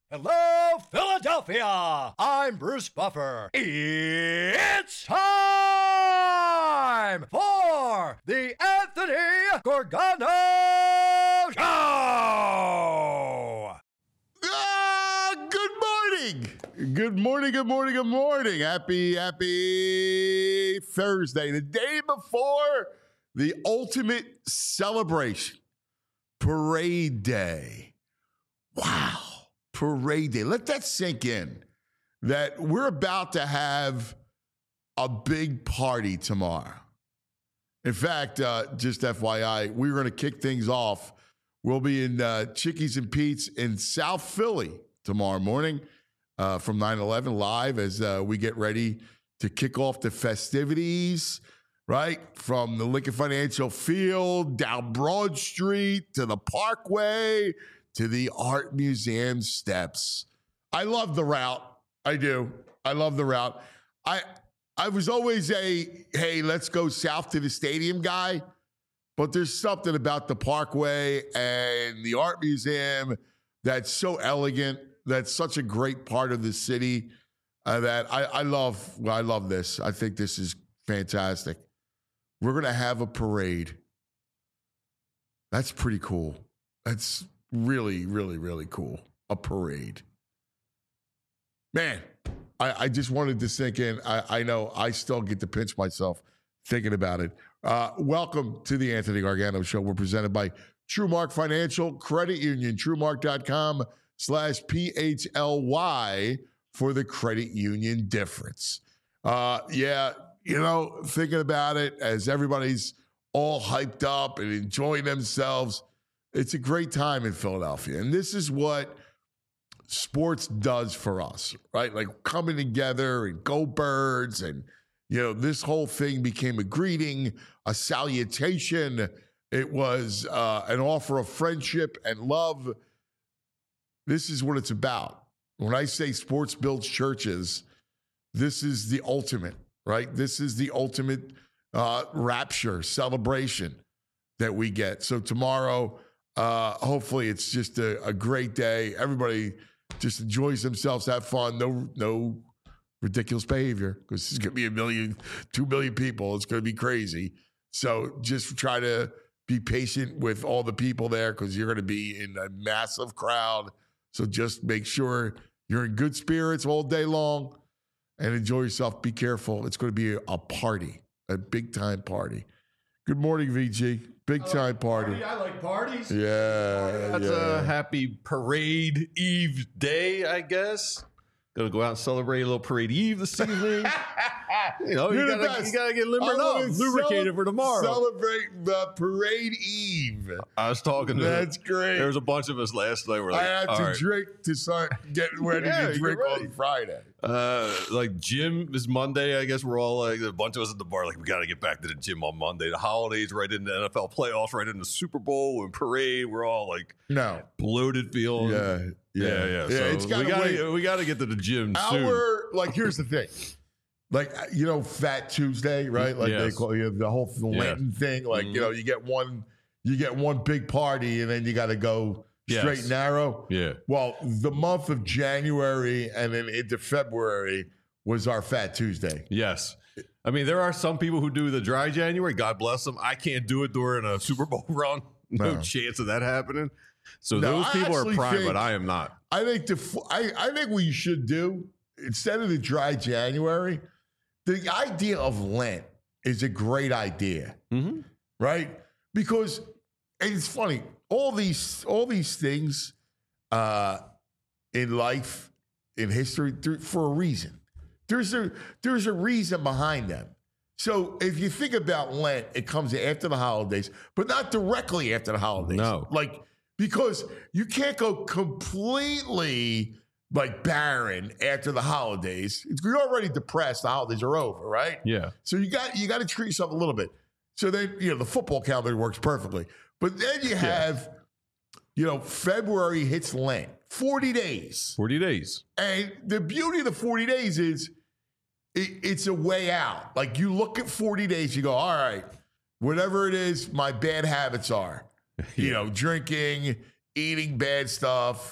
Hello, Philadelphia! I'm Bruce Buffer. It's time for the Anthony Gorgano Show! Good morning! Good morning, good morning, good morning. Happy Thursday. The day before the ultimate celebration. Parade Day. Wow. Parade Day. Let that sink in. That we're about to have a big party tomorrow. In fact, just FYI, we're going to kick things off. We'll be in Chickies and Pete's in South Philly tomorrow morning from 9/11 live as we get ready to kick off the festivities, right? From the Lincoln Financial Field, down Broad Street, to the Parkway, to the Art Museum steps. I love the route. I do. I love the route. I was always a, hey, let's go south to the stadium guy. But there's something about the Parkway and the Art Museum that's so elegant, that's such a great part of the city that I love. I love this. I think this is fantastic. We're going to have a parade. That's pretty cool. That's really, really, really cool. A parade. Man, I just wanted to sink in. I know I still get to pinch myself thinking about it. Welcome to the Anthony Gargano Show. We're presented by TrueMark Financial Credit Union. TrueMark.com/PHLY for the credit union difference. Thinking about it as everybody's all hyped up and enjoying themselves. It's a great time in Philadelphia. And this is what sports does for us, right? Like coming together and go Birds. And, this whole thing became a greeting, a salutation. It was an offer of friendship and love. This is what it's about. When I say sports builds churches, this is the ultimate, right? This is the ultimate rapture, celebration that we get. So tomorrow, hopefully it's just a great day. Everybody just enjoys themselves, have fun. No ridiculous behavior because it's going to be 2 million people. It's going to be crazy. So just try to be patient with all the people there because you're going to be in a massive crowd. So just make sure you're in good spirits all day long and enjoy yourself. Be careful. It's going to be a party, a big time party. Good morning, VG. Big time party. I like parties. Yeah. That's a happy Parade Eve day, I guess. Gonna go out and celebrate a little Parade Eve this evening. you gotta get limbered up, lubricated for tomorrow. Celebrate the Parade Eve. I was talking to That's great. There was a bunch of us last night. We're like, I had to drink to start getting ready to drink on Friday. Like gym is Monday. I guess we're all like a bunch of us at the bar. Like we got to get back to the gym on Monday. The holidays, right into NFL playoffs, right into Super Bowl and parade. We're all like bloated feeling. Yeah. So we got to get to the gym soon. Here's the thing. Fat Tuesday, right? Like they call the whole Lenten thing. Like, you get one big party and then you got to go straight and narrow. Yeah. Well, the month of January and then into February was our Fat Tuesday. Yes. I mean, there are some people who do the dry January. God bless them. I can't do it during a Super Bowl run. No chance of that happening. So those people are prime, but I am not. I think I think what you should do, instead of the dry January, the idea of Lent is a great idea, right? Because and it's funny, all these things in life, in history, for a reason. There's a reason behind them. So if you think about Lent, it comes after the holidays, but not directly after the holidays. No. Because you can't go completely barren after the holidays. You're already depressed. The holidays are over, right? Yeah. So you got to treat yourself a little bit. So then, the football calendar works perfectly. But then you have, February hits Lent, 40 days. 40 days. And the beauty of the 40 days is it's a way out. Like you look at 40 days, you go, all right, whatever it is my bad habits are, drinking, eating bad stuff,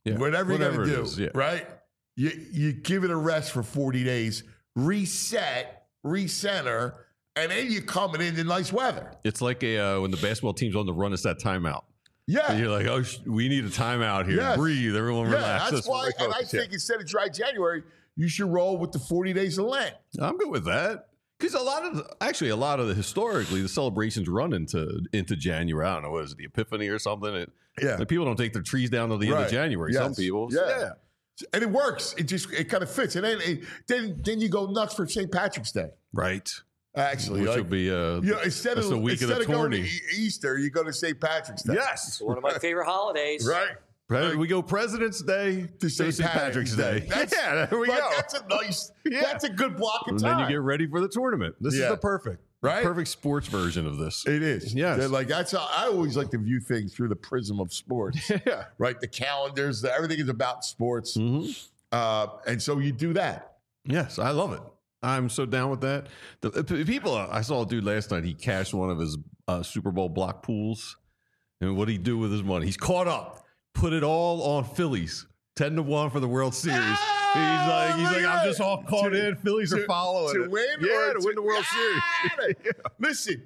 whatever you're going to do, is, yeah. right? You give it a rest for 40 days, reset, recenter, and then you're coming into nice weather. It's like when the basketball team's on the run, it's that timeout. Yeah. And you're like, oh, we need a timeound here. Yes. Breathe. Everyone relax. That's why, and I think instead of dry January, you should roll with the 40 days of Lent. I'm good with that. Because a lot of the historically, the celebrations run into January. I don't know, what is it, the Epiphany or something? Like people don't take their trees down till the end of January. Yes. Some people. Yeah. And it works. It kind of fits. And then you go nuts for St. Patrick's Day. Right. Actually, which will be instead of going to Easter, you go to St. Patrick's Day. Yes, one of my favorite holidays. Right. We go President's Day to St. Patrick's Day. There we go. That's a nice. That's a good block of time. And then you get ready for the tournament. This is the perfect sports version of this. It is. Yes. Like that's how I always like to view things through the prism of sports. Yeah. Right. The calendars, everything is about sports. Mm-hmm. And so you do that. Yes, I love it. I'm so down with that. The people, I saw a dude last night. He cashed one of his Super Bowl block pools, and what did he do with his money? He's caught up. Put it all on Phillies, 10-1 for the World Series. He's like, I'm just all caught in. Phillies are following to win, to win the World Series. Listen,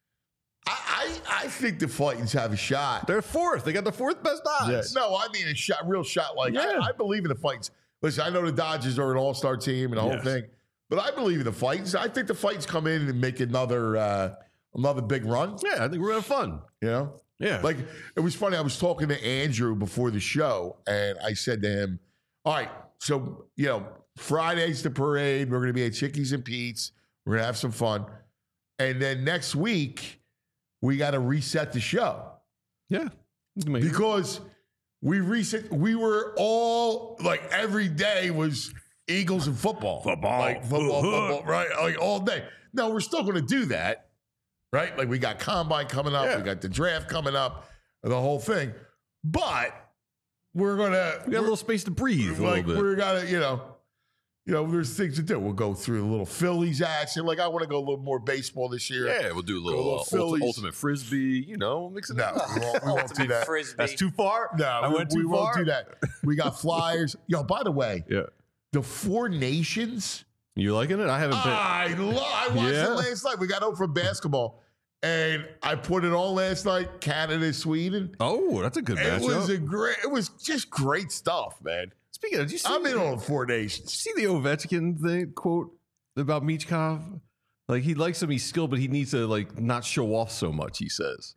I think the Titans have a shot. They're fourth. They got the fourth best odds. Yeah. No, I mean real shot. Like I believe in the Titans. Listen, I know the Dodgers are an all-star team and the whole thing. But I believe in the Titans. I think the Titans come in and make another big run. Yeah, I think we're having fun. You know? Yeah. Like, it was funny. I was talking to Andrew before the show, and I said to him, all right, so, Friday's the parade. We're going to be at Chickies and Pete's. We're going to have some fun. And then next week, we got to reset the show. Yeah. Because we were all, like, every day was Eagles and football. Football, right? Like all day. No, we're still going to do that, right? Like we got Combine coming up. Yeah. We got the draft coming up, the whole thing. But we got a little space to breathe a little bit. We're got to, there's things to do. We'll go through a little Phillies action. Like I want to go a little more baseball this year. Yeah, we'll do a little ultimate frisbee. Mix it up. We won't do that. Frisbee. That's too far. No, we won't do that. We got flyers. By the way. Yeah. The Four Nations. You liking it? I haven't been. I watched it last night. We got home from basketball, and I put it on last night. Canada, Sweden. Oh, that's a good matchup. It was just great stuff, man. Speaking of, did you see? I'm in on Four Nations. Did you see the Ovechkin quote about Michkov? Like he likes him, he's skilled, but he needs to not show off so much. He says.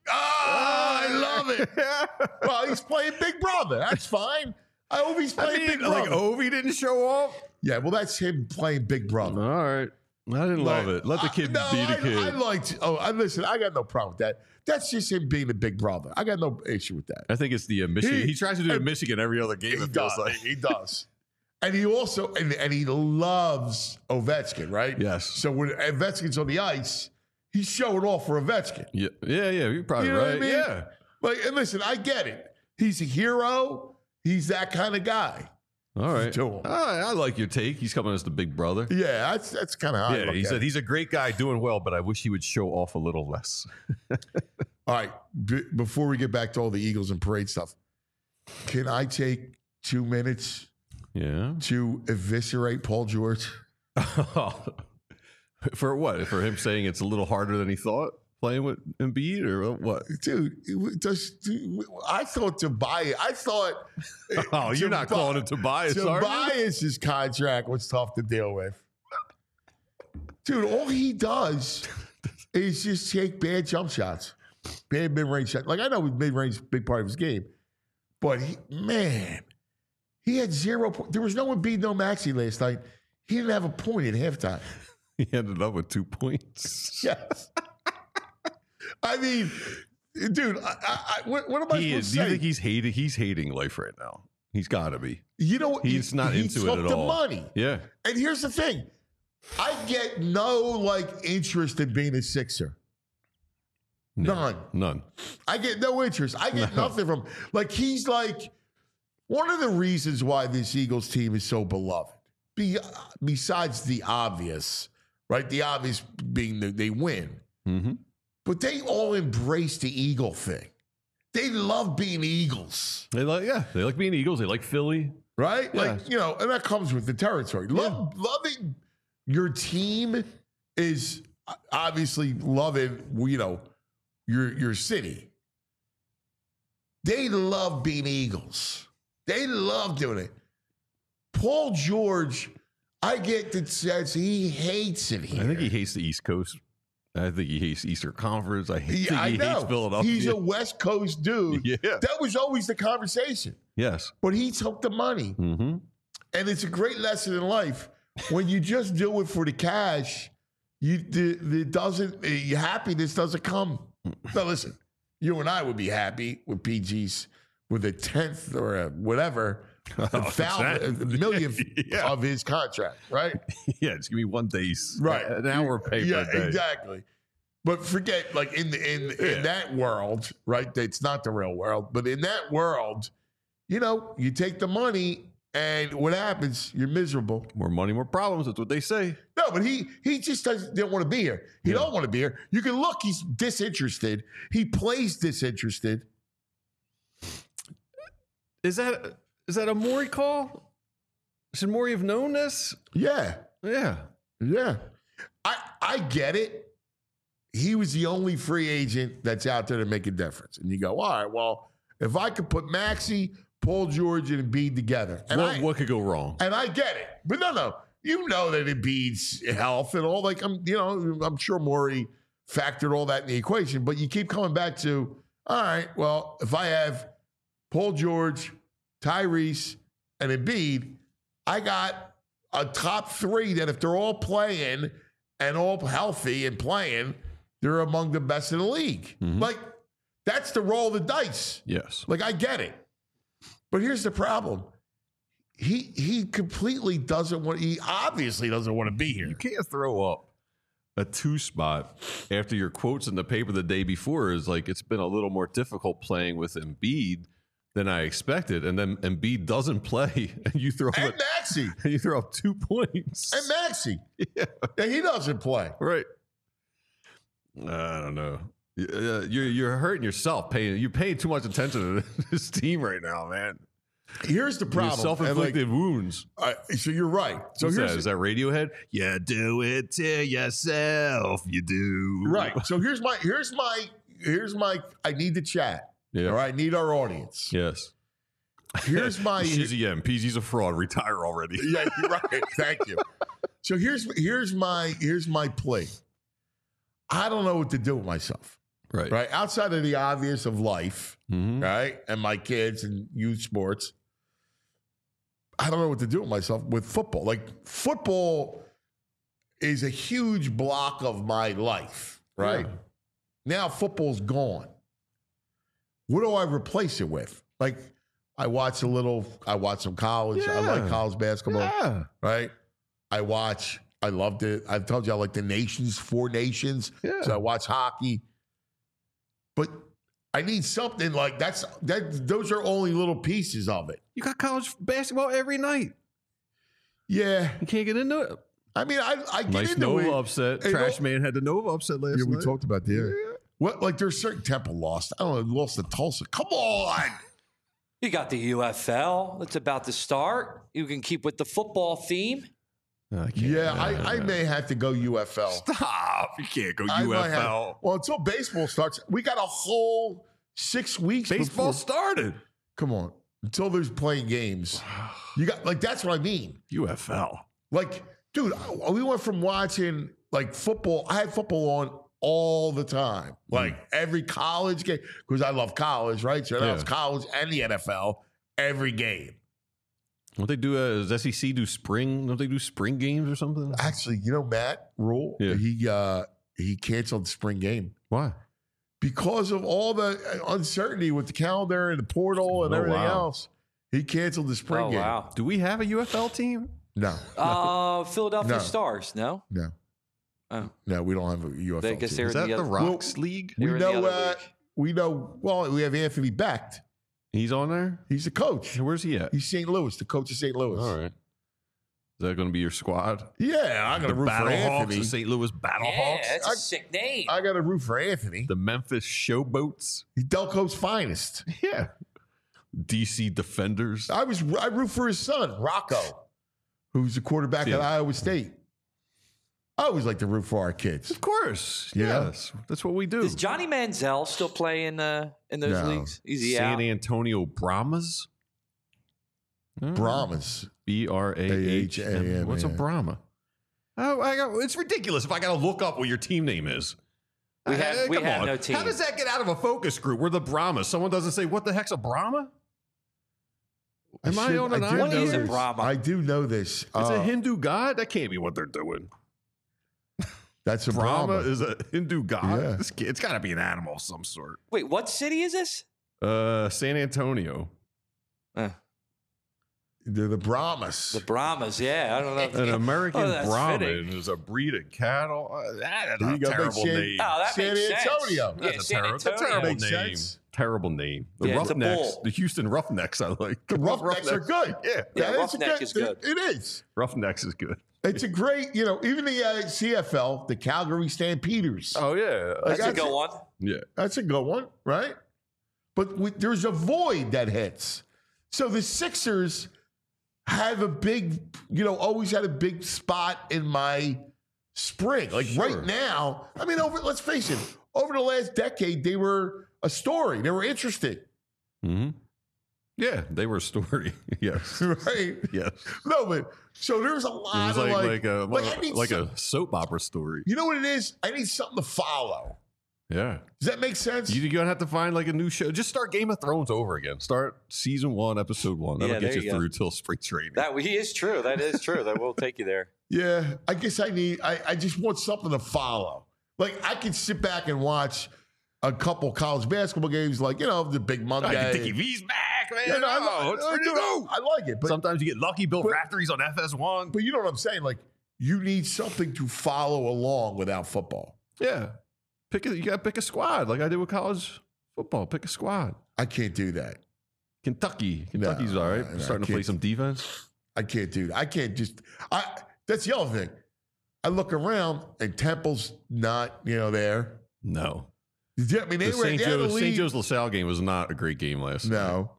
I love it. Well, he's playing Big Brother. That's fine. Ovi's playing Big Brother. Like Ovi didn't show off? Yeah, well, that's him playing Big Brother. All right. I didn't love it. Let the kid be the kid. Listen, I got no problem with that. That's just him being the Big Brother. I got no issue with that. I think it's the Michigan. He tries to do Michigan every other game. He does. And he also, and he loves Ovechkin, right? Yes. So when Ovechkin's on the ice, he's showing off for Ovechkin. Yeah. You're probably right. I mean? Yeah. And listen, I get it. He's a hero. He's that kind of guy. All right. I like your take. He's coming as the big brother. Yeah, that's kind of how I look he said he's a great guy doing well, but I wish he would show off a little less. All right. Before we get back to all the Eagles and parade stuff, can I take 2 minutes to eviscerate Paul George? For what? For him saying it's a little harder than he thought? Playing with Embiid or what? Dude, I thought Tobias. You're not calling it Tobias, Tobias's contract was tough to deal with. Dude, all he does is just take bad jump shots, bad mid-range shots. Like, I know mid-range is a big part of his game, but he had 0 points. There was no Embiid, no Maxey last night. He didn't have a point at halftime. He ended up with 2 points. Yes. I mean, dude, what am I supposed to say? Do you think he's hating life right now? He's got to be. You know, he's not into it at all. He took the money. Yeah. And here's the thing. I get no, interest in being a Sixer. None. I get no interest. I get nothing from him. He's one of the reasons why this Eagles team is so beloved, besides the obvious, right? The obvious being that they win. Mm-hmm. But they all embrace the Eagle thing. they love being Eagles. They like being Eagles. They like Philly. Right? Yeah. Like, and that comes with the territory. Loving your team is obviously loving, your city. They love being Eagles. They love doing it. Paul George, I get the sense he hates it here. I think he hates the East Coast. I think he hates Eastern Conference. I think he hates Philadelphia. He's a West Coast dude. Yeah. That was always the conversation. Yes. But he took the money. Mm-hmm. And it's a great lesson in life. When you just do it for the cash, happiness doesn't come. Now, listen, you and I would be happy with PG's with a 10th or a whatever, a millionth of his contract, right? Yeah, just give me 1 day, right? An hour pay per day. Exactly. But forget, like in that world, right? It's not the real world, but in that world, you take the money, and what happens? You're miserable. More money, more problems. That's what they say. No, but he just didn't want to be here. He don't want to be here. You can look; he's disinterested. He plays disinterested. Is that a Morey call? Should Morey have known this? Yeah. I get it. He was the only free agent that's out there to make a difference. And you go, all right, well, if I could put Maxey, Paul George, and Embiid together. And what could go wrong? And I get it. But no. You know that Embiid's health and all. Like, I'm sure Morey factored all that in the equation. But you keep coming back to, all right, well, if I have Paul George, Tyrese, and Embiid, I got a top three that if they're all playing and all healthy and playing, they're among the best in the league. Mm-hmm. Like, that's the roll of the dice. Yes. Like, I get it. But here's the problem. He completely doesn't want, he obviously doesn't want to be here. You can't throw up a 2 spot after your quotes in the paper the day before is like, it's been a little more difficult playing with Embiid than I expected. And then Embiid doesn't play and you throw and Maxey. And you throw up 2 points. And Maxey. Yeah. And he doesn't play. Right. I don't know. You're hurting yourself. You're paying too much attention to this team right now, man. Here's the problem. Self-inflicted wounds. So you're right. So is that Radiohead? You do it to yourself. You do. Right. So here's my I need to chat. Yeah. All right. I need our audience. Yes. Here's my Shizzy M. PG's a fraud. Retire already. Yeah, you're right. Thank you. So here's my plea. I don't know what to do with myself. Right. Right. Outside of the obvious of life, right? And my kids and youth sports. I don't know what to do with myself with football. Like, football is a huge block of my life, right? Yeah. Now football's gone. What do I replace it with? Like, I watch some college. Yeah. I like college basketball, right? I loved it. I've told you I like the nations, 4 nations. Yeah. So I watch hockey. But I need something like that. Those are only little pieces of it. You got college basketball every night. Yeah. You can't get into it. I mean, I get nice into Nova it. upset. Trash Man had the Nova upset last night. Yeah, we talked about that. Yeah. What? Like, there's certain Temple lost. I don't know, lost to Tulsa. Come on. You got the UFL. It's about to start. You can keep with the football theme. I may have to go UFL. Stop. You can't go UFL. Well, until baseball starts, we got a whole 6 weeks. Baseball started. Come on. Until there's playing games. You got, like, that's what I mean. UFL. Like, dude, we went from watching, like, football. I had football on all the time. Like, every college game. Because I love college, right? So now it's college and the NFL every game. Don't they do? Does SEC do spring? Don't they do spring games or something? Actually, Matt Rule, he canceled the spring game. Why? Because of all the uncertainty with the calendar and the portal and everything else. He canceled the spring game. Wow. Do we have a UFL team? No. Philadelphia Stars, no? No. Oh. No, we don't have a UFL team. Is that the Rocks League? We know, well, we have Anthony Becht. He's on there? He's the coach. Where's he at? He's St. Louis, the coach of St. Louis. All right. that going to be your squad? Yeah, I'm going to root for Anthony. The St. Louis Battlehawks. Yeah, that's a sick name. I got to root for Anthony. The Memphis Showboats. Delco's finest. Yeah. DC Defenders. I root for his son, Rocco, who's the quarterback at Iowa State. I always like to root for our kids. Of course. Yeah. Yes. That's what we do. Does Johnny Manziel still play in those leagues? Is he San out? Antonio Brahmas? Brahmas. B-R-A-H-M. What's a Brahma? Oh, it's ridiculous if I got to look up what your team name is. We have no team. How does that get out of a focus group? We're the Brahmas. Someone doesn't say, what the heck's a Brahma? Am I on an island? What is a Brahma? I do know this. It's a Hindu god? That can't be what they're doing. That's a Brahma Brahma. is a Hindu god? Yeah. It's got to be an animal of some sort. Wait, what city is this? San Antonio. They're the Brahmas. The Brahmas, yeah. I don't know. An American Brahmin fitting. is a breed of cattle. That's There a you go. terrible name. Oh, that San makes Antonio. sense. Yeah, That's San a Antonio. terrible Makes name. sense. Terrible name. The Yeah, it's a Roughnecks, bull. the Houston Roughnecks, I like. The Roughnecks are good. Yeah. Yeah, That is Roughneck is good. It is. Roughnecks is good. It's a great, even the CFL, the Calgary Stampeders. Oh, yeah. That's a That's good it. one. Yeah. That's a good one, right? But there's a void that hits. So the Sixers have a big, always had a big spot in my spring. Like right now, I mean, let's face it, over the last decade, they were a story. They were interesting. Mm-hmm. Yeah, they were a story. Yes. Right? Yes. No, but so there's a lot It was of like a soap opera story. You know what it is? I need something to follow. Yeah. Does that make sense? You're going to have to find like a new show. Just start Game of Thrones over again. Start season 1, episode 1. That'll Yeah, get there you you go. through till spring training. That is true. That is true. That will take you there. Yeah, I guess I just want something to follow. Like I could sit back and watch a couple college basketball games, like, the Big Monday. Dickie V's back, man. Yeah, no, Oh, I like it. But, sometimes you get lucky. Bill Raftery's on FS1. but you know what I'm saying? Like, you need something to follow along without football. Yeah. You got to pick a squad like I did with college football. Pick a squad. I can't do that. Kentucky's No, all right. no, Starting to play some defense. I can't do that. I can't just. That's the other thing. I look around and Temple's not, there. No. I mean, The they had a lead. St. Joe's LaSalle game was not a great game last night. No.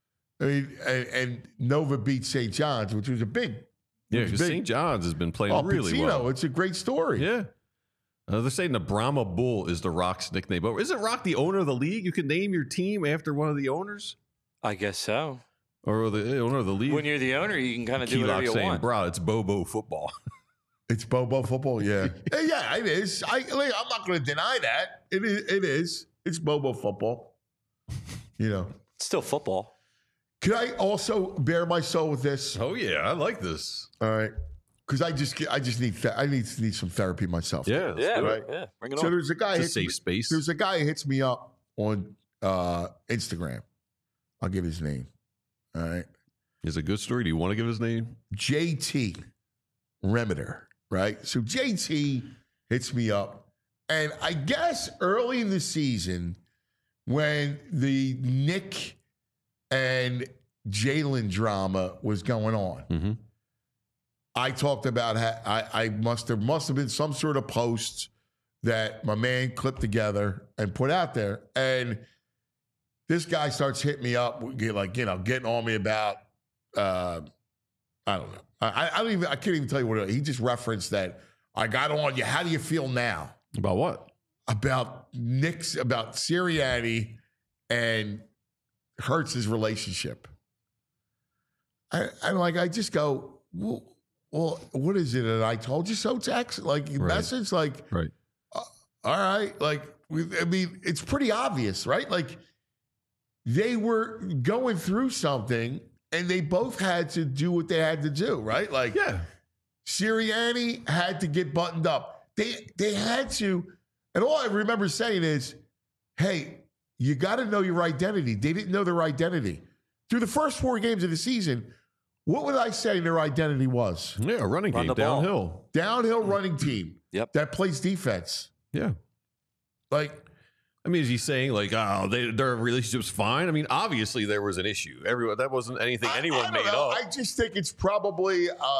I mean, and Nova beat St. John's, which was a big. Yeah, because St. John's has been playing really Pizzino, well. It's a great story. Yeah. They're saying the Brahma Bull is the Rock's nickname. But isn't Rock the owner of the league? You can name your team after one of the owners? I guess so. Or the owner of the league? When you're the owner, you can kind of do Keylock whatever you saying, want. bro, it's Bobo football. It's Bobo football, yeah. Yeah, it is. I'm not going to deny that. It is. It's Bobo football. It's still football. Can I also bare my soul with this? Oh, yeah. I like this. All right. Because I just need some therapy myself. Yeah. Yeah, right. yeah. Bring it So on. there's a guy. It's a safe space. There's a guy who hits me up on Instagram. I'll give his name. All right. Is it a good story? Do you want to give his name? JT Remeter. Right. So JT hits me up, and I guess early in the season when the Nick and Jalen drama was going on. Mm-hmm. I talked about how there must have been some sort of post that my man clipped together and put out there. And this guy starts hitting me up, getting on me about, I don't know. I can't even tell you what it was. He just referenced that I got on you. How do you feel now? About what? About Sirianni and Hurts' relationship. I just go, well, what is it? And I told you so text, message, Right. all right. It's pretty obvious, right? Like they were going through something and they both had to do what they had to do, right? Like, Yeah. Sirianni had to get buttoned up. They had to, and all I remember saying is, hey, you got to know your identity. They didn't know their identity. Through the first 4 games of the season, what would I say their identity was? Yeah, running Run game, the ball. downhill. Downhill running team. Yep. That plays defense. Yeah. Like, I mean, is he saying their relationship's fine? I mean, obviously there was an issue. That wasn't anything anyone I don't made know. up. I just think it's probably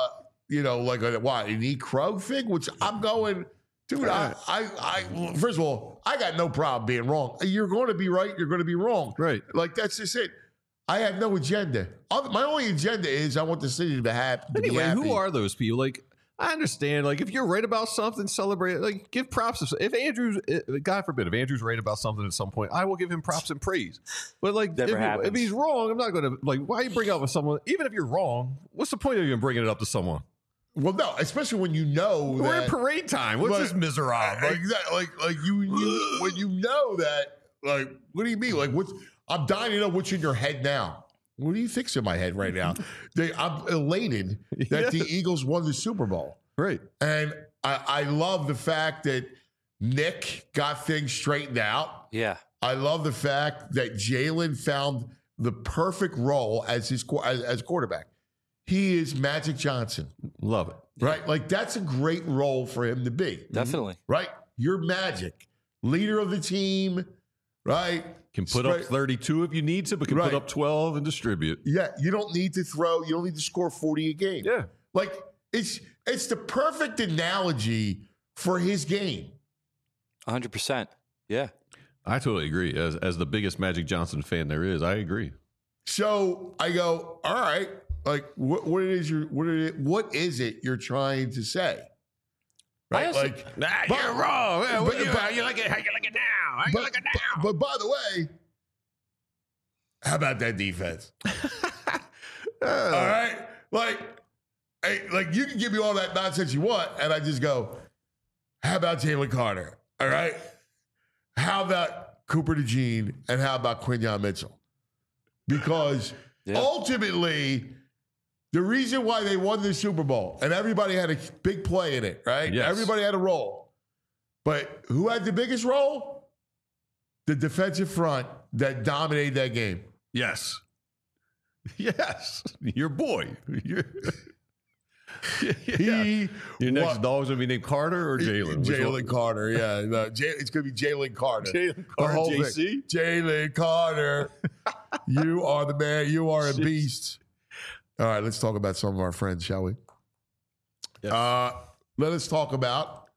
like an E. Krug thing, which I'm going, dude, I first of all, I got no problem being wrong. You're going to be right. You're going to be wrong. Right. Like, that's just it. I have no agenda. My only agenda is I want the city to be happy. Anyway, who are those people? Like, I understand. Like, if you're right about something, celebrate it. Like, give props. If Andrew's, God forbid, if Andrew's right about something at some point, I will give him props and praise. But like, if he's wrong, I'm not going to like. Why you bring up with someone? Even if you're wrong, what's the point of even bringing it up to someone? Well, no, especially when you know we're in parade time. What's this miserable? Like you when you know that. Like, what do you mean? Like, I'm dying to know what's in your head now. What do you think's in my head right now? I'm elated that the Eagles won the Super Bowl. Right. And I love the fact that Nick got things straightened out. Yeah. I love the fact that Jalen found the perfect role as quarterback. He is Magic Johnson. Love it. Right? Like, that's a great role for him to be. Definitely. Right? You're Magic. Leader of the team. Right? Can put up 32 if you need to, but can put up 12 and distribute. Yeah, you don't need to throw. You don't need to score 40 a game. Yeah. Like, it's the perfect analogy for his game. 100%. Yeah. I totally agree. As the biggest Magic Johnson fan there is, I agree. So I go, all right, like, what is it you're trying to say? Right? You're wrong. How you like it now? How you like it now? But by the way, how about that defense? All right? Like, you can give me all that nonsense you want, and I just go, how about Jalen Carter? All right? How about Cooper DeJean, and how about Quinyon Mitchell? Because ultimately, the reason why they won the Super Bowl, and everybody had a big play in it, right? Yes. Everybody had a role. But who had the biggest role? The defensive front that dominated that game. Yes. Yes. Your boy. Your next dog's going to be named Carter or Jalen? Jalen Carter, yeah. No, it's going to be Jalen Carter. Jalen Carter, JC? Jalen Carter. You are the man. You are a beast. All right, let's talk about some of our friends, shall we? Yes. Let us talk about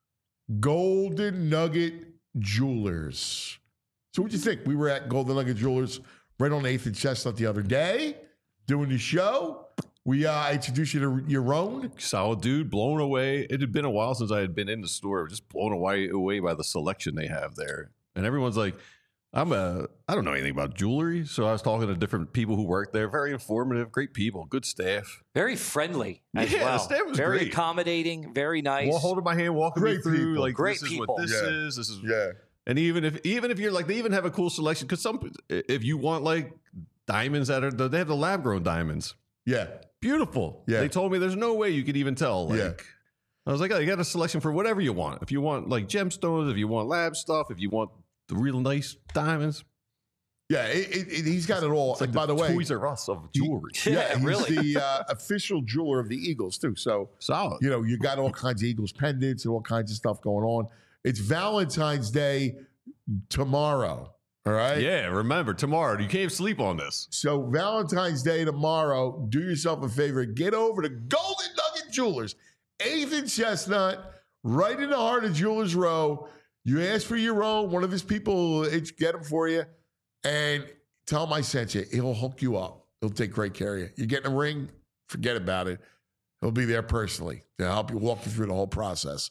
Golden Nugget Jewelers. So what'd you think? We were at Golden Nugget Jewelers right on 8th and Chestnut the other day doing the show. We introduced you to Yaron. Solid dude, blown away. It had been a while since I had been in the store. Just blown away by the selection they have there. And everyone's like, I don't know anything about jewelry. So I was talking to different people who work there. Very informative, great people, good staff. Very friendly as well. The staff was very great. Accommodating, very nice. Holding my hand, walking me through. People. Like, great this people. is what this is. This is. Yeah. And even if you're like, they even have a cool selection. Because if you want like diamonds they have the lab grown diamonds. Yeah. Beautiful. Yeah. They told me there's no way you could even tell. Like, yeah. I was like, oh, you got a selection for whatever you want. If you want like gemstones, if you want lab stuff, if you want the real nice diamonds. Yeah, he's got it all. It's like and by the way, Toys R Us of jewelry. He's really. the official jeweler of the Eagles too. So solid. You know, you got all kinds of Eagles pendants and all kinds of stuff going on. It's Valentine's Day tomorrow. All right. Yeah, remember tomorrow. You can't sleep on this. So Valentine's Day tomorrow. Do yourself a favor. Get over to Golden Nugget Jewelers, 8th and Chestnut, right in the heart of Jewelers Row. You ask for your own. One of his people will get them for you. And tell him I sent you. He'll hook you up. He'll take great care of you. You're getting a ring? Forget about it. He'll be there personally to help you walk you through the whole process.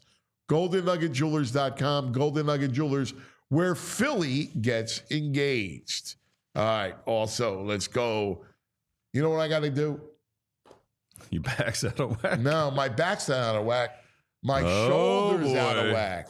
GoldenNuggetJewelers.com. Golden Nugget Jewelers, where Philly gets engaged. All right. Also, let's go. You know what I got to do? Your back's out of whack. No, my back's not out of whack. My shoulder's boy. out of whack.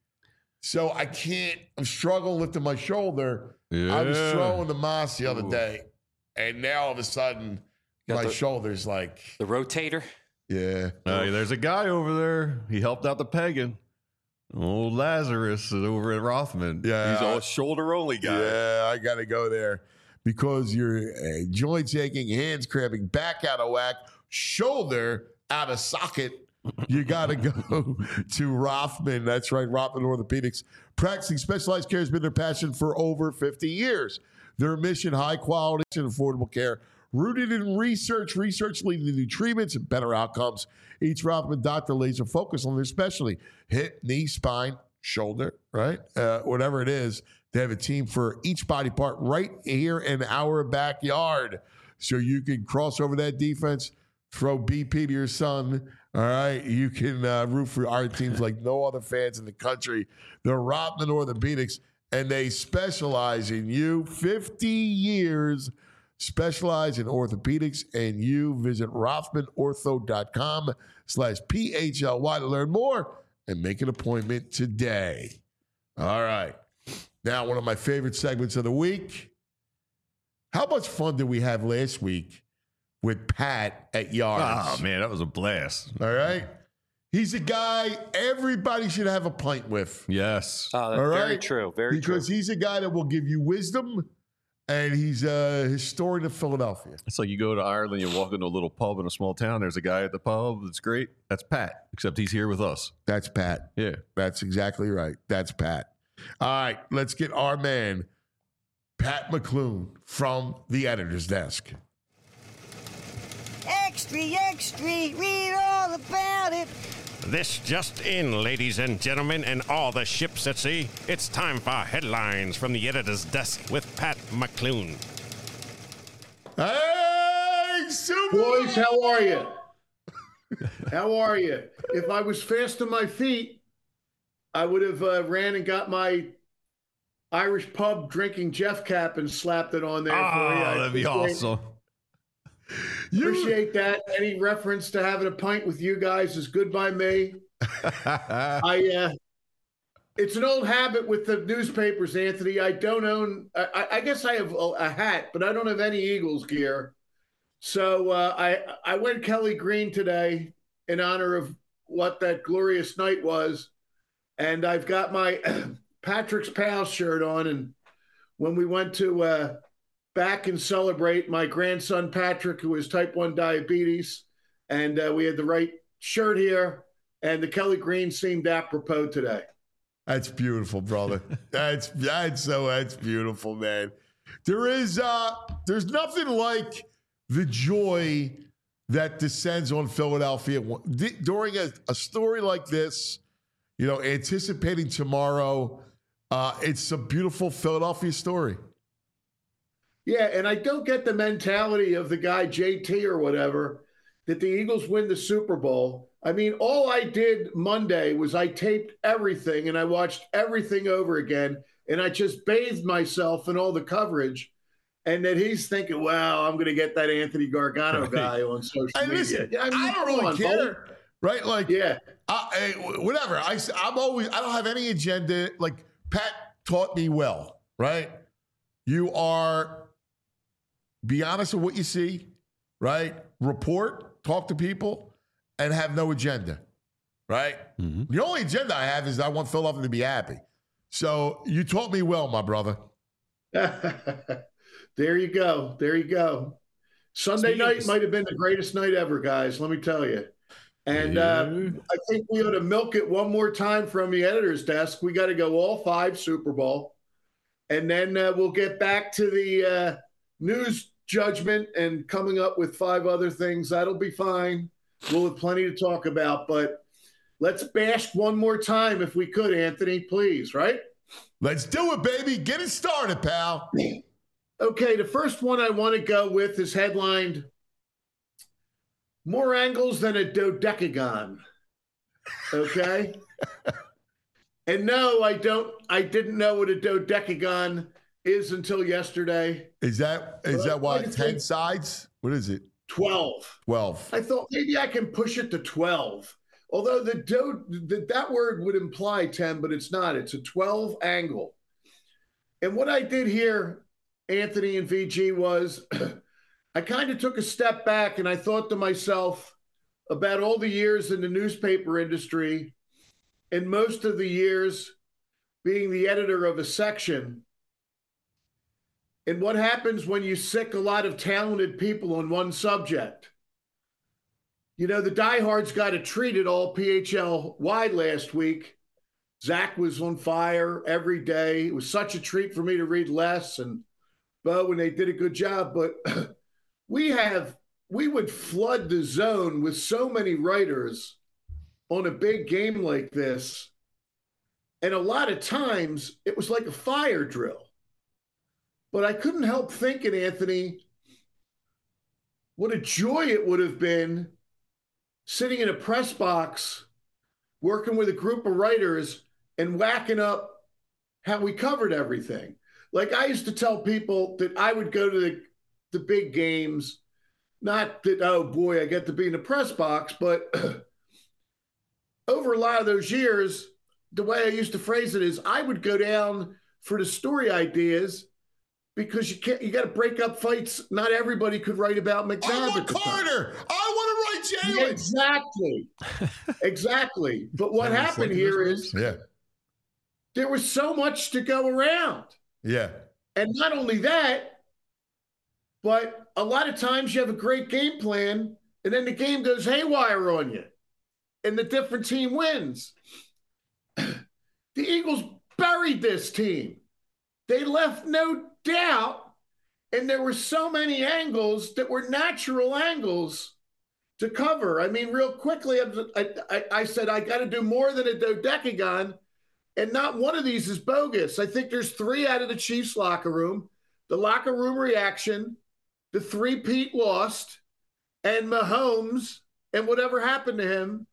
So I can't. I'm struggling lifting my shoulder. Yeah. I was throwing the moss the other day, and now all of a sudden, my shoulder's like the rotator. Yeah. There's a guy over there. He helped out the pegging. Old Lazarus is over at Rothman. Yeah. He's all shoulder only guy. Yeah, I got to go there because your joints aching, hands cramping, back out of whack, shoulder out of socket. You got to go to Rothman. That's right, Rothman Orthopedics. Practicing specialized care has been their passion for over 50 years. Their mission, high quality and affordable care. rooted in research leading to new treatments and better outcomes. Each Rothman doctor laser focus on their specialty: hip, knee, spine, shoulder, right? Whatever it is, they have a team for each body part right here in our backyard. So you can cross over that defense, throw BP to your son. All right, you can root for our teams like no other fans in the country. They're Rothman Orthopedics, and they specialize in you. 50 years specialize in orthopedics, and you visit RothmanOrtho.com/PHLY to learn more and make an appointment today. All right. Now, one of my favorite segments of the week. How much fun did we have last week with Pat at Yards? Oh, man, that was a blast. All right. He's a guy everybody should have a pint with. Yes. Oh, that's very true. Very true. Because he's a guy that will give you wisdom, and he's a historian of Philadelphia. It's like you go to Ireland, you walk into a little pub in a small town. There's a guy at the pub that's great. That's Pat, except he's here with us. That's Pat. Yeah. That's exactly right. That's Pat. All right, let's get our man, Pat McClune, from the editor's desk. Extra, extra, read all about it. This just in, ladies and gentlemen, and all the ships at sea. It's time for headlines from the editor's desk with Pat McClune. Hey, Super Boys, how are you? How are you? If I was fast on my feet, I would have ran and got my Irish pub drinking Jeff cap and slapped it on there for you. That'd be awesome. Appreciate that. Any reference to having a pint with you guys is good by me. It's an old habit with the newspapers, Anthony. I don't own. I guess I have a hat, but I don't have any Eagles gear. So I went Kelly Green today in honor of what that glorious night was. And I've got my Patrick's Pals shirt on. And when we went to back and celebrate my grandson, Patrick, who has type 1 diabetes, and we had the right shirt here, and the Kelly Green seemed apropos today. That's beautiful, brother. That's beautiful, man. There's nothing like the joy that descends on Philadelphia during a story like this. You know, anticipating tomorrow. It's a beautiful Philadelphia story. Yeah, and I don't get the mentality of the guy JT or whatever that the Eagles win the Super Bowl. I mean, all I did Monday was I taped everything and I watched everything over again, and I just bathed myself in all the coverage. And then he's thinking, "Wow, I'm going to get that Anthony Gargano guy on social media." Listen, I don't really care, right? Like, yeah, whatever. I don't have any agenda. Like Pat taught me well, right? You are. Be honest with what you see, right? Report, talk to people, and have no agenda, right? Mm-hmm. The only agenda I have is I want Philadelphia to be happy. So you taught me well, my brother. There you go. There you go. Sunday night might have been the greatest night ever, guys, let me tell you. And I think we ought to milk it one more time from the editor's desk. We got to go all 5 Super Bowl. And then we'll get back to the news judgment and coming up with 5 other things. That'll be fine. We'll have plenty to talk about, but let's bash one more time if we could, Anthony, please, right? Let's do it, baby. Get it started, pal. Okay, the first one I want to go with is headlined, "More Angles Than a Dodecagon." Okay? And no, I didn't know what a dodecagon is until yesterday. Is that why 10 sides? What is it? 12. 12. I thought maybe I can push it to 12. Although that word would imply 10, but it's not. It's a 12 angle. And what I did here, Anthony and VG, was I kind of took a step back and I thought to myself about all the years in the newspaper industry, and most of the years being the editor of a section. And what happens when you sick a lot of talented people on one subject? You know, the diehards got a treat at all PHL wide last week. Zach was on fire every day. It was such a treat for me to read Les and Bo, and they did a good job. But we would flood the zone with so many writers on a big game like this. And a lot of times it was like a fire drill. But I couldn't help thinking, Anthony, what a joy it would have been sitting in a press box, working with a group of writers and whacking up how we covered everything. Like I used to tell people that I would go to the big games, not that, oh boy, I get to be in the press box, but over a lot of those years, the way I used to phrase it is I would go down for the story ideas because you got to break up fights. Not everybody could write about McNabb. I want Carter. I want to write Jalen. Exactly. Exactly. But what happened here is there was so much to go around. Yeah. And not only that, but a lot of times you have a great game plan and then the game goes haywire on you and the different team wins. The Eagles buried this team. They left no doubt, and there were so many angles that were natural angles to cover. I mean, real quickly, I said I got to do more than a dodecagon, and not one of these is bogus. I think there's 3 out of the Chiefs locker room, the locker room reaction, the 3-peat lost, and Mahomes and whatever happened to him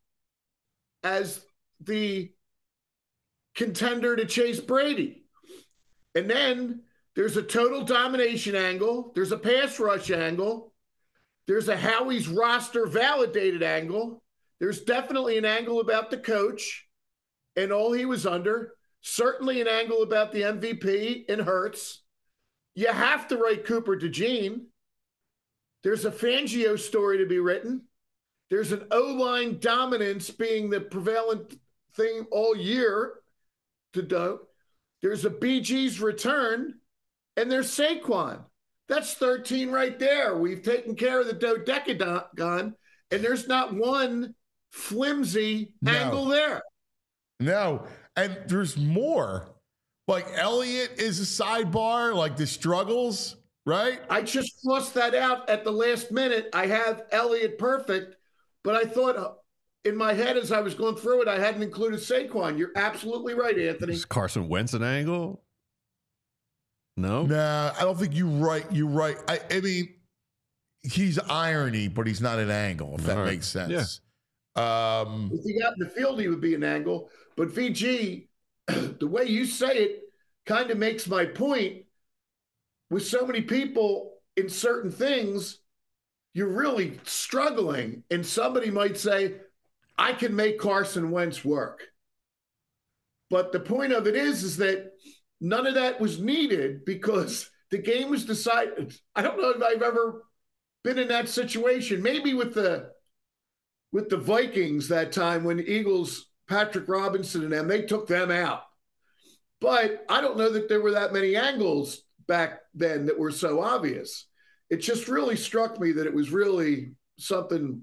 as the contender to chase Brady. And then there's a total domination angle. There's a pass rush angle. There's a Howie's roster validated angle. There's definitely an angle about the coach and all he was under. Certainly an angle about the MVP and Hurts. You have to write Cooper DeJean. There's a Fangio story to be written. There's an O-line dominance being the prevalent thing all year to do. There's a BG's return, and there's Saquon. That's 13 right there. We've taken care of the dodecagon, and there's not one flimsy angle there. No, and there's more. Like Elliott is a sidebar, like the struggles, right? I just crossed that out at the last minute. I have Elliott perfect, but I thought in my head as I was going through it, I hadn't included Saquon. You're absolutely right, Anthony. Is Carson Wentz an angle? No? Nah, I don't think you're right. You're right. I mean, he's irony, but he's not an angle, if that makes sense. Yeah. If he got in the field, he would be an angle. But VG, the way you say it kind of makes my point. With so many people in certain things, you're really struggling. And somebody might say, I can make Carson Wentz work. But the point of it is that none of that was needed because the game was decided. I don't know if I've ever been in that situation. Maybe with the Vikings that time when the Eagles, Patrick Robinson and them, they took them out. But I don't know that there were that many angles back then that were so obvious. It just really struck me that it was really something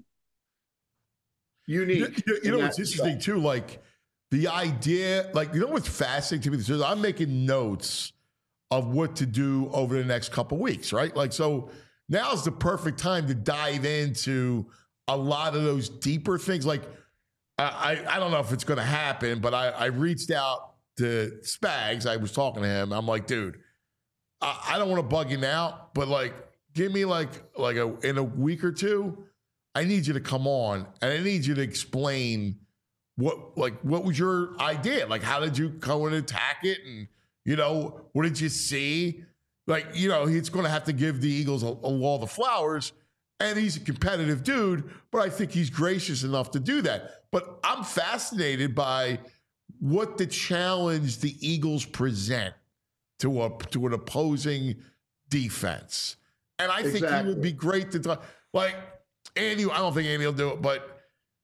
unique. You know what's interesting too? Like the idea, like, you know what's fascinating to me? I'm making notes of what to do over the next couple of weeks, right? Like, so now's the perfect time to dive into a lot of those deeper things. Like, I don't know if it's going to happen, but I reached out to Spags. I was talking to him. I'm like, dude, I don't want to bug you now, but like, give me in a week or two, I need you to come on and I need you to explain what was your idea? Like, how did you go and attack it? And, you know, what did you see? Like, you know, he's going to have to give the Eagles a wall of flowers, and he's a competitive dude, but I think he's gracious enough to do that. But I'm fascinated by what the challenge the Eagles present to an opposing defense. And I think he would be great to talk. Like, Andy, I don't think Andy will do it, but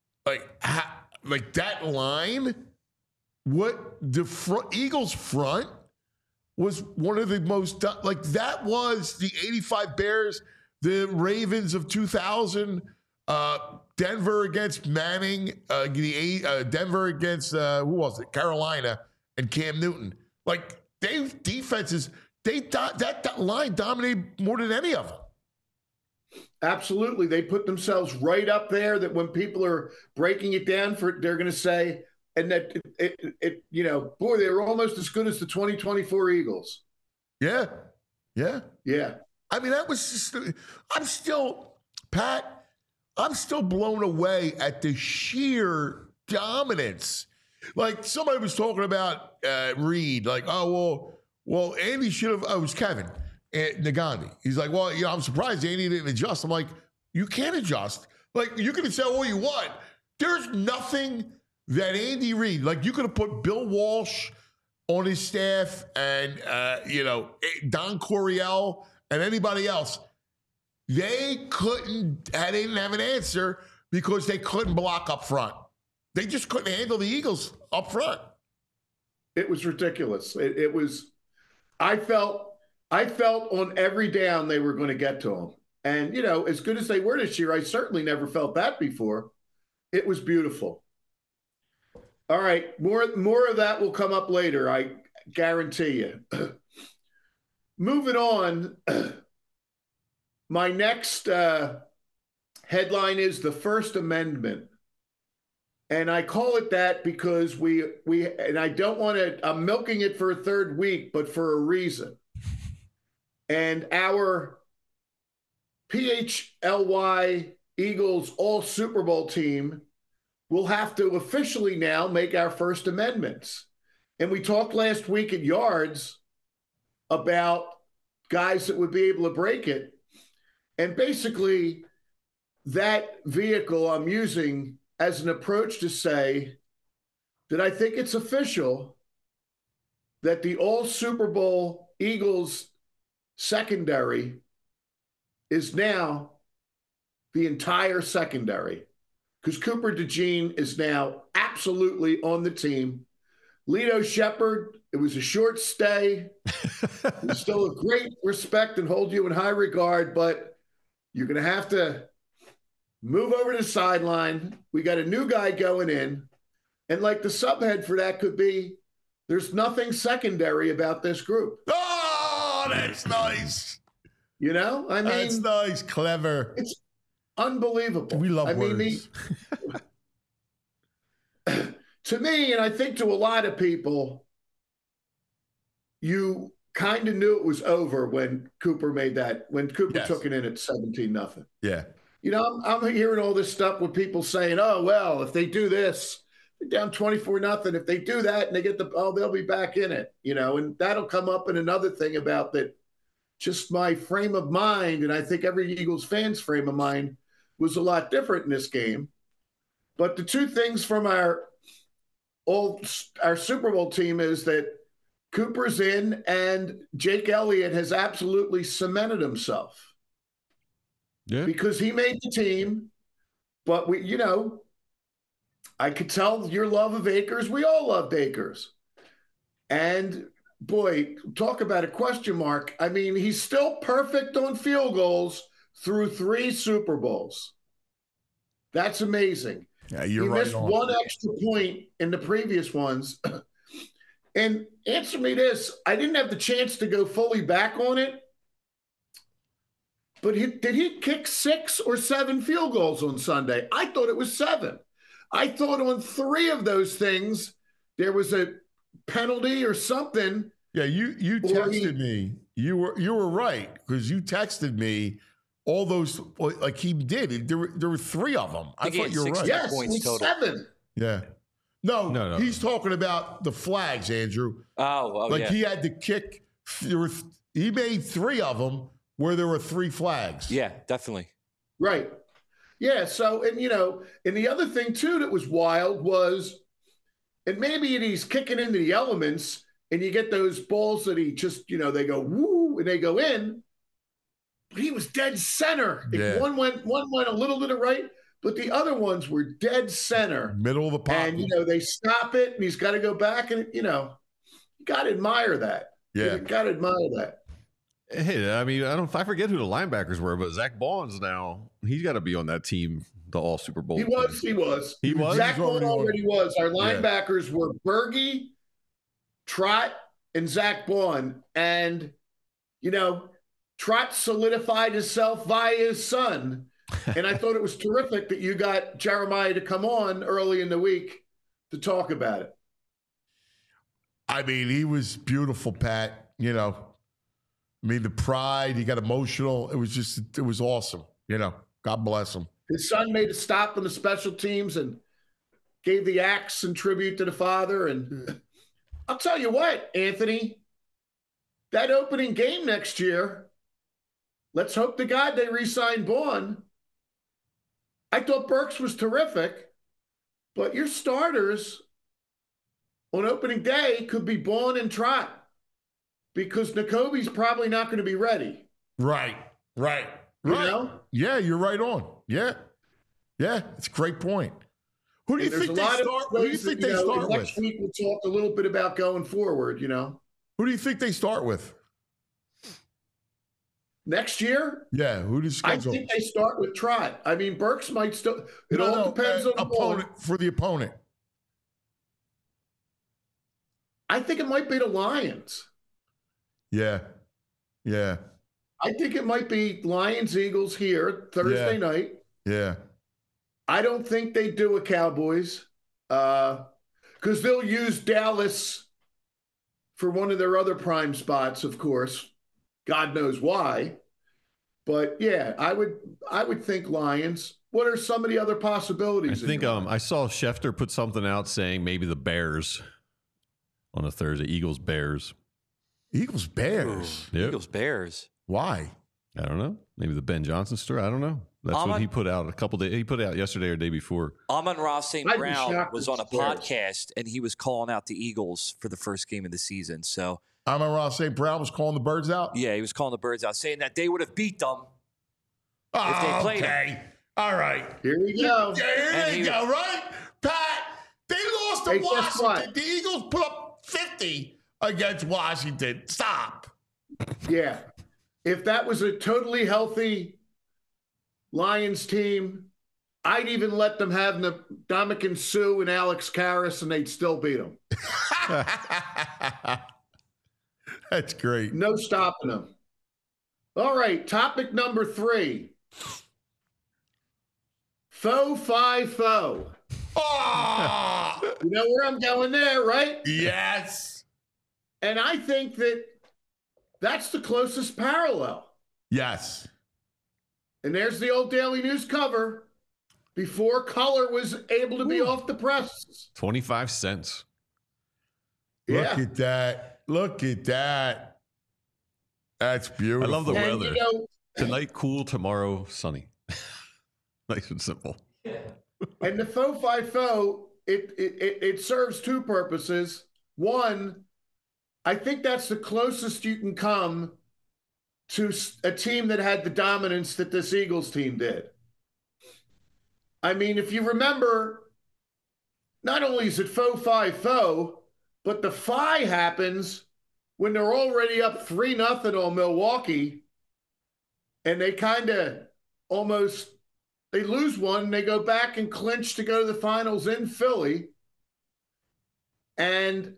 like that line, what the Eagles front was one of the most, like, that was the 85 Bears, the Ravens of 2000, Denver against Manning, Denver against, who was it? Carolina and Cam Newton. Like, that line dominated more than any of them. Absolutely. They put themselves right up there that when people are breaking it down they're going to say, and that boy, they were almost as good as the 2024 Eagles. Yeah. Yeah. Yeah. I mean, that was just, I'm still blown away at the sheer dominance. Like somebody was talking about Reed, like, well, Andy should have, it was Kevin Nagandi. He's like, well, I'm surprised Andy didn't adjust. I'm like, you can't adjust. Like, you can say all you want. There's nothing that Andy Reid, like you could have put Bill Walsh on his staff and, Don Coryell and anybody else. They didn't have an answer because they couldn't block up front. They just couldn't handle the Eagles up front. It was ridiculous. It was, I felt on every down they were going to get to them. And, as good as they were this year, I certainly never felt that before. It was beautiful. All right, more of that will come up later, I guarantee you. Moving on, my next headline is the First Amendment. And I call it that because and I don't want to, I'm milking it for a third week, but for a reason. And our PHLY Eagles All Super Bowl team will have to officially now make our First Amendments. And we talked last week at Yards about guys that would be able to break it. And basically, that vehicle I'm using as an approach to say that I think it's official that the All Super Bowl Eagles secondary is now the entire secondary, because Cooper DeJean is now absolutely on the team. Lito Shepherd, it was a short stay. We still have great respect and hold you in high regard, but you're going to have to move over to the sideline. We got a new guy going in. And like the subhead for that could be, there's nothing secondary about this group. Oh, that's nice. I mean, that's nice, clever. It's unbelievable. We love words. To me, and I think to a lot of people, you kind of knew it was over when Cooper took it in at 17-0. Yeah. I'm hearing all this stuff with people saying, oh, well, if they do this, they're down 24-0. If they do that and they get they'll be back in it, and that'll come up in another thing about that. Just my frame of mind, and I think every Eagles fan's frame of mind was a lot different in this game. But the two things from our Super Bowl team is that Cooper's in and Jake Elliott has absolutely cemented himself. Yeah. Because he made the team, but I could tell your love of Akers. We all loved Akers. And boy, talk about a question mark. I mean, he's still perfect on field goals through 3 Super Bowls. That's amazing. Yeah, you're he right. He missed one extra point in the previous ones. And answer me this. I didn't have the chance to go fully back on it. But did he kick 6 or 7 field goals on Sunday? I thought it was 7. I thought on 3 of those things, there was a penalty or something. Yeah, you texted me. You were right, because you texted me all those, like he did. There were 3 of them. I thought you were right. Yes, it was 7. Yeah. No. He's talking about the flags, Andrew. Yeah. He had to kick. He made 3 of them where there were 3 flags. Yeah, definitely. Right. Yeah. So, and the other thing too that was wild was, and maybe he's kicking into the elements, and you get those balls that he just, they go woo and they go in. But he was dead center. Yeah. One went a little to the right, but the other ones were dead center, middle of the pocket. And they stop it, and he's got to go back, and you got to admire that. Yeah, you got to admire that. Hey, I mean, I forget who the linebackers were, but Zach Bond's now, he's got to be on that team, the All Super Bowl. He was. Zach Bond already was. Our linebackers were Berge, Trott, and Zach Bond. And, Trot solidified himself via his son. And I thought it was terrific that you got Jeremiah to come on early in the week to talk about it. I mean, he was beautiful, Pat. You know, I mean, the pride, he got emotional. It was awesome. You know, God bless him. His son made a stop on the special teams and gave the axe in tribute to the father. And I'll tell you what, Anthony, that opening game next year, let's hope to God they re-sign Bourne. I thought Burks was terrific, but your starters on opening day could be Bourne and Trot because Nakobe's probably not going to be ready. Right. You know? Yeah, you're right on. Yeah, it's a great point. Who do you think they start? Who do you think they start with? Next week we'll talk a little bit about going forward. You know, who do you think they start with next year? Yeah, who does? I think they start with Trot. I mean, Burks might still. It all depends on the opponent for the opponent. I think it might be the Lions. Yeah. I think it might be Lions Eagles here Thursday night. Yeah. I don't think they do a Cowboys because they'll use Dallas for one of their other prime spots, of course. God knows why. But yeah, I would think Lions. What are some of the other possibilities? I think I saw Schefter put something out saying maybe the Bears on a Thursday. Eagles-Bears. Eagles-Bears? Yep. Eagles-Bears. Why? I don't know. Maybe the Ben Johnson story. I don't know. That's what he put out a couple days. He put it out yesterday or the day before. Amon-Ra St. Brown was on a podcast, and he was calling out the Eagles for the first game of the season. So Amon-Ra St. Brown was calling the Birds out? Yeah, he was calling the Birds out, saying that they would have beat them if they played them. All right. Here we go. Here they go, right? Pat, they lost to Washington. The Eagles put up 50 against Washington. Stop. Yeah. If that was a totally healthy Lions team, I'd even let them have Ndamukong Suh and Alex Karras, and they'd still beat them. That's great. No stopping them. All right, topic number 3. Faux fi faux. Oh! You know where I'm going there, right? Yes. And I think that's the closest parallel. Yes. And there's the old Daily News cover before color was able to be off the press. 25 cents. Yeah. Look at that. That's beautiful. I love the weather. Tonight, cool. Tomorrow, sunny. Nice and simple. And the faux fi faux, it serves two purposes. One, I think that's the closest you can come to a team that had the dominance that this Eagles team did. I mean, if you remember, not only is it faux fi faux, but the fi happens when they're already up 3-0 on Milwaukee, and they kind of almost, they lose one, they go back and clinch to go to the finals in Philly. And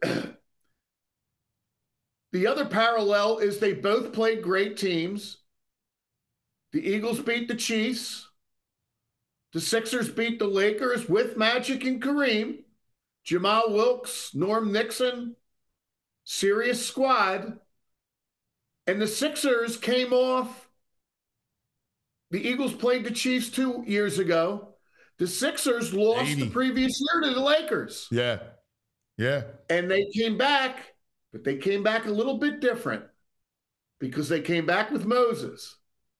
the other parallel is they both played great teams. The Eagles beat the Chiefs. The Sixers beat the Lakers with Magic and Kareem. Jamal Wilkes, Norm Nixon, serious squad. And the Sixers came off. The Eagles played the Chiefs 2 years ago. The Sixers lost the previous year to the Lakers. Yeah. Yeah. And they came back, but they came back a little bit different because they came back with Moses.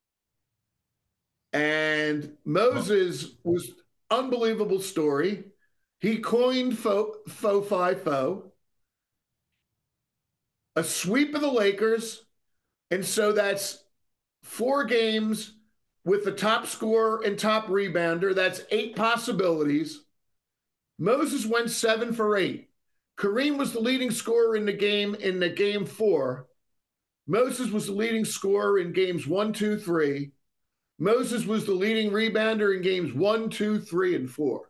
And Moses was unbelievable story. He coined faux fi faux, a sweep of the Lakers. And so that's 4 games with the top scorer and top rebounder. That's 8 possibilities. Moses went 7 for 8. Kareem was the leading scorer in the game 4. Moses was the leading scorer in games 1, 2, 3. Moses was the leading rebounder in games 1, 2, 3, and 4.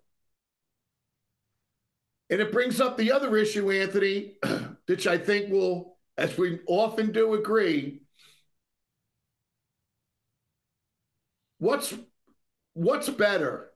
And it brings up the other issue, Anthony, which I think will, as we often do agree, what's better?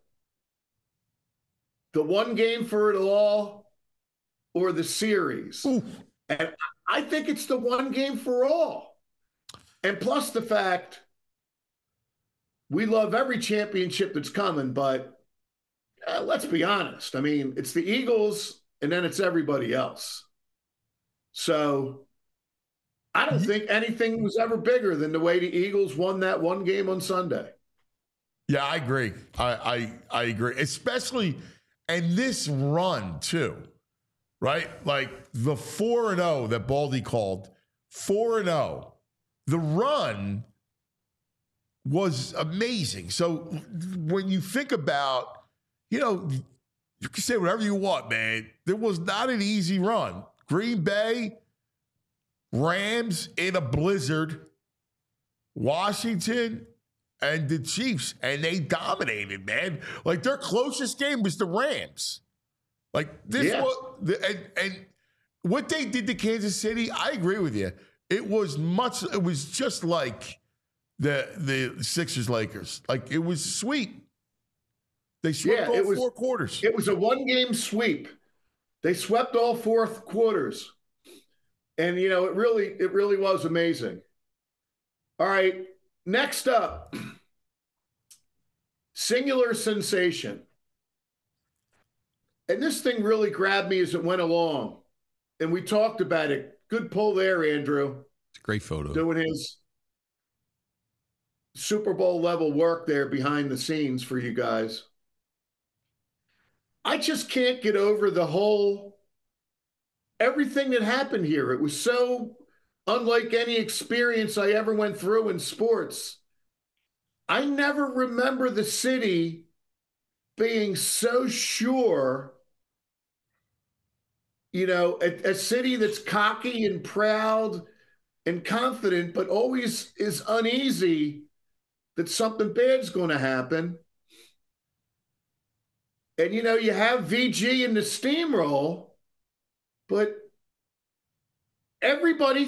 The one game for it all or the series? Ooh. And I think it's the one game for all. And plus the fact we love every championship that's coming, but let's be honest. I mean, it's the Eagles and then it's everybody else. So I don't think anything was ever bigger than the way the Eagles won that one game on Sunday. Yeah, I agree. I agree. Especially, and this run too, right? Like the 4-0 that Baldy called, 4-0. The run was amazing. So when you think about, you can say whatever you want, man. There was not an easy run. Green Bay, Rams in a blizzard, Washington, and the Chiefs, and they dominated, man. Like their closest game was the Rams. Like this was, and what they did to Kansas City, I agree with you. It was just like the Sixers Lakers. Like it was sweet. They swept all 4 quarters. It was a one-game sweep. They swept all 4 quarters. And, it really was amazing. All right, next up, singular sensation. And this thing really grabbed me as it went along. And we talked about it. Good pull there, Andrew. It's a great photo. Doing his Super Bowl level work there behind the scenes for you guys. I just can't get over everything that happened here. It was so unlike any experience I ever went through in sports. I never remember the city being so sure, a city that's cocky and proud and confident, but always is uneasy that something bad's going to happen. And, you have VG in the steamroll, but everybody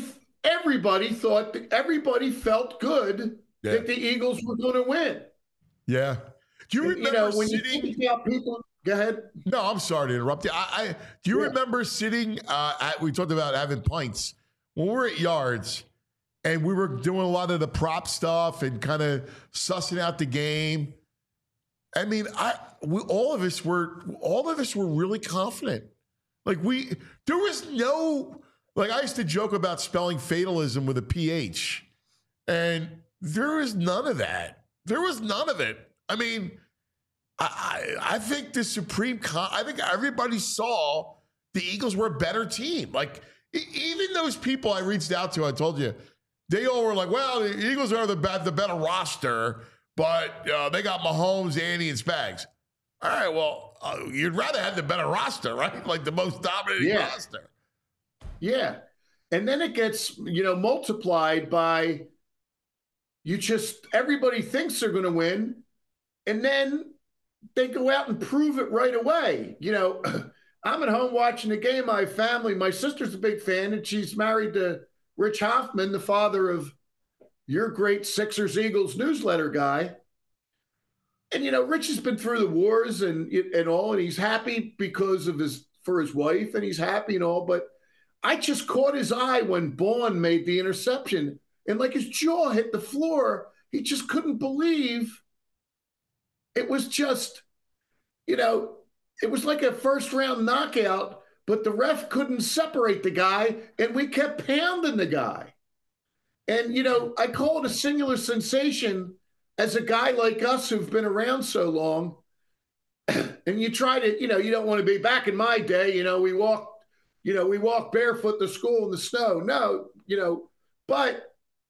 felt good that the Eagles were going to win. Yeah. Do you remember when you think about people? Go ahead. No, I'm sorry to interrupt you. Do you remember sitting we talked about having pints when we were at Yards and we were doing a lot of the prop stuff and kind of sussing out the game. I mean, all of us were really confident. Like there was no, like I used to joke about spelling fatalism with a PH, and there was none of that. There was none of it. I mean, I think I think everybody saw the Eagles were a better team. Like even those people I reached out to, I told you, they all were like, well, the Eagles are the better roster, but they got Mahomes, Andy, and Spags. All right, well, you'd rather have the better roster, right? Like the most dominating roster. Yeah. And then it gets, multiplied by everybody thinks they're going to win. And then they go out and prove it right away. I'm at home watching the game. My family, my sister's a big fan, and she's married to Rich Hoffman, the father of your great Sixers Eagles newsletter guy. And, Rich has been through the wars and all, and he's happy because of for his wife, and he's happy and all. But I just caught his eye when Bourne made the interception, and like his jaw hit the floor. He just couldn't believe it was just, it was like a first-round knockout, but the ref couldn't separate the guy, and we kept pounding the guy. And, I call it a singular sensation as a guy like us who've been around so long. And you try to, you don't want to be back in my day, we walk barefoot to school in the snow. No, but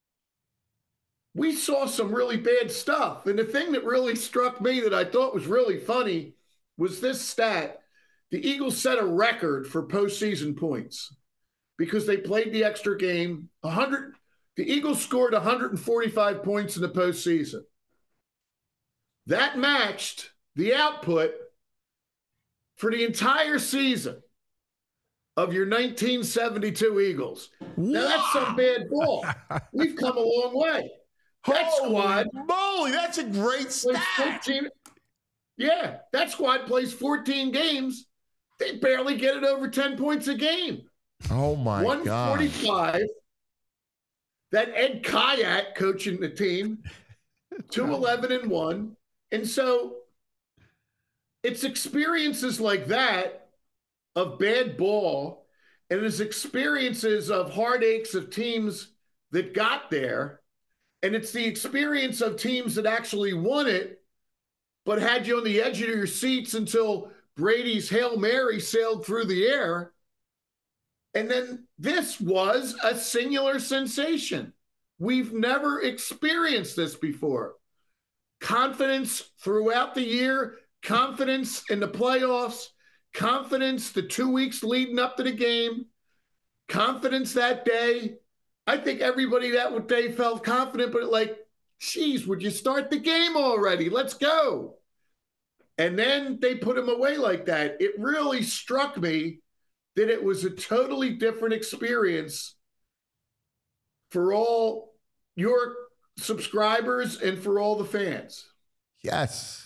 we saw some really bad stuff. And the thing that really struck me that I thought was really funny was this stat. The Eagles set a record for postseason points because they played the extra game. The Eagles scored 145 points in the postseason. That matched the output for the entire season of your 1972 Eagles. Now, that's some bad ball. We've come a long way. That squad. Moly, that's a great stat. Yeah, that squad plays 14 games. They barely get it over 10 points a game. Oh, my God. 145. That Ed Kayak coaching the team. 2-11-1. And so it's experiences like that of bad ball, and it's experiences of heartaches of teams that got there, and it's the experience of teams that actually won it but had you on the edge of your seats until Brady's Hail Mary sailed through the air. And then this was a singular sensation. We've never experienced this before. Confidence throughout the year, confidence in the playoffs, confidence the 2 weeks leading up to the game, confidence that day. I think everybody that day felt confident, but like, geez, would you start the game already? Let's go. And then they put him away like that. It really struck me that it was a totally different experience for all your subscribers and for all the fans. Yes.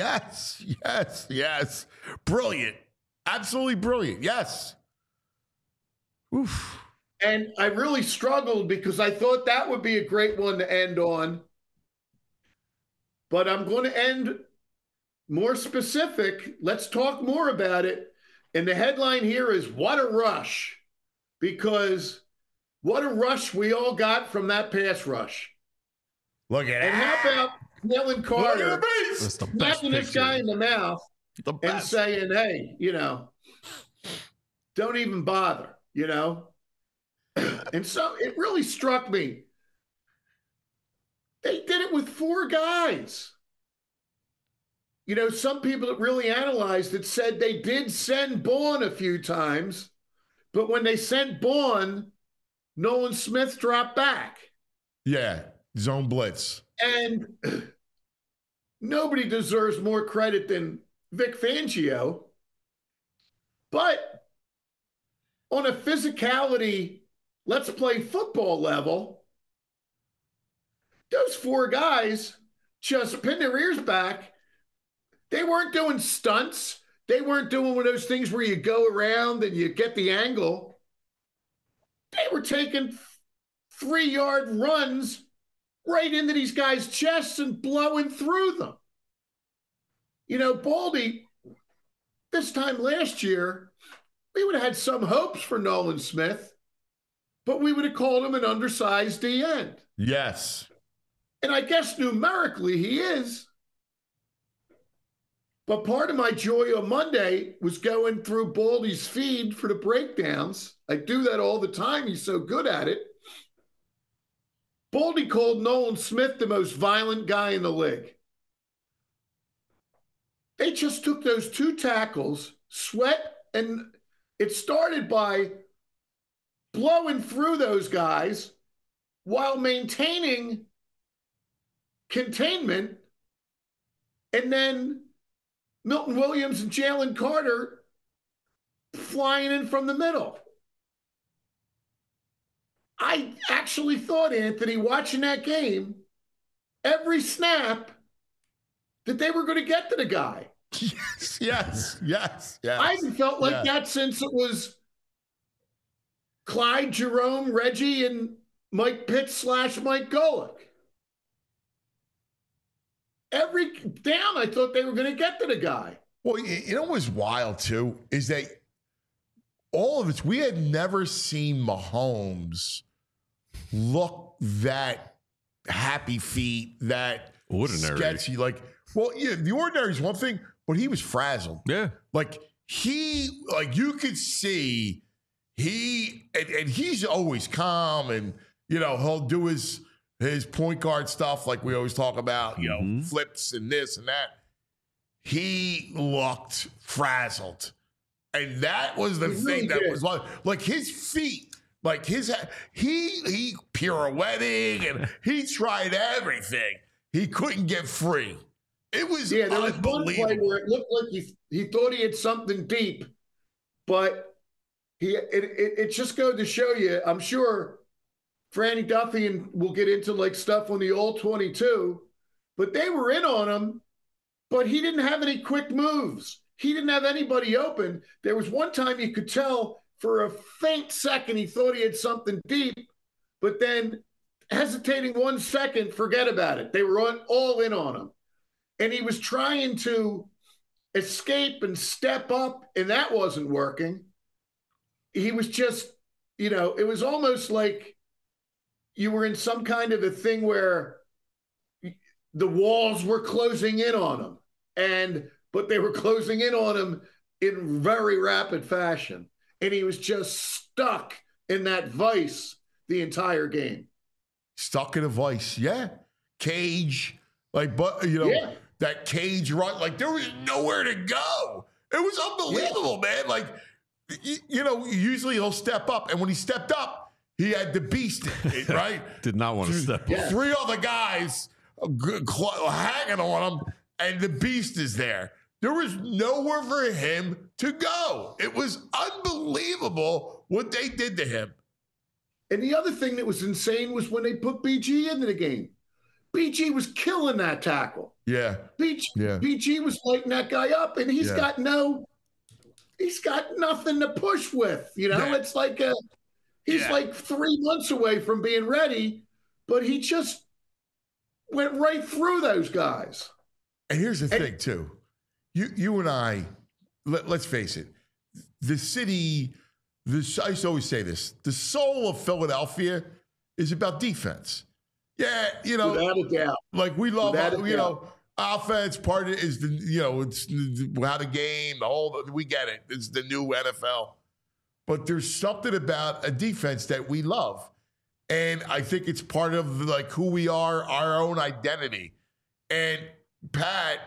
Brilliant. Absolutely brilliant. Yes. Oof. And I really struggled because I thought that would be a great one to end on. But I'm going to end more specific. Let's talk more about it. And the headline here is "What a Rush," because what a rush we all got from that pass rush. Look at and that. How about Jalen Carter smacking this guy in the mouth and saying, hey, don't even bother, And so it really struck me. They did it with 4 guys. Some people that really analyzed it said they did send Bourne a few times, but when they sent Bourne, Nolan Smith dropped back. Yeah, zone blitz. And nobody deserves more credit than Vic Fangio. But on a physicality, let's play football level, those 4 guys just pinned their ears back. They weren't doing stunts. They weren't doing one of those things where you go around and you get the angle. They were taking 3-yard runs right into these guys' chests and blowing through them. Baldy, this time last year, we would have had some hopes for Nolan Smith, but we would have called him an undersized D end. Yes. And I guess numerically he is. But part of my joy on Monday was going through Baldy's feed for the breakdowns. I do that all the time. He's so good at it. Baldy called Nolan Smith the most violent guy in the league. They just took those 2 tackles, Sweat, and it started by blowing through those guys while maintaining containment, and then Milton Williams and Jalen Carter flying in from the middle. I actually thought, Anthony, watching that game, every snap, that they were going to get to the guy. Yes. I haven't felt like that since it was Clyde, Jerome, Reggie, and Mike Pitts / Mike Golick. Every down, I thought they were going to get to the guy. Well, what was wild, too, is that all of us, we had never seen Mahomes look that happy feet, that ordinary. Sketchy. The ordinary is one thing, but he was frazzled. Yeah. You could see and he's always calm and, he'll do his point guard stuff like we always talk about, flips and this and that. He looked frazzled. And that was the thing that was like his feet, he pirouetting and he tried everything. He couldn't get free. It was there was one play where it looked like he thought he had something deep, but it just goes to show you, I'm sure Franny Duffy, and we'll get into like stuff on the all 22, but they were in on him, but he didn't have any quick moves. He didn't have anybody open. There was one time you could tell for a faint second he thought he had something deep, but then hesitating 1 second, forget about it. They were all in on him. And he was trying to escape and step up, and that wasn't working. He was just, it was almost like you were in some kind of a thing where the walls were closing in on him, but they were closing in on him in very rapid fashion. And he was just stuck in that vice the entire game. Stuck in a vice, yeah. Cage, that cage run, like there was nowhere to go. It was unbelievable, man. Like, usually he'll step up, and when he stepped up, he had the beast, right? Did not want to step up. 3 other guys hanging on him, and the beast is there. There was nowhere for him to go. It was unbelievable what they did to him. And the other thing that was insane was when they put BG into the game. BG was killing that tackle. Yeah. BG was lighting that guy up, and he's got nothing to push with. It's like he's like 3 months away from being ready, but he just went right through those guys. And here's the thing, too. You and I, let's face it, the city, I used to always say this, the soul of Philadelphia is about defense. Yeah, without a doubt. Like we love, offense. Part of it is it's how the game, we get it. It's the new NFL. But there's something about a defense that we love. And I think it's part of like who we are, our own identity. And Pat,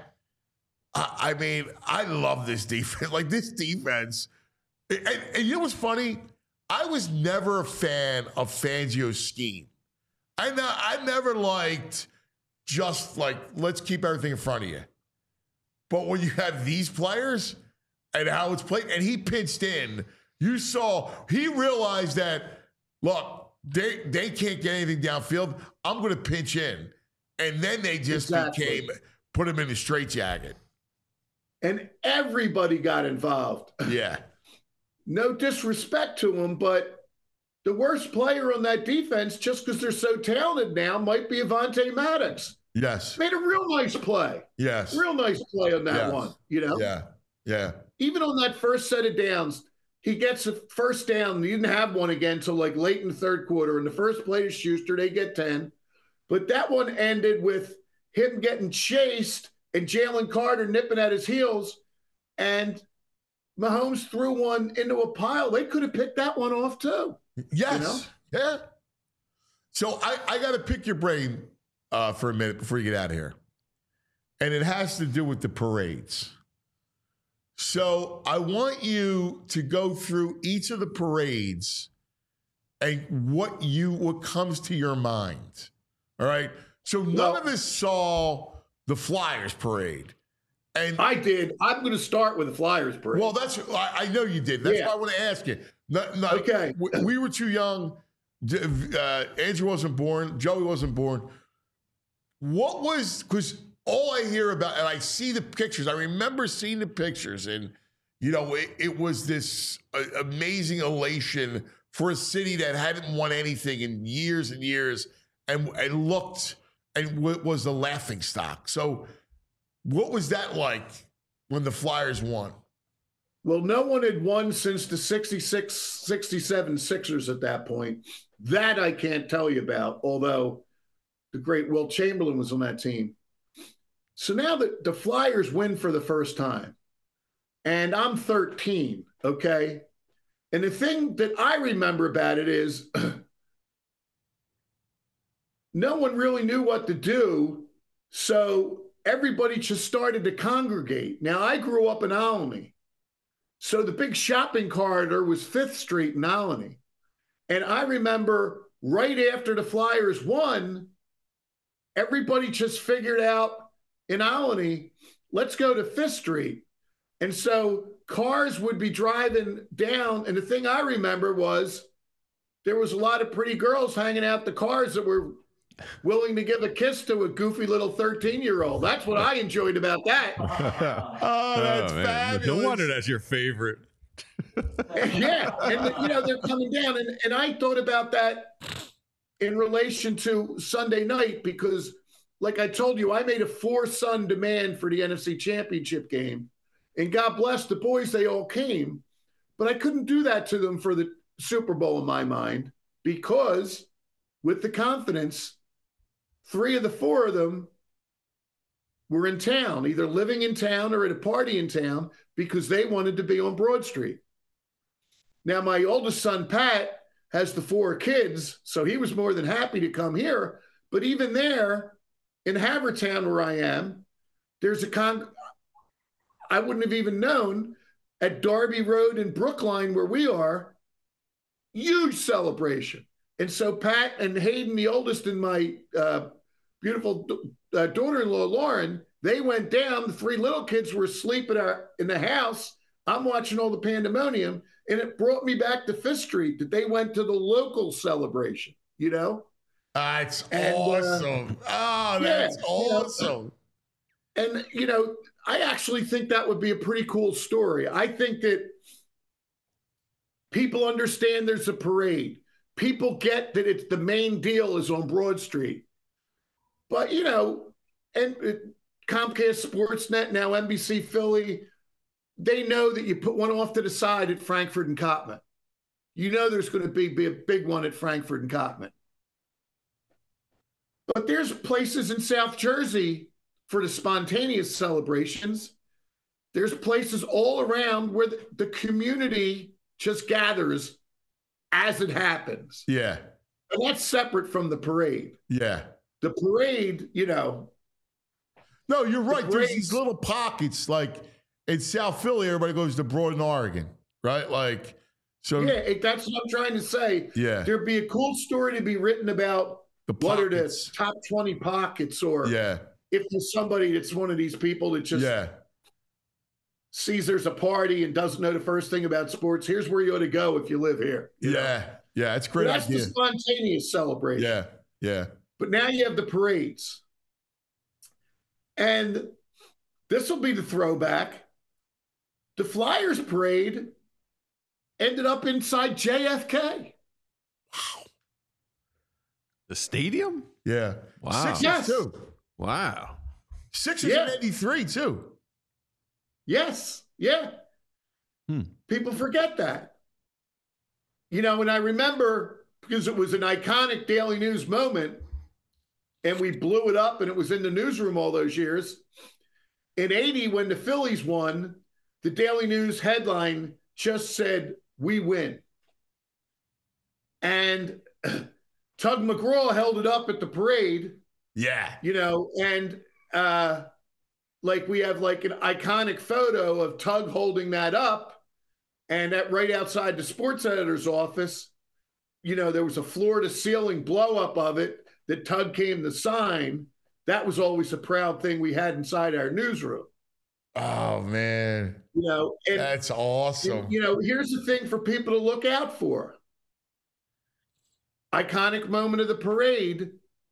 I love this defense. Like this defense. And you know what's funny? I was never a fan of Fangio's scheme. I never liked just like, let's keep everything in front of you. But when you have these players and how it's played, and he pitched in, you saw, he realized that, look, they can't get anything downfield. I'm going to pitch in. And then they just put him in a straitjacket. And everybody got involved. Yeah. No disrespect to him, but the worst player on that defense, just because they're so talented now, might be Avonte Maddox. Yes. Made a real nice play. Yes. Real nice play on that one, Yeah. Yeah. Even on that first set of downs, he gets a first down. He didn't have one again until like late in the third quarter. And the first play to Schuster, they get 10. But that one ended with him getting chased and Jalen Carter nipping at his heels. And Mahomes threw one into a pile. They could have picked that one off too. Yes. Yeah. So I got to pick your brain for a minute before you get out of here. And it has to do with the parades. So I want you to go through each of the parades and what comes to your mind. All right. So none of us saw the Flyers parade. And I did. I'm going to start with the Flyers parade. Well, I know you did. That's why I want to ask you. Okay. We were too young. Andrew wasn't born. Joey wasn't born. Because all I hear about, and I see the pictures, I remember seeing the pictures, and, it was this amazing elation for a city that hadn't won anything in years and years and looked and was the laughing stock. So what was that like when the Flyers won? Well, no one had won since the 66, 67 Sixers at that point. That I can't tell you about, although the great Wilt Chamberlain was on that team. So now the Flyers win for the first time, and I'm 13, okay? And the thing that I remember about it is no one really knew what to do, so everybody just started to congregate. Now, I grew up in Albany. So the big shopping corridor was 5th Street in Albany. And I remember right after the Flyers won, everybody just figured out in Albany, let's go to 5th Street. And so cars would be driving down. And the thing I remember was there was a lot of pretty girls hanging out the cars that were willing to give a kiss to a goofy little 13-year-old. That's what I enjoyed about that. That's fabulous. No wonder that's your favorite. Yeah, and they're coming down, and I thought about that in relation to Sunday night because, like I told you, I made a 4-son demand for the NFC Championship game, and God bless the boys, they all came, but I couldn't do that to them for the Super Bowl in my mind because with the confidence, 3 of the 4 of them were in town, either living in town or at a party in town because they wanted to be on Broad Street. Now, my oldest son, Pat, has the 4 kids, so he was more than happy to come here. But even there, in Havertown, where I am, there's I wouldn't have even known, at Darby Road in Brookline, where we are, huge celebration. And so Pat and Hayden, the oldest, and my beautiful daughter-in-law, Lauren, they went down. The 3 little kids were asleep in the house. I'm watching all the pandemonium, and it brought me back to Fifth Street that they went to the local celebration, That's awesome. That's awesome. And, I actually think that would be a pretty cool story. I think that people understand there's a parade. People get that it's the main deal is on Broad Street. But, and Comcast Sportsnet, now NBC Philly, they know that you put one off to the side at Frankfurt and Cottman. There's going to be a big one at Frankfurt and Cottman. But there's places in South Jersey for the spontaneous celebrations. There's places all around where the community just gathers as it happens. Yeah. And that's separate from the parade. Yeah. The parade, No, you're right. There's these little pockets, like in South Philly, everybody goes to Broad and Oregon, right? Yeah, that's what I'm trying to say. Yeah. There'd be a cool story to be written about what are the top 20 pockets, or if there's somebody that's one of these people that just sees there's a party and doesn't know the first thing about sports, here's where you ought to go if you live here. Yeah, it's a great idea. That's the spontaneous celebration. Yeah. But now you have the parades. And this will be the throwback. The Flyers parade ended up inside JFK. Wow. The stadium? Yeah. Wow. Sixers too. Wow. Sixers in 83 too. Yes. Yeah. People forget that. And I remember, because it was an iconic Daily News moment, and we blew it up and it was in the newsroom all those years. In 80, when the Phillies won, the Daily News headline just said, "We win." And Tug McGraw held it up at the parade. Yeah. And we have an iconic photo of Tug holding that up. And right outside the sports editor's office, there was a floor to ceiling blow up of it that Tug came to sign. That was always a proud thing we had inside our newsroom. Oh, man. That's awesome. Here's the thing for people to look out for. Iconic moment of the parade,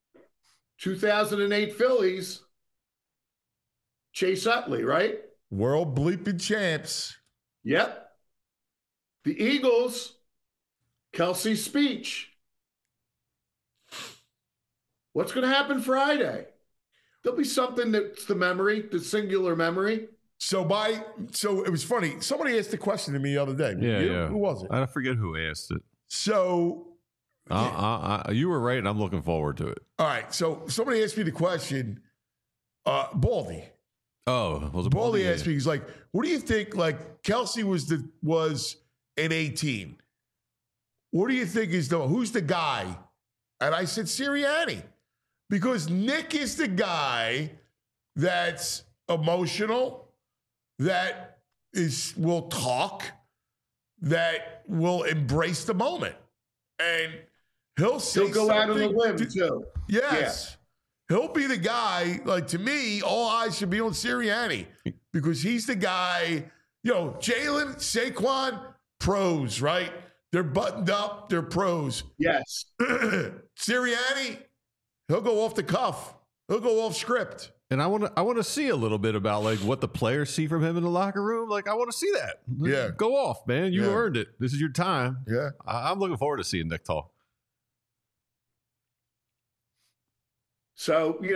2008 Phillies, Chase Utley, right? World bleeping champs. Yep. The Eagles, Kelsey's speech. What's going to happen Friday? There'll be something that's the singular memory. So it was funny. Somebody asked the question to me the other day. Yeah. Who was it? I forget who asked it. So you were right, and I'm looking forward to it. All right. So somebody asked me the question. Baldy. Oh, was it Baldy asked me? He's like, "What do you think? Kelsey was in 18. What do you think who's the guy?" And I said Sirianni, because Nick is the guy that's emotional, that will talk, that will embrace the moment, and he'll go out on a limb too. Yes. Yeah. He'll be the guy, to me, all eyes should be on Sirianni, because he's the guy, Jalen, Saquon, pros, right? They're buttoned up. They're pros. Yes. Sirianni, he'll go off the cuff. He'll go off script. And I want to see a little bit about like what the players see from him in the locker room. Like I want to see that. Yeah. Go off, man. You earned it. This is your time. Yeah. I'm looking forward to seeing Nick talk. So,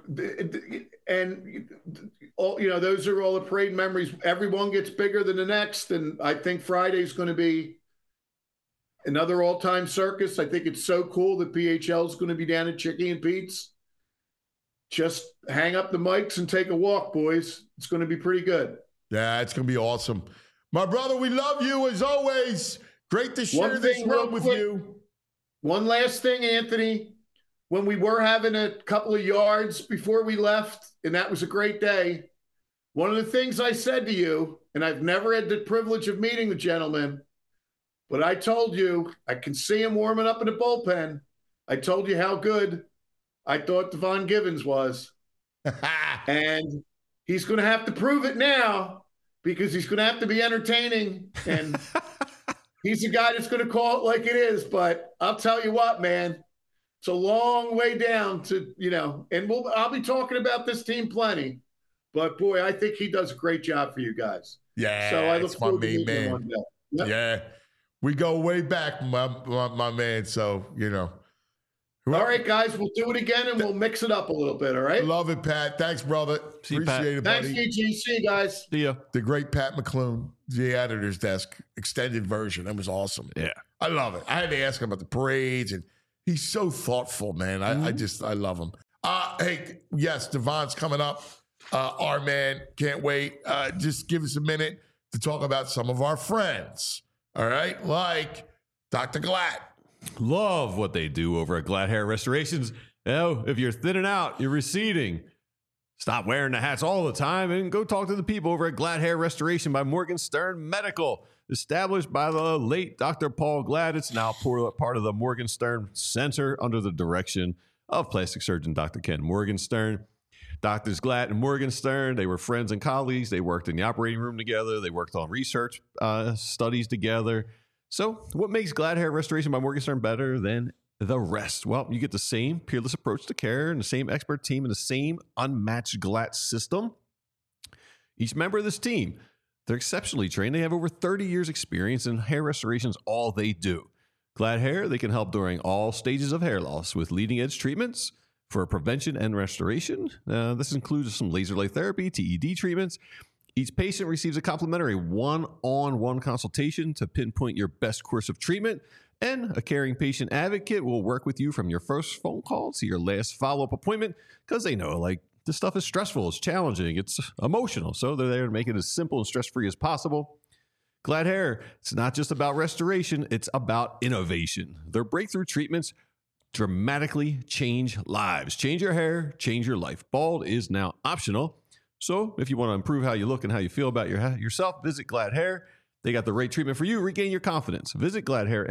and all, those are all the parade memories. Everyone gets bigger than the next. And I think Friday's going to be another all-time circus. I think it's so cool that PHL is going to be down at Chicky and Pete's. Just hang up the mics and take a walk, boys. It's going to be pretty good. Yeah, it's going to be awesome. My brother, we love you as always. Great to share this room with you. One last thing, Anthony. When we were having a couple of yards before we left, and that was a great day, one of the things I said to you, and I've never had the privilege of meeting the gentleman, but I told you, I can see him warming up in the bullpen. I told you how good I thought Devon Givens was. And he's going to have to prove it now because he's going to have to be entertaining. And he's the guy that's going to call it like it is. But I'll tell you what, man. It's a long way down to, and I'll be talking about this team plenty. But, boy, I think he does a great job for you guys. Yeah, so I look forward to meeting him one day. Yep. Yeah, we go way back, my man. So, All right, guys, we'll do it again, and we'll mix it up a little bit, all right? Love it, Pat. Thanks, brother. See you, Appreciate Pat. it, buddy. Thanks, EG. See you guys. See ya. The great Pat McClune, the editor's desk, extended version. That was awesome. Yeah. I love it. I had to ask him about the parades, and he's so thoughtful, man. I love him. Hey, yes, Devon's coming up. Our man, can't wait. Just give us a minute to talk about some of our friends, all right? Like Dr. Glatt. Love what they do over at Glatt Hair Restorations. If you're thinning out, you're receding, stop wearing the hats all the time and go talk to the people over at Glatt Hair Restoration by Morgan Stern Medical. Established by the late Dr. Paul Glatt, it's now part of the Morgan Stern Center under the direction of plastic surgeon Dr. Ken Morgenstern. Doctors Glatt and Morgenstern, they were friends and colleagues. They worked in the operating room together. They worked on research studies together. So what makes Glatt Hair Restoration by Morgenstern better than the rest? Well, you get the same peerless approach to care and the same expert team and the same unmatched Glatt system. Each member of this team, they're exceptionally trained. They have over 30 years experience in hair restoration is all they do. Glatt Hair, they can help during all stages of hair loss with leading edge treatments for prevention and restoration. This includes some laser light therapy, TED treatments. Each patient receives a complimentary one-on-one consultation to pinpoint your best course of treatment, and a caring patient advocate will work with you from your first phone call to your last follow-up appointment because they know, this stuff is stressful, it's challenging, it's emotional, so they're there to make it as simple and stress-free as possible. Glatt Hair, it's not just about restoration, it's about innovation. Their breakthrough treatments dramatically change lives. Change your hair, change your life. Bald is now optional. So if you want to improve how you look and how you feel about yourself, visit Glatt Hair. They got the right treatment for you. Regain your confidence. Visit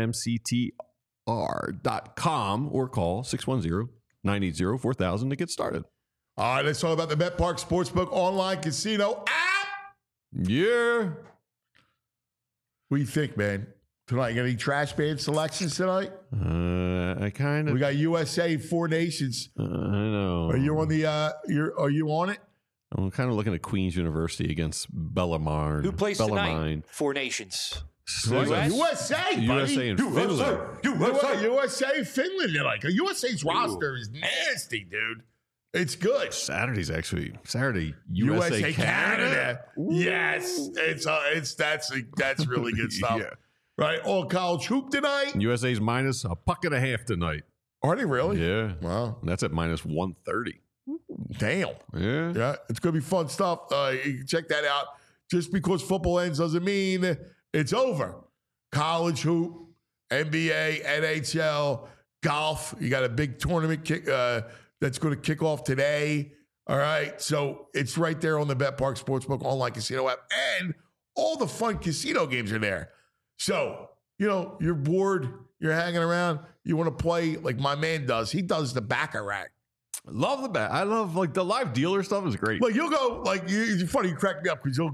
GlattHairMCTR.com or call 610-980-4000 to get started. All right, let's talk about the BetPark Sportsbook online casino app. Yeah. What do you think, man? Tonight, you got any trash band selections tonight? I kind of. We got USA, Four Nations. I know. Are you on the? Are you on it? I'm kind of looking at Queen's University against Bellarmine. Who plays tonight? Four Nations. USA, buddy. USA and Finland. USA, Finland. USA's roster is nasty, dude. It's good. Saturday, USA Canada. Yes, that's really good stuff. Yeah. Right, all college hoop tonight. USA's minus a puck and a half tonight. Are they really? Yeah. Wow. And that's at minus 130. Damn. Yeah. It's going to be fun stuff. You can check that out. Just because football ends doesn't mean it's over. College hoop, NBA, NHL, golf. You got a big tournament that's going to kick off today. All right. So it's right there on the BetPark Sportsbook online casino app. And all the fun casino games are there. So, you're bored, you're hanging around, you want to play like my man does. He does the Baccarat. Love the back. I love the live dealer stuff is great. You'll go, it's funny, you crack me up because you'll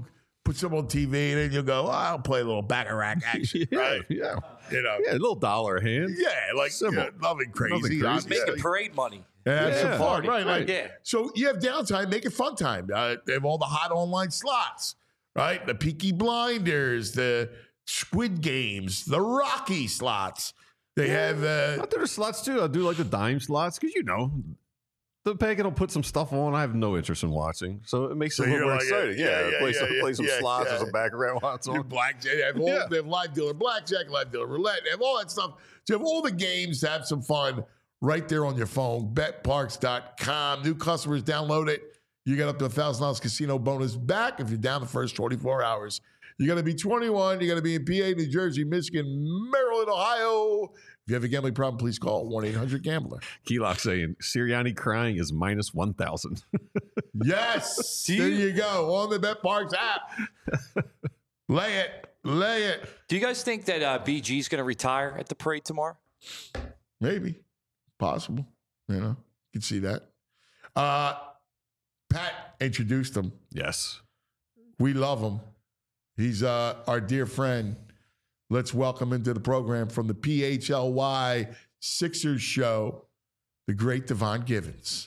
put some on TV, and then you'll go, I'll play a little baccarat action, right? Yeah. You know, Yeah, a little dollar a hand. yeah, like nothing crazy. Just making parade money. Have some fun, right? Yeah. So you have downtime, make it fun time. They have all the hot online slots, right? The Peaky Blinders, the Squid Games, the Rocky slots. They have. I do the slots too. I do like the dime slots because the pagan will put some stuff on I have no interest in watching, so it makes it a little more exciting. Play some slots or some background slots on. Blackjack. They have live dealer blackjack, live dealer roulette. They have all that stuff. So you have all the games to have some fun right there on your phone. BetParks.com. New customers download it. You get up to $1,000 casino bonus back if you're down the first 24 hours. You got to be 21. You got to be in PA, New Jersey, Michigan, Maryland, Ohio. If you have a gambling problem, please call 1-800-GAMBLER. Keylock saying Sirianni crying is minus 1,000. Yes. There you go. On the BetParks app. Lay it. Do you guys think that BG is going to retire at the parade tomorrow? Maybe. Possible. You can see that. Pat introduced him. Yes. We love him. He's our dear friend. Let's welcome into the program from the PHLY Sixers show, the great Devon Givens.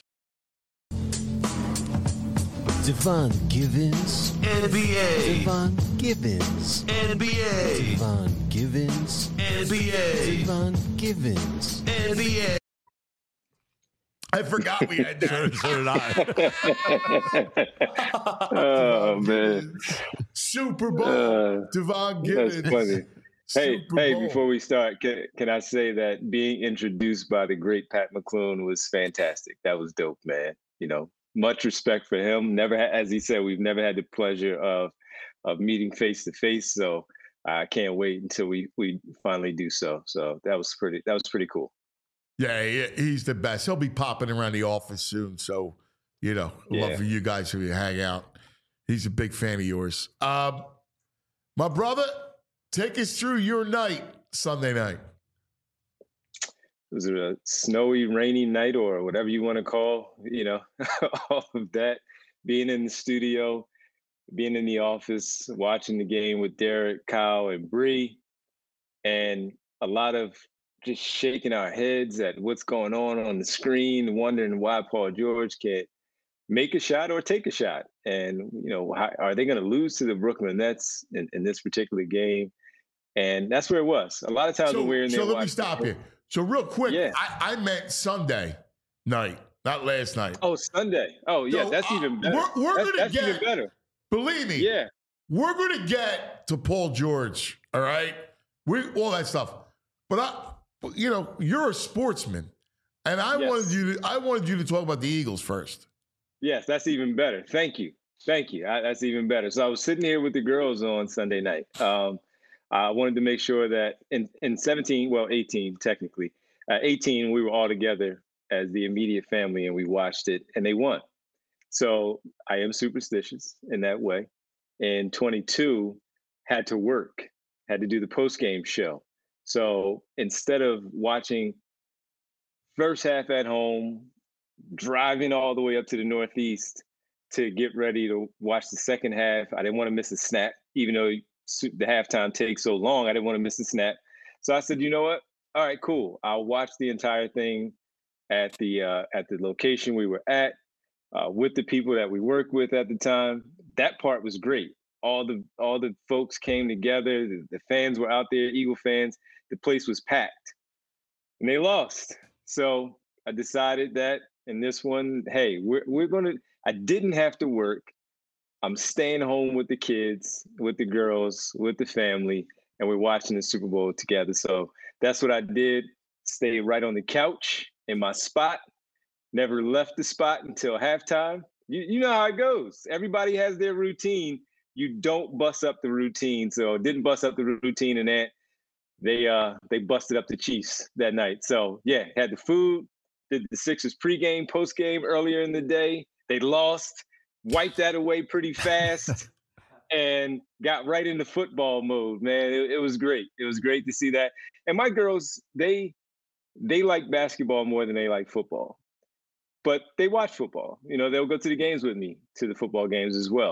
Devon Givens. NBA. Devon Givens. NBA. Devon Givens. NBA. Devon Givens. NBA. I forgot we had that. So did I. Oh, man. Super Bowl. Devon Givens. That's funny. Hey, before we start, can I say that being introduced by the great Pat McClune was fantastic. That was dope, man. Much respect for him. As he said, we've never had the pleasure of meeting face to face. So I can't wait until we finally do so. So that was pretty cool. Yeah, he's the best. He'll be popping around the office soon. So, love for you guys to hang out. He's a big fan of yours. My brother, take us through your night, Sunday night. Was it a snowy, rainy night or whatever you want to call, all of that? Being in the studio, being in the office, watching the game with Derek, Kyle, and Bree, and a lot of just shaking our heads at what's going on the screen, wondering why Paul George can't make a shot or take a shot. And, how, are they going to lose to the Brooklyn Nets in this particular game? And that's where it was. A lot of times when we're in there. So let me stop here. So real quick, I meant Sunday night, not last night. Oh, Sunday. Oh, yeah, that's even better. We're going to get even better. Believe me. Yeah. We're going to get to Paul George, all right? All that stuff. But you're a sportsman, and I wanted you to talk about the Eagles first. Yes, that's even better. Thank you. That's even better. So I was sitting here with the girls on Sunday night. I wanted to make sure that in 18 technically, 18 we were all together as the immediate family and we watched it and they won. So I am superstitious in that way. And 22 had to work, had to do the post-game show. So instead of watching first half at home, driving all the way up to the Northeast to get ready to watch the second half, I didn't want to miss a snap, even though the halftime takes so long. I didn't want to miss a snap. So I said, you know what? All right, cool. I'll watch the entire thing at the location we were at with the people that we worked with at the time. That part was great. All the folks came together. The fans were out there, Eagle fans. The place was packed, and they lost. So I decided that in this one, hey, we're gonna. I didn't have to work. I'm staying home with the kids, with the girls, with the family, and we're watching the Super Bowl together. So that's what I did. Stayed right on the couch in my spot. Never left the spot until halftime. You know how it goes. Everybody has their routine. You don't bust up the routine. So didn't bust up the routine, and that they busted up the Chiefs that night. So yeah, had the food. Did the Sixers pregame, postgame earlier in the day. They lost. Wiped that away pretty fast and got right into football mode, man. It was great. It was great to see that. And my girls, they like basketball more than they like football. But they watch football. They'll go to the games with me, to the football games as well.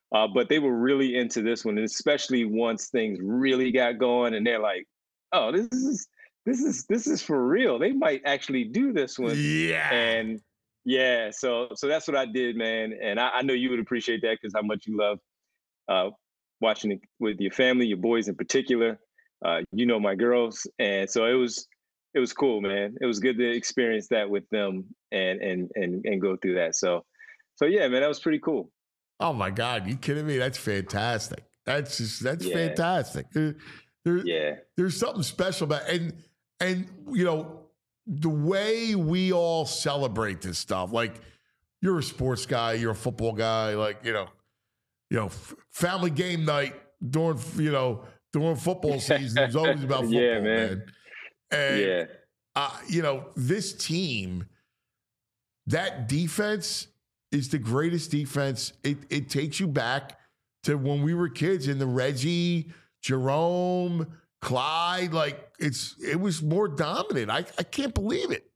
But they were really into this one, and especially once things really got going, and they're like, "Oh, this is for real. They might actually do this one." Yeah. And yeah, so that's what I did, man. And I know you would appreciate that because how much you love watching it with your family, your boys in particular. You know my girls, and so it was cool, man. It was good to experience that with them and go through that. So yeah, man, that was pretty cool. Oh my God, you kidding me? That's fantastic. That's fantastic. There's something special about and you know the way we all celebrate this stuff. Like you're a sports guy, you're a football guy. Like you know, family game night during football season is always about football, yeah, man. And you know, this team, that defense is the greatest defense. It takes you back to when we were kids in the Reggie, Jerome, Clyde. Like it was more dominant. I can't believe it.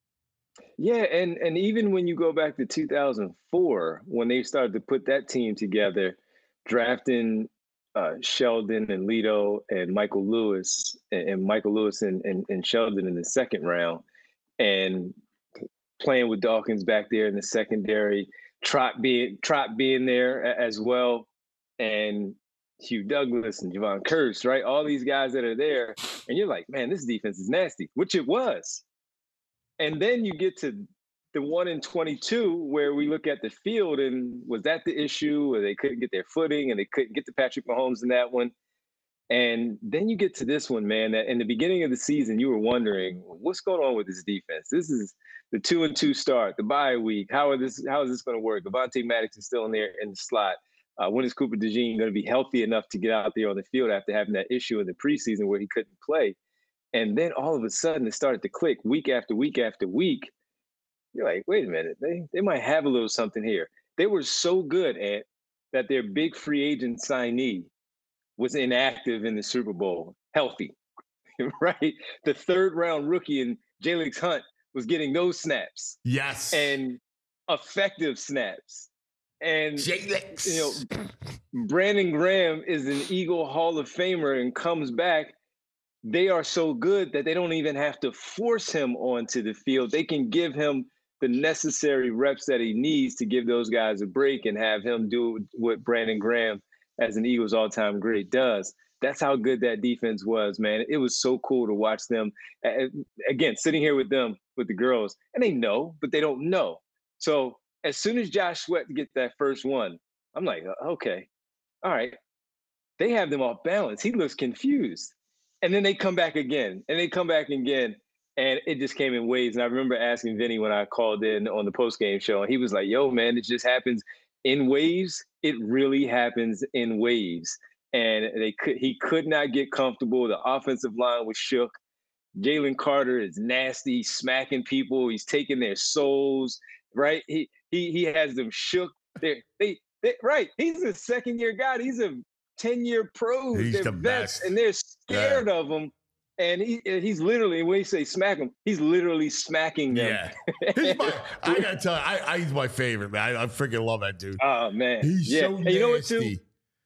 Yeah, and even when you go back to 2004, when they started to put that team together, drafting Sheldon and Lito and Michael Lewis and Sheldon in the second round, and playing with Dawkins back there in the secondary, Trot being there as well, and Hugh Douglas and Javon Kearse, right? All these guys that are there, and you're like, man, this defense is nasty, which it was. And then you get to the 1-22 where we look at the field, and was that the issue where they couldn't get their footing and they couldn't get to Patrick Mahomes in that one? And then you get to this one, man, that in the beginning of the season, you were wondering, what's going on with this defense? This is the 2-2 start, the bye week. How is this going to work? Avonte Maddox is still in there in the slot. When is Cooper DeJean going to be healthy enough to get out there on the field after having that issue in the preseason where he couldn't play? And then all of a sudden it started to click week after week after week. You're like, wait a minute, they might have a little something here. They were so good at that their big free agent signee was inactive in the Super Bowl, healthy, right? The third round rookie in Jalix Hunt was getting those snaps. Yes. And effective snaps. And Jalix. You know, Brandon Graham is an Eagle Hall of Famer and comes back. They are so good that they don't even have to force him onto the field. They can give him the necessary reps that he needs to give those guys a break and have him do what Brandon Graham, as an Eagles all-time great, does. That's how good that defense was, man. It was so cool to watch them. Again, sitting here with them, with the girls, and they know, but they don't know. So as soon as Josh Sweat gets that first one, I'm like, okay, all right. They have them off balance. He looks confused. And then they come back again, and it just came in waves. And I remember asking Vinny when I called in on the postgame show, and he was like, yo, man, it just happens in waves. It really happens in waves. And he could not get comfortable. The offensive line was shook. Jalen Carter is nasty, smacking people. He's taking their souls, right? He has them shook. Right. He's a second-year guy. He's a 10-year pro. He's they're the vets, best. and they're scared of him. And he's literally, when you say smack him, he's literally smacking them. Yeah. I gotta tell you, he's my favorite, man. I freaking love that dude. Oh man. He's so nasty. You know what, too?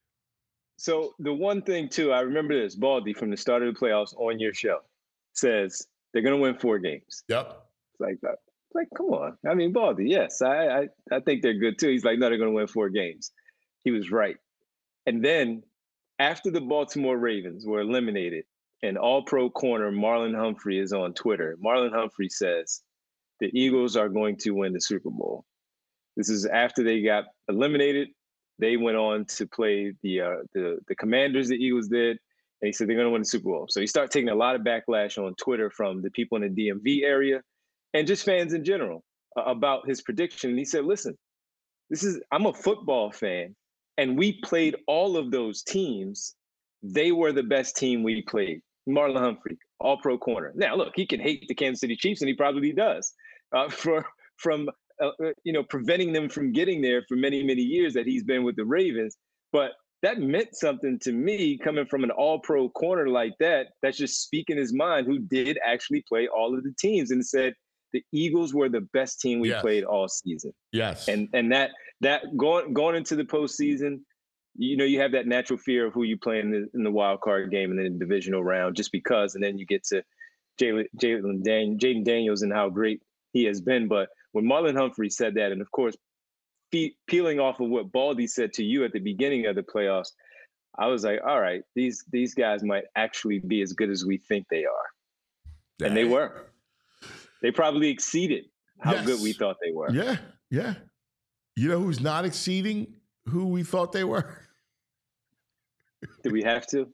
So the one thing too, I remember this, Baldy from the start of the playoffs on your show says they're gonna win 4 games. Yep. It's like that. Like, come on. I mean, Baldy, yes, I think they're good too. He's like, no, they're gonna win 4 games. He was right. And then after the Baltimore Ravens were eliminated, and all-pro corner Marlon Humphrey is on Twitter. Marlon Humphrey says, the Eagles are going to win the Super Bowl. This is after they got eliminated. They went on to play the Commanders, the Eagles did, and he said they're going to win the Super Bowl. So he started taking a lot of backlash on Twitter from the people in the DMV area and just fans in general about his prediction. And he said, listen, I'm a football fan, and we played all of those teams. They were the best team we played. Marlon Humphrey, all-pro corner. Now, look, he can hate the Kansas City Chiefs, and he probably does, from preventing them from getting there for many, many years that he's been with the Ravens. But that meant something to me coming from an all-pro corner like that, that's just speaking his mind, who did actually play all of the teams and said the Eagles were the best team we played all season. Yes. And that going into the postseason, you have that natural fear of who you play in the wild card game and then the divisional round, just because, and then you get to Jaden Daniels and how great he has been. But when Marlon Humphrey said that, and of course, peeling off of what Baldy said to you at the beginning of the playoffs, I was like, all right, these guys might actually be as good as we think they are. And they were. They probably exceeded how good we thought they were. Yeah, yeah. You know who's not exceeding who we thought they were? Do we have to?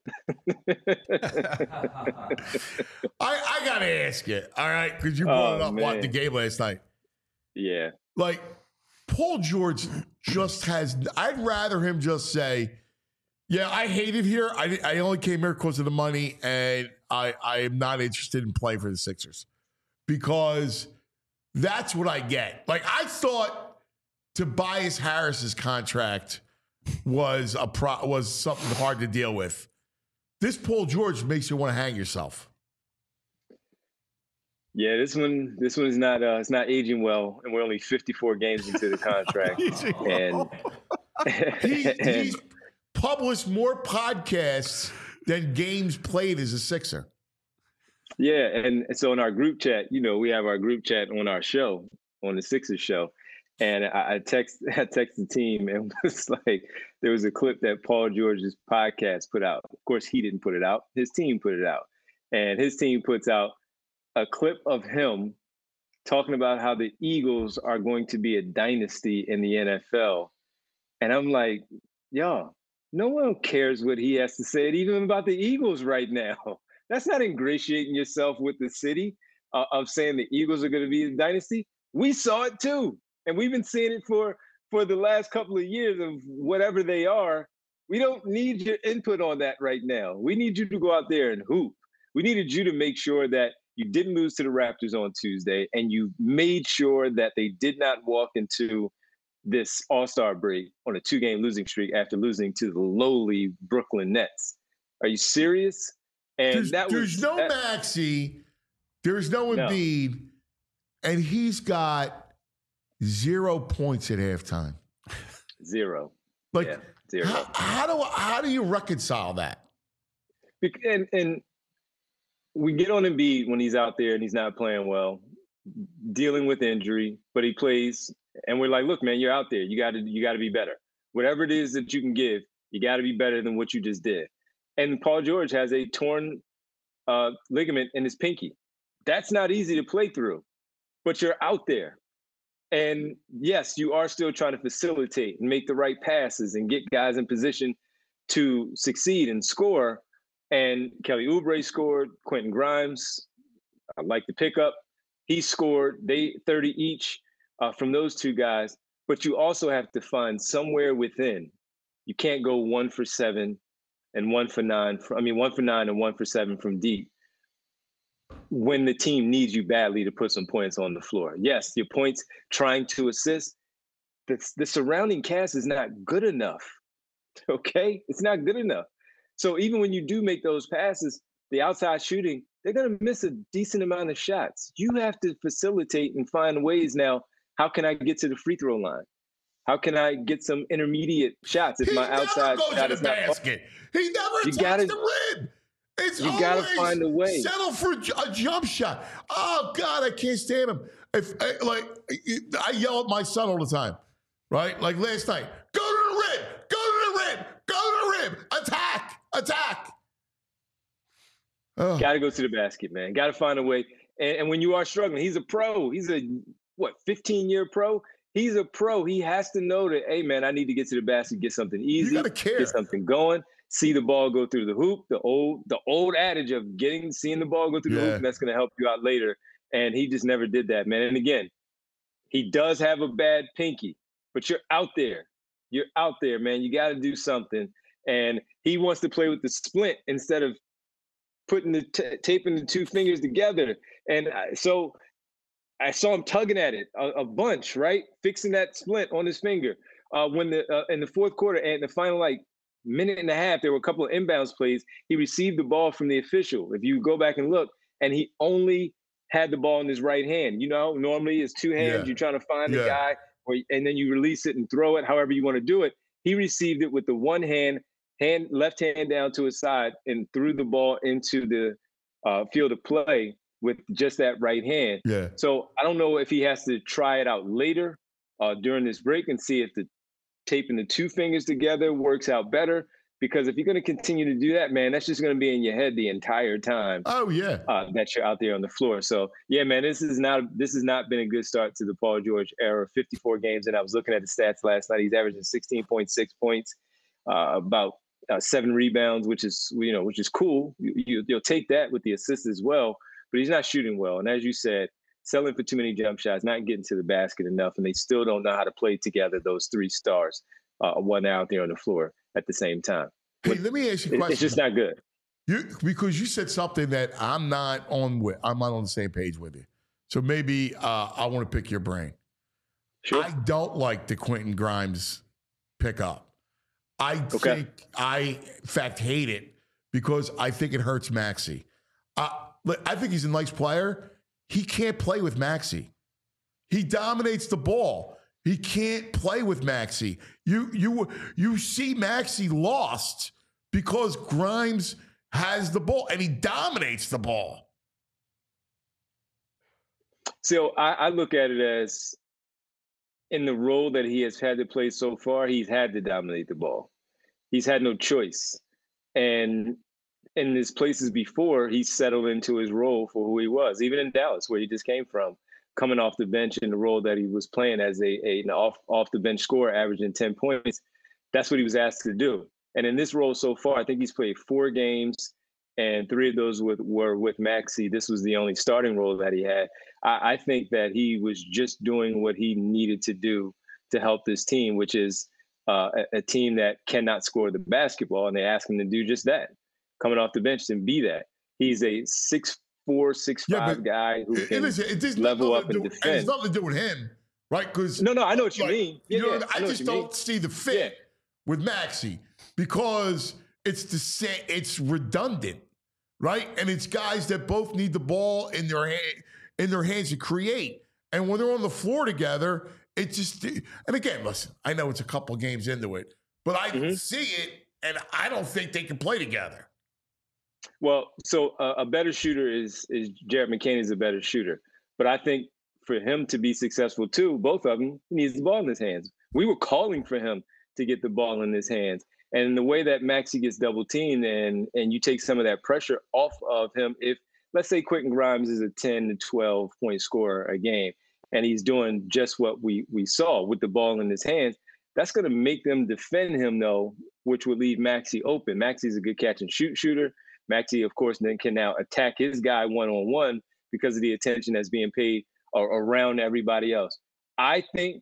I got to ask you, all right, because you brought it up watching the game last night. Yeah. Like, Paul George just has – I'd rather him just say, yeah, I hate it here. I only came here because of the money, and I am not interested in playing for the Sixers. Because that's what I get. Like, I thought Tobias Harris's contract was something hard to deal with. This Paul George makes you want to hang yourself. Yeah, this one's not it's not aging well, and we're only 54 games into the contract. He's published more podcasts than games played as a Sixer. Yeah, and so in our group chat, we have our group chat on our show, on the Sixers show. And I text the team, and it was like, there was a clip that Paul George's podcast put out. Of course, he didn't put it out. His team put it out. And his team puts out a clip of him talking about how the Eagles are going to be a dynasty in the NFL. And I'm like, y'all, no one cares what he has to say even about the Eagles right now. That's not ingratiating yourself with the city of saying the Eagles are going to be a dynasty. We saw it too. And we've been seeing it for the last couple of years of whatever they are. We don't need your input on that right now. We need you to go out there and hoop. We needed you to make sure that you didn't lose to the Raptors on Tuesday, and you made sure that they did not walk into this All-Star break on a 2-game losing streak after losing to the lowly Brooklyn Nets. Are you serious? And there's no Maxey, there's no Embiid, and he's got 0 points at halftime. Zero. Like, yeah, zero. How do you reconcile that? And we get on Embiid when he's out there and he's not playing well, dealing with injury, but he plays, and we're like, look, man, you're out there. You got to be better. Whatever it is that you can give, you got to be better than what you just did. And Paul George has a torn ligament in his pinky. That's not easy to play through, but you're out there. And yes, you are still trying to facilitate and make the right passes and get guys in position to succeed and score. And Kelly Oubre scored. Quentin Grimes, I like the pickup. He scored. They 30 each from those two guys. But you also have to find somewhere within. You can't go 1 for 7 and 1 for 9. 1 for 9 and 1 for 7 from deep when the team needs you badly to put some points on the floor. Yes, your points trying to assist. The surrounding cast is not good enough. Okay? It's not good enough. So even when you do make those passes, the outside shooting, they're going to miss a decent amount of shots. You have to facilitate and find ways now. How can I get to the free throw line? How can I get some intermediate shots if my outside shot is not basket? He never attacks the rim. You got to find a way. Settle for a jump shot. Oh, God, I can't stand him. I yell at my son all the time, right? Like last night, go to the rim, go to the rim, go to the rim, attack. Got to go to the basket, man. Got to find a way. And when you are struggling, he's a pro. He's a, 15-year pro? He's a pro. He has to know that, hey, man, I need to get to the basket, get something easy, you gotta care. Get something going. See the ball go through the hoop, the old adage of seeing the ball go through the hoop, and that's going to help you out later. And he just never did that, man. And again, he does have a bad pinky, but you're out there. You're out there, man. You got to do something. And he wants to play with the splint instead of putting taping the two fingers together. And so I saw him tugging at it a bunch, right? Fixing that splint on his finger. When in the fourth quarter and the final minute and a half, there were a couple of inbounds plays. He received the ball from the official. If you go back and look, and he only had the ball in his right hand. Normally it's two hands. You're trying to find the guy, and then you release it and throw it, however you want to do it. He received it with the one left hand down to his side, and threw the ball into the field of play with just that right hand. Yeah. So I don't know if he has to try it out later during this break and see if the taping the two fingers together works out better. Because if you're going to continue to do that, man, that's just going to be in your head the entire time. Oh yeah, that you're out there on the floor. So yeah, man, this has not been a good start to the Paul George era. 54 games, and I was looking at the stats last night. He's averaging 16.6 points, about 7 rebounds, which is cool. You'll take that with the assists as well. But he's not shooting well, and as you said, selling for too many jump shots, not getting to the basket enough, and they still don't know how to play together. Those 3 stars, one out there on the floor at the same time. Hey, let me ask you a question. It's just not good. Because you said something that I'm not on the same page with you. So maybe I want to pick your brain. Sure. I don't like the Quentin Grimes pickup. I in fact, hate it because I think it hurts Maxey. I think he's a nice player. He can't play with Maxey. He dominates the ball. He can't play with Maxey. You see Maxey lost because Grimes has the ball and he dominates the ball. So I look at it as, in the role that he has had to play so far, he's had to dominate the ball. He's had no choice. And in his places before, he settled into his role for who he was, even in Dallas, where he just came from, coming off the bench in the role that he was playing as an off the bench scorer, averaging 10 points. That's what he was asked to do. And in this role so far, I think he's played 4 games, and 3 of those were with Maxey. This was the only starting role that he had. I think that he was just doing what he needed to do to help this team, which is a team that cannot score the basketball, and they asked him to do just that, coming off the bench and be that. He's a 6'4", 6'5" guy who can level up and defend. It has nothing to do with him, right? Because no, I know what you mean. I just don't see the fit with Maxey because it's redundant, right? And it's guys that both need the ball in their hands to create. And when they're on the floor together, it just, and again, listen, I know it's a couple games into it, but I see it, and I don't think they can play together. Well, so a better shooter is Jared McCain is a better shooter. But I think for him to be successful too, both of them, he needs the ball in his hands. We were calling for him to get the ball in his hands. And the way that Maxey gets double teamed and you take some of that pressure off of him, if let's say Quentin Grimes is a 10 to 12 point scorer a game, and he's doing just what we saw with the ball in his hands, that's going to make them defend him though, which would leave Maxey open. Maxey's a good catch and shoot shooter. Maxey, of course, then can now attack his guy one-on-one because of the attention that's being paid around everybody else. I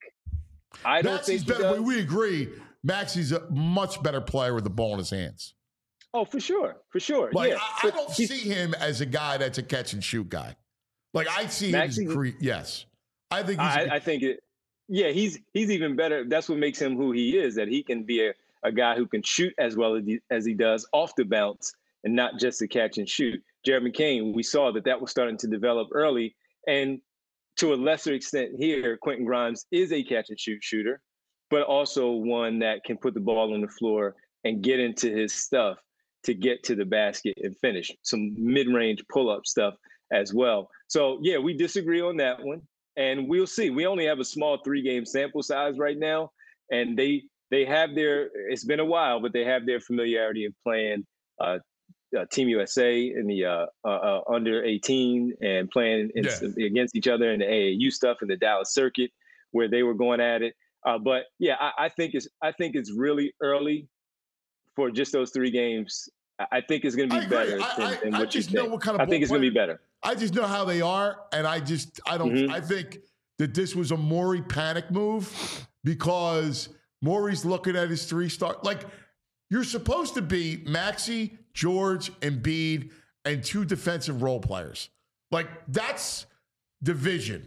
don't think better. We agree. Maxey's a much better player with the ball in his hands. Oh, for sure. Like, yeah. I don't see him as a guy that's a catch and shoot guy. Like I see Maxey, him. Yes, I think. He's even better. That's what makes him who he is. That he can be a guy who can shoot as well as he does off the bounce, and not just a catch and shoot. Jared McCain, we saw that was starting to develop early, and to a lesser extent here, Quentin Grimes is a catch and shoot shooter, but also one that can put the ball on the floor and get into his stuff to get to the basket and finish. Some mid-range pull-up stuff as well. So, yeah, we disagree on that one, and we'll see. We only have a small 3-game sample size right now, and they have it's been a while, but they have their familiarity of playing Team USA in the under 18 and playing against each other in the AAU stuff in the Dallas circuit where they were going at it. But yeah, I think it's really early for just those 3 games. I think it's going to be better than what you think. I think it's going to be better. I just know how they are, and I don't. I think that this was a Morey panic move because Morey's looking at his 3-star. Like, you're supposed to be Maxey, George, Embiid, and 2 defensive role players. Like, that's division.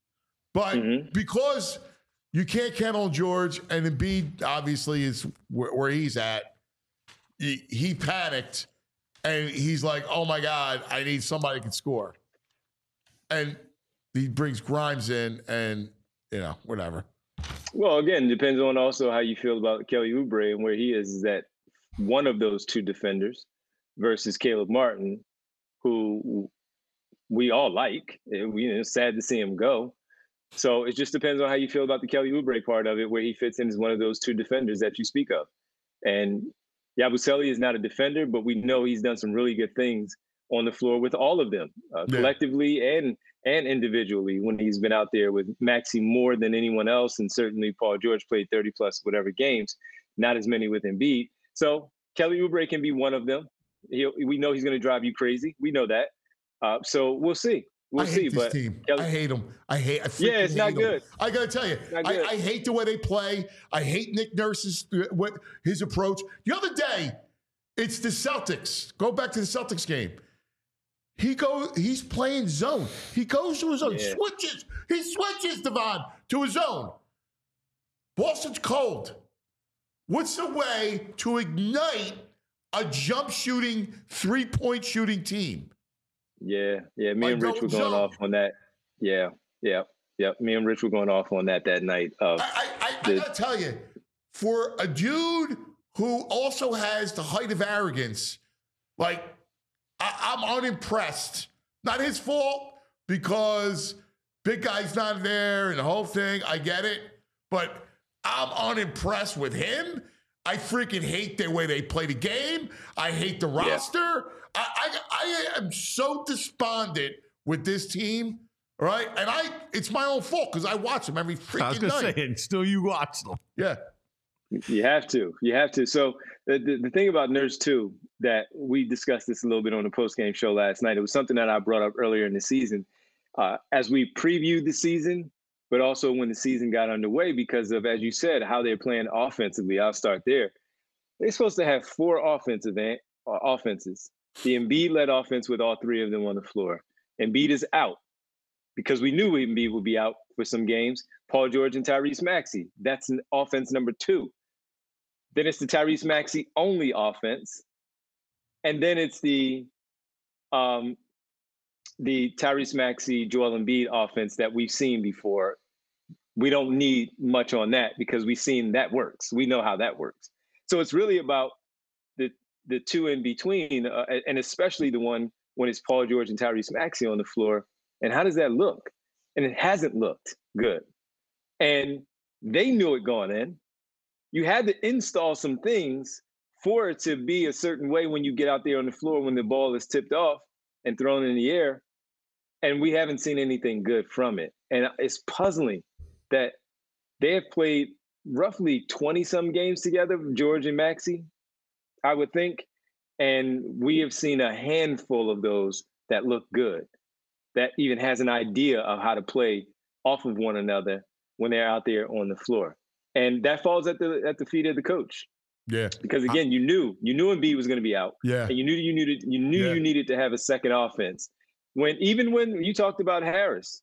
But because you can't count on George, and Embiid obviously is where he's at, he panicked, and he's like, oh, my God, I need somebody who can score. And he brings Grimes in, and, whatever. Well, again, depends on also how you feel about Kelly Oubre and where he is that one of those two defenders versus Caleb Martin, who we all like. It's sad to see him go. So it just depends on how you feel about the Kelly Oubre part of it, where he fits in as one of those two defenders that you speak of. And Yabusele is not a defender, but we know he's done some really good things on the floor with all of them, collectively and individually, when he's been out there with Maxey more than anyone else. And certainly Paul George played 30 plus whatever games, not as many with Embiid. So Kelly Oubre can be one of them. We know he's going to drive you crazy. We know that. So we'll see. We'll see. This team. Kelly, I hate them. It's not good. I got to tell you, I hate the way they play. I hate Nick Nurse's his approach. The other day, it's the Celtics. Go back to the Celtics game. He's playing zone. He goes to his zone. Yeah. He switches, Devon, to his zone. Boston's cold. What's the way to ignite a jump shooting, 3-point shooting team? Yeah. Me and Rich were going off on that. Yeah. Me and Rich were going off on that night. I gotta tell you, for a dude who also has the height of arrogance, like, I'm unimpressed. Not his fault, because big guy's not there and the whole thing. I get it. But I'm unimpressed with him. I freaking hate the way they play the game. I hate the roster. I am so despondent with this team. All right. And it's my own fault because I watch them every freaking night. I was going to say, and still you watch them. Yeah. You have to. So the thing about Nurse too, that we discussed this a little bit on the post-game show last night. It was something that I brought up earlier in the season as we previewed the season, but also when the season got underway because of, as you said, how they're playing offensively. I'll start there. They're supposed to have 4 offenses. The Embiid-led offense with all 3 of them on the floor. Embiid is out because we knew Embiid would be out for some games. Paul George and Tyrese Maxey. That's an offense number 2. Then it's the Tyrese Maxey only offense. And then it's the Tyrese Maxey, Joel Embiid offense that we've seen before. We don't need much on that because we've seen that works. We know how that works. So it's really about the 2 in between, and especially the one when it's Paul George and Tyrese Maxey on the floor. And how does that look? And it hasn't looked good. And they knew it going in. You had to install some things for it to be a certain way when you get out there on the floor when the ball is tipped off and thrown in the air. And we haven't seen anything good from it. And it's puzzling that they have played roughly 20-some games together, George and Maxey, I would think. And we have seen a handful of those that look good, that even has an idea of how to play off of one another when they're out there on the floor. And that falls at the feet of the coach. Yeah. Because again, you knew Embiid was going to be out. Yeah. And you knew you needed to have a second offense. When you talked about Harris,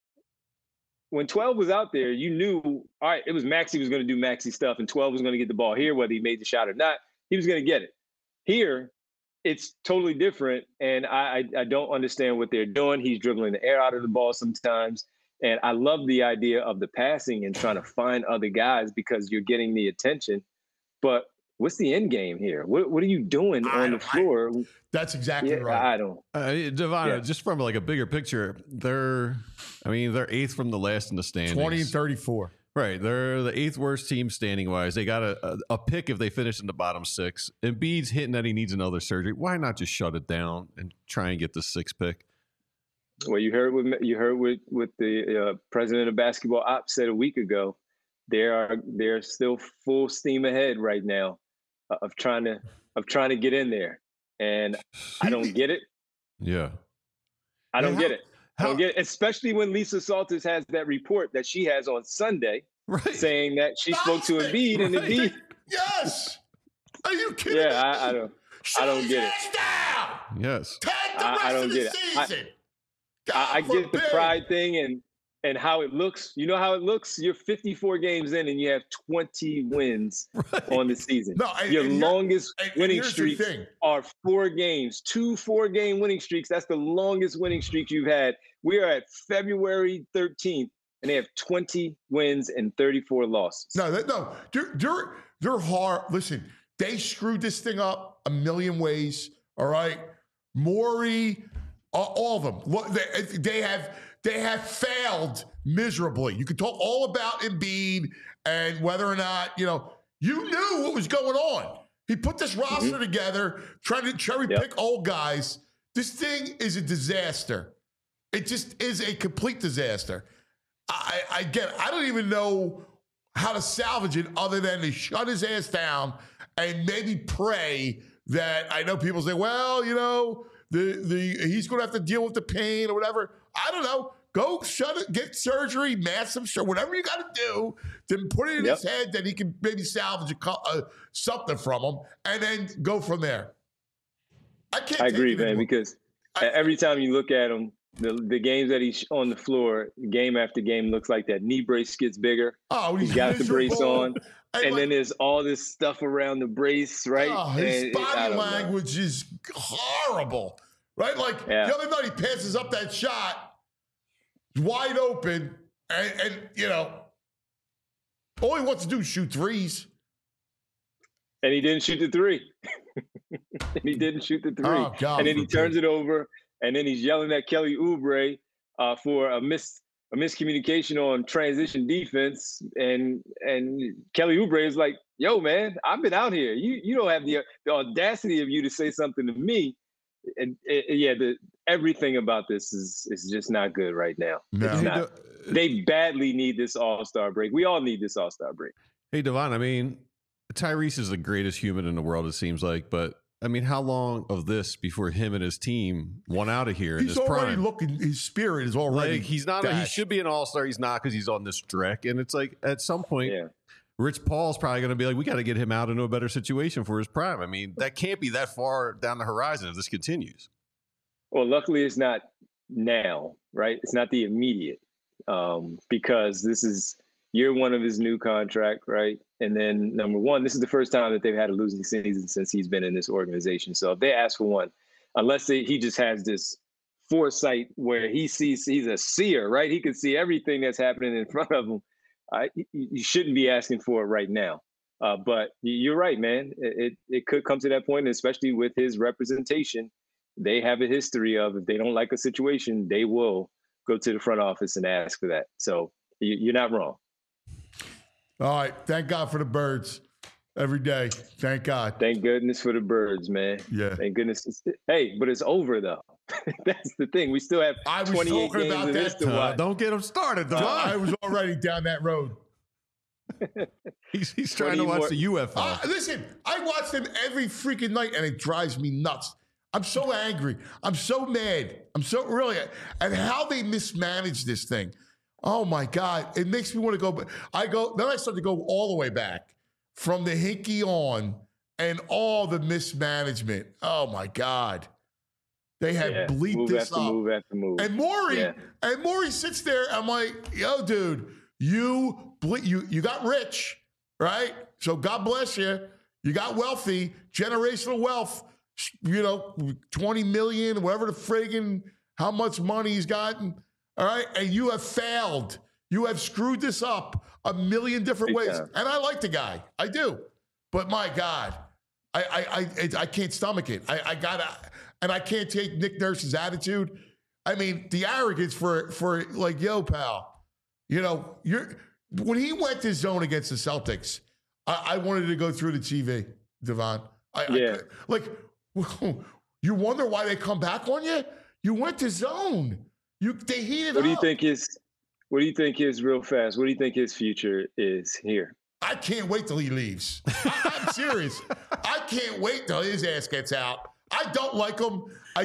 when 12 was out there, you knew, all right, it was Maxey was going to do Maxey stuff, and 12 was going to get the ball here, whether he made the shot or not. He was going to get it. Here, it's totally different, and I don't understand what they're doing. He's dribbling the air out of the ball sometimes. And I love the idea of the passing and trying to find other guys because you're getting the attention. But what's the end game here? What are you doing on the floor? That's exactly right. I don't. Devon, just from like a bigger picture, they're 8th from the last in the standings. 20 and 34. Right. They're the 8th worst team standing wise. They got a pick if they finish in the bottom 6. Embiid's hitting that he needs another surgery. Why not just shut it down and try and get the 6th pick? Well, you heard what the president of basketball ops said a week ago. They're still full steam ahead right now of trying to get in there, and I don't get it. Yeah, I don't get it. I don't get it, especially when Lisa Salters has that report that she has on Sunday, saying that she spoke to Embiid and Embiid. Yes. Are you kidding? Yeah, I don't get it. Yes. I don't get it. I get the pride thing and how it looks. You know how it looks? You're 54 games in and you have 20 wins on the season. No, your longest winning streaks are 4 games. 2 4-game winning streaks. That's the longest winning streak you've had. We are at February 13th. and they have 20 wins and 34 losses. No, they're hard. Listen, they screwed this thing up a million ways. All right, Morey, all of them. They have failed miserably. You could talk all about Embiid and whether or not you knew what was going on. He put this roster together, trying to cherry pick old guys. This thing is a disaster. It just is a complete disaster. I don't even know how to salvage it other than to shut his ass down and maybe pray that I know people say, well, he's going to have to deal with the pain or whatever. I don't know. Go shut it, get surgery, massive, whatever you got to do to put it in his head that he can maybe salvage something from him and then go from there. I agree, man, because every time you look at him, the games that he's on the floor, game after game, looks like that knee brace gets bigger. Oh, he's got the brace on. And then there's all this stuff around the brace, right? Oh, his body language is horrible, right? Like the other night he passes up that shot, wide open, and all he wants to do is shoot threes. And he didn't shoot the three. Oh, God, and then he turns it over, and then he's yelling at Kelly Oubre for a miscommunication on transition defense. And Kelly Oubre is like, yo, man, I've been out here. You don't have the audacity of you to say something to me. And everything about this is just not good right now. No. It's not. They badly need this All-Star break. We all need this All-Star break. Hey, Devon, I mean, Tyrese is the greatest human in the world, it seems like, but I mean, how long of this before him and his team won out of here? He's already looking. His spirit is already. Like, he's not. He should be an all-star. He's not because he's on this trek. And it's like at some point, Rich Paul's probably going to be like, we got to get him out into a better situation for his prime. I mean, that can't be that far down the horizon if this continues. Well, luckily, it's not now, right? It's not the immediate, because this is year one of his new contract, right? And then number one, this is the first time that they've had a losing season since he's been in this organization. So if they ask for one, unless he just has this foresight where he sees, he's a seer, right? He can see everything that's happening in front of him. You shouldn't be asking for it right now. But you're right, man. It could come to that point, especially with his representation. They have a history of, if they don't like a situation, they will go to the front office and ask for that. So you're not wrong. All right. Thank God for the birds every day. Thank God. Thank goodness for the birds, man. Yeah. Thank goodness. Hey, but it's over, though. That's the thing. We still have 28 games of this to watch. Don't get him started, though. I was already down that road. He's trying to watch the UFO. Listen, I watch them every freaking night, and it drives me nuts. I'm so angry. I'm so mad. I'm so really at how they mismanage this thing. Oh my God. It makes me want to go. Then I start to go all the way back from the Hinkie on and all the mismanagement. Oh my God. They have bleeped this up. Move after move. And Morey sits there. I'm like, yo, dude, you got rich, right? So God bless you. You got wealthy, generational wealth, 20 million, whatever the friggin', how much money he's gotten. All right. And you have failed. You have screwed this up a million different ways. And I like the guy. I do. But my God, I can't stomach it. And I can't take Nick Nurse's attitude. I mean, the arrogance for like, yo, pal, when he went to zone against the Celtics, I wanted to go through the TV, Devon. You wonder why they come back on you? You went to zone. They heated up. What do you think his real fast? What do you think his future is here? I can't wait till he leaves. I'm serious. I can't wait till his ass gets out. I don't like him. I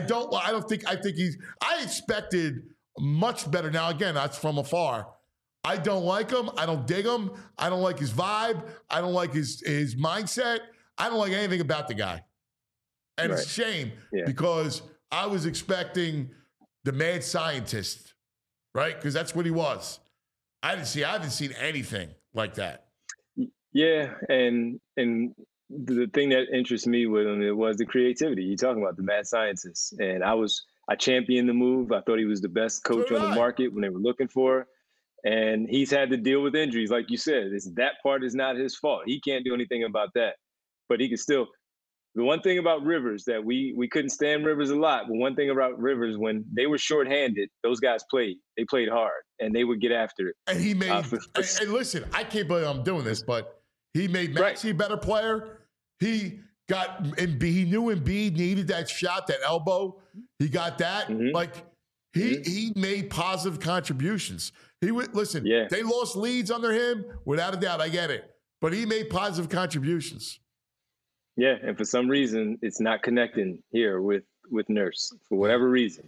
expected much better. Now, again, that's from afar. I don't like him. I don't dig him. I don't like his vibe. I don't like his mindset. I don't like anything about the guy. And it's a shame because I was expecting the mad scientist, right? Because that's what he was. I haven't seen anything like that. Yeah, and the thing that interests me with him, it was the creativity. You're talking about the mad scientist. And I championed the move. I thought he was the best coach on the market when they were looking for. And he's had to deal with injuries, like you said. That part is not his fault. He can't do anything about that. But he can still. The one thing about Rivers that we couldn't stand Rivers a lot, but one thing about Rivers, when they were shorthanded, those guys played. They played hard, and they would get after it. And he made. And listen, I can't believe I'm doing this, but he made Maxey a better player. He got Embiid. He knew Embiid needed that shot, that elbow. He got that. Like he made positive contributions. He would listen. Yeah. They lost leads under him, without a doubt. I get it, but he made positive contributions. Yeah, and for some reason, it's not connecting here with Nurse for whatever reason.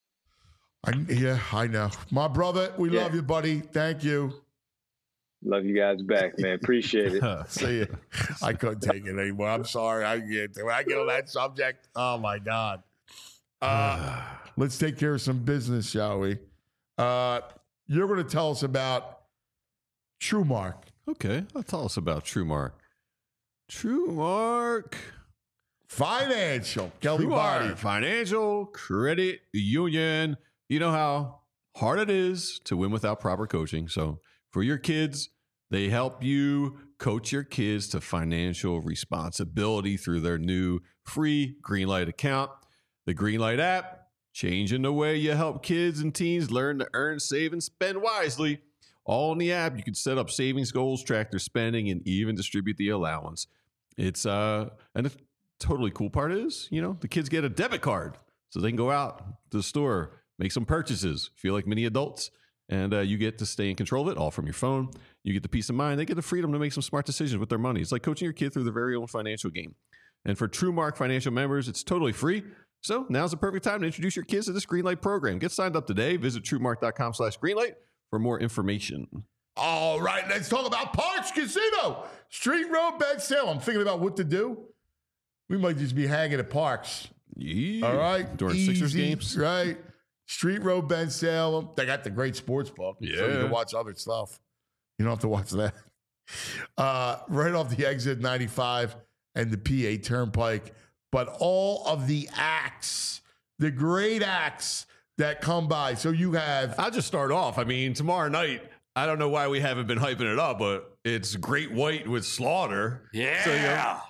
I know. My brother, we love you, buddy. Thank you. Love you guys back, man. Appreciate it. See you. I couldn't take it anymore. I'm sorry. When I get on that subject, oh my God. Let's take care of some business, shall we? You're going to tell us about TrueMark. Okay, tell us about TrueMark. TrueMark Financial. Kelly Body. Financial Credit Union. You know how hard it is to win without proper coaching. So for your kids, they help you coach your kids to financial responsibility through their new free Greenlight account. The Greenlight app, changing the way you help kids and teens learn to earn, save, and spend wisely. All in the app, you can set up savings goals, track their spending, and even distribute the allowance. It's and the totally cool part is, the kids get a debit card so they can go out to the store, make some purchases, feel like mini adults, and you get to stay in control of it all from your phone. You get the peace of mind. They get the freedom to make some smart decisions with their money. It's like coaching your kid through their very own financial game. And for TrueMark Financial members, it's totally free. So now's the perfect time to introduce your kids to this Greenlight program. Get signed up today. Visit TrueMark.com/Greenlight for more information. All right, let's talk about Parks Casino. Street Road Bed Sale. I'm thinking about what to do. We might just be hanging at Parks. Yeah. All right. During Sixers games. Right. Street Road Bed Sale. They got the great sports book. Yeah. So you can watch other stuff. You don't have to watch that. Right off the exit 95 and the PA Turnpike. But all of the acts, the great acts that come by. So you have. I'll just start off. I mean, tomorrow night, I don't know why we haven't been hyping it up, but it's Great White with Slaughter. Yeah. So,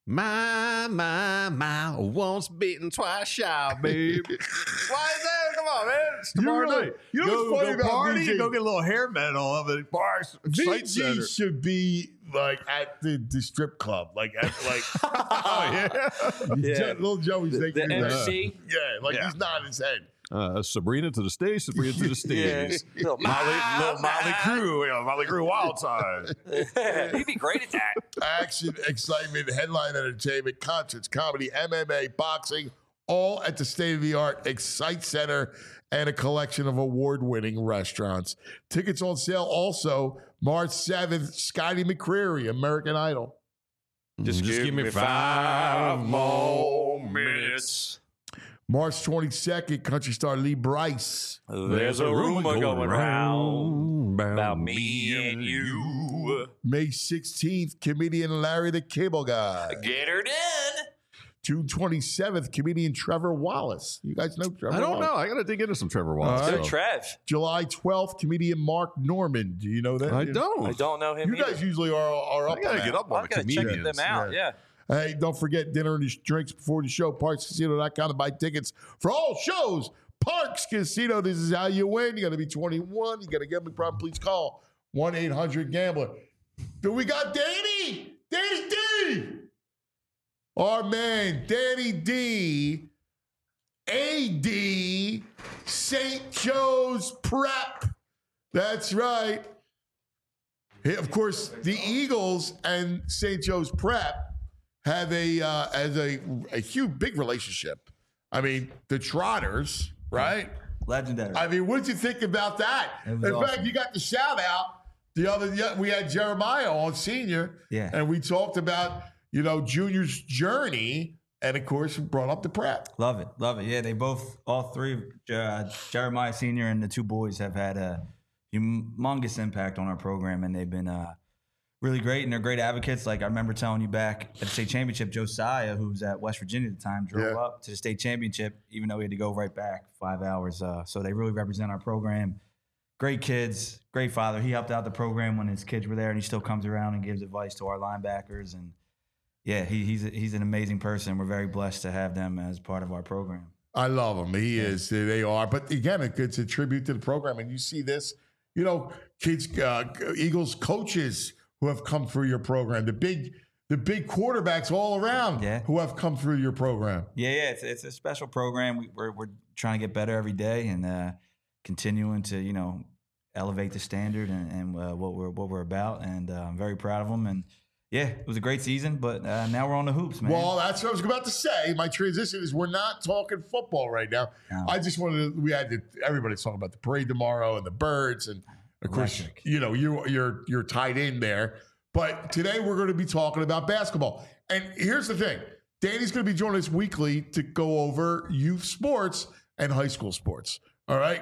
my, once beaten, twice shy, baby. Why is that? Come on, man. It's tomorrow night. You know what's funny about party, VG? go get a little hair metal of it. Bars, VG should be like at the strip club, like oh yeah, little Joey's thinking the MC. He's nodding his head. Sabrina to the stage, Sabrina to the stage. Little Motley Crue, Motley Crue Wild Side. He'd be great at that. Action, excitement, headline entertainment, concerts, comedy, MMA, boxing, all at the state-of-the-art Excite Center and a collection of award-winning restaurants. Tickets on sale also March 7th, Scotty McCreery, American Idol. Just give me 5 more minutes. March 22nd, country star Lee Brice. There's a rumor going around about me and you. May 16th, comedian Larry the Cable Guy. Get her done. June 27th, comedian Trevor Wallace. You guys know Trevor Wallace? I don't know. I got to dig into some Trevor Wallace. Good Trev. July 12th, comedian Mark Norman. Do you know that? I don't. I don't know him You guys usually are up I got to get up on the comedians. Check them out, yeah. Hey, don't forget dinner and drinks before the show. ParksCasino.com to buy tickets for all shows. Parks Casino, this is how you win. You got to be 21. You got a gambling problem, please call 1-800-GAMBLER. Do we got Danny? Danny D! Our man, Danny D. A.D. St. Joe's Prep. That's right. Of course, the Eagles and St. Joe's Prep have a huge, big relationship. I mean, the Trotters, right? Legendary. I mean, what did you think about that? In fact, you got the shout out we had Jeremiah on Senior, and we talked about, Junior's journey, and of course, brought up the Prep. Love it. Yeah, they both, all three, Jeremiah Senior and the two boys have had a humongous impact on our program, and they've been really great, and they're great advocates. Like I remember telling you back at the state championship, Josiah, who was at West Virginia at the time, drove up to the state championship, even though he had to go right back 5 hours. So they really represent our program. great kids, great father. He helped out the program when his kids were there, and he still comes around and gives advice to our linebackers. And yeah, he's an amazing person. We're very blessed to have them as part of our program. I love him. He is. They are. But again, it's a tribute to the program. And you see this, kids, Eagles coaches who have come through your program, the big quarterbacks all around who have come through your program. Yeah. It's a special program. We're trying to get better every day and continuing to, elevate the standard and what we're about. And I'm very proud of them. And yeah, it was a great season, but now we're on the hoops, man. Well, that's what I was about to say. My transition is we're not talking football right now. No. I just wanted to, everybody's talking about the parade tomorrow and the birds. And of course, you're tied in there. But today we're going to be talking about basketball. And here's the thing. Danny's going to be joining us weekly to go over youth sports and high school sports. All right?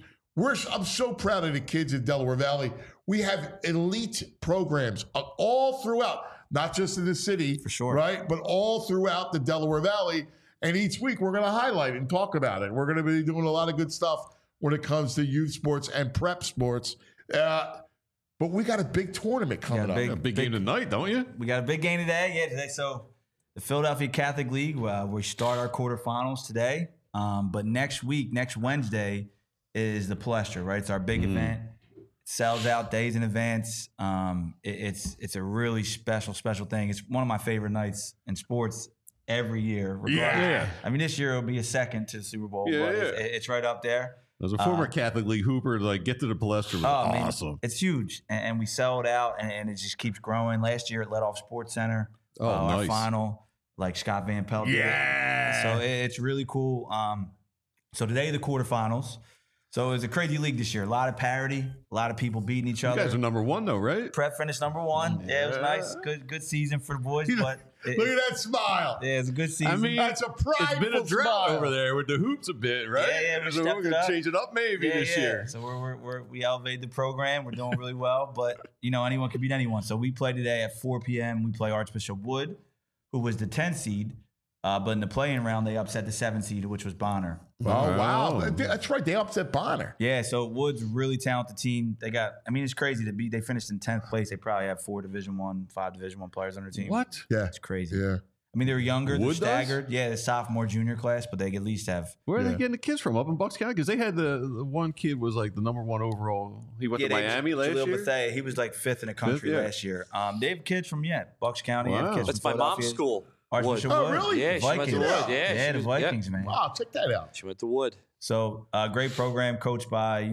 I'm so proud of the kids in Delaware Valley. We have elite programs all throughout, not just in the city, for sure, right? But all throughout the Delaware Valley. And each week we're going to highlight and talk about it. We're going to be doing a lot of good stuff when it comes to youth sports and prep sports. But we got a big tournament coming up. A big game tonight, don't you? We got a big game today. Yeah, today. So the Philadelphia Catholic League, we start our quarterfinals today. But next Wednesday is the Palestra, right? It's our big event. Sells out days in advance. It's a really special thing. It's one of my favorite nights in sports every year. Yeah. I mean, this year it'll be a second to the Super Bowl, but it's right up there. As a former Catholic League hooper, get to the Palestra was awesome. It's huge, and we sell it out, and it just keeps growing. Last year it led off Sports Center. Nice. Our final, Scott Van Pelt did it. So it's really cool. So today the quarterfinals. So it was a crazy league this year. A lot of parity, a lot of people beating each other. You guys are number one, though, right? Prep finished number one. Yeah, it was nice. Good season for the boys. But look at that smile. Yeah, it's a good season. I mean, that's a prideful It's been a drought smile over there with the hoops a bit, right? Yeah, so we're going to change it up maybe this year. So we elevated the program. We're doing really well. But, anyone can beat anyone. So we play today at 4 p.m. We play Archbishop Wood, who was the 10th seed. But in the play-in round, they upset the 7th seed, which was Bonner. Oh, wow. That's right. They upset Bonner. Yeah, so Wood's a really talented team. It's crazy to beat. They finished in 10th place. They probably have 5 Division I players on their team. What? Yeah. It's crazy. Yeah. I mean, they were younger. They're Wood staggered. Yeah, the sophomore, junior class, but they at least have. Where are they getting the kids from? Up in Bucks County? Because they had the one kid was the number one overall. He went to Miami last year? Bethea, he was 5th in the country last year. They have kids from, Bucks County. Wow. They have kids That's from my mom's school. Archbishop Oh, Wood. really? Yeah, she went to Wood. Yeah, the Vikings, man. Wow, check that out. She went to Wood. So, great program coached by,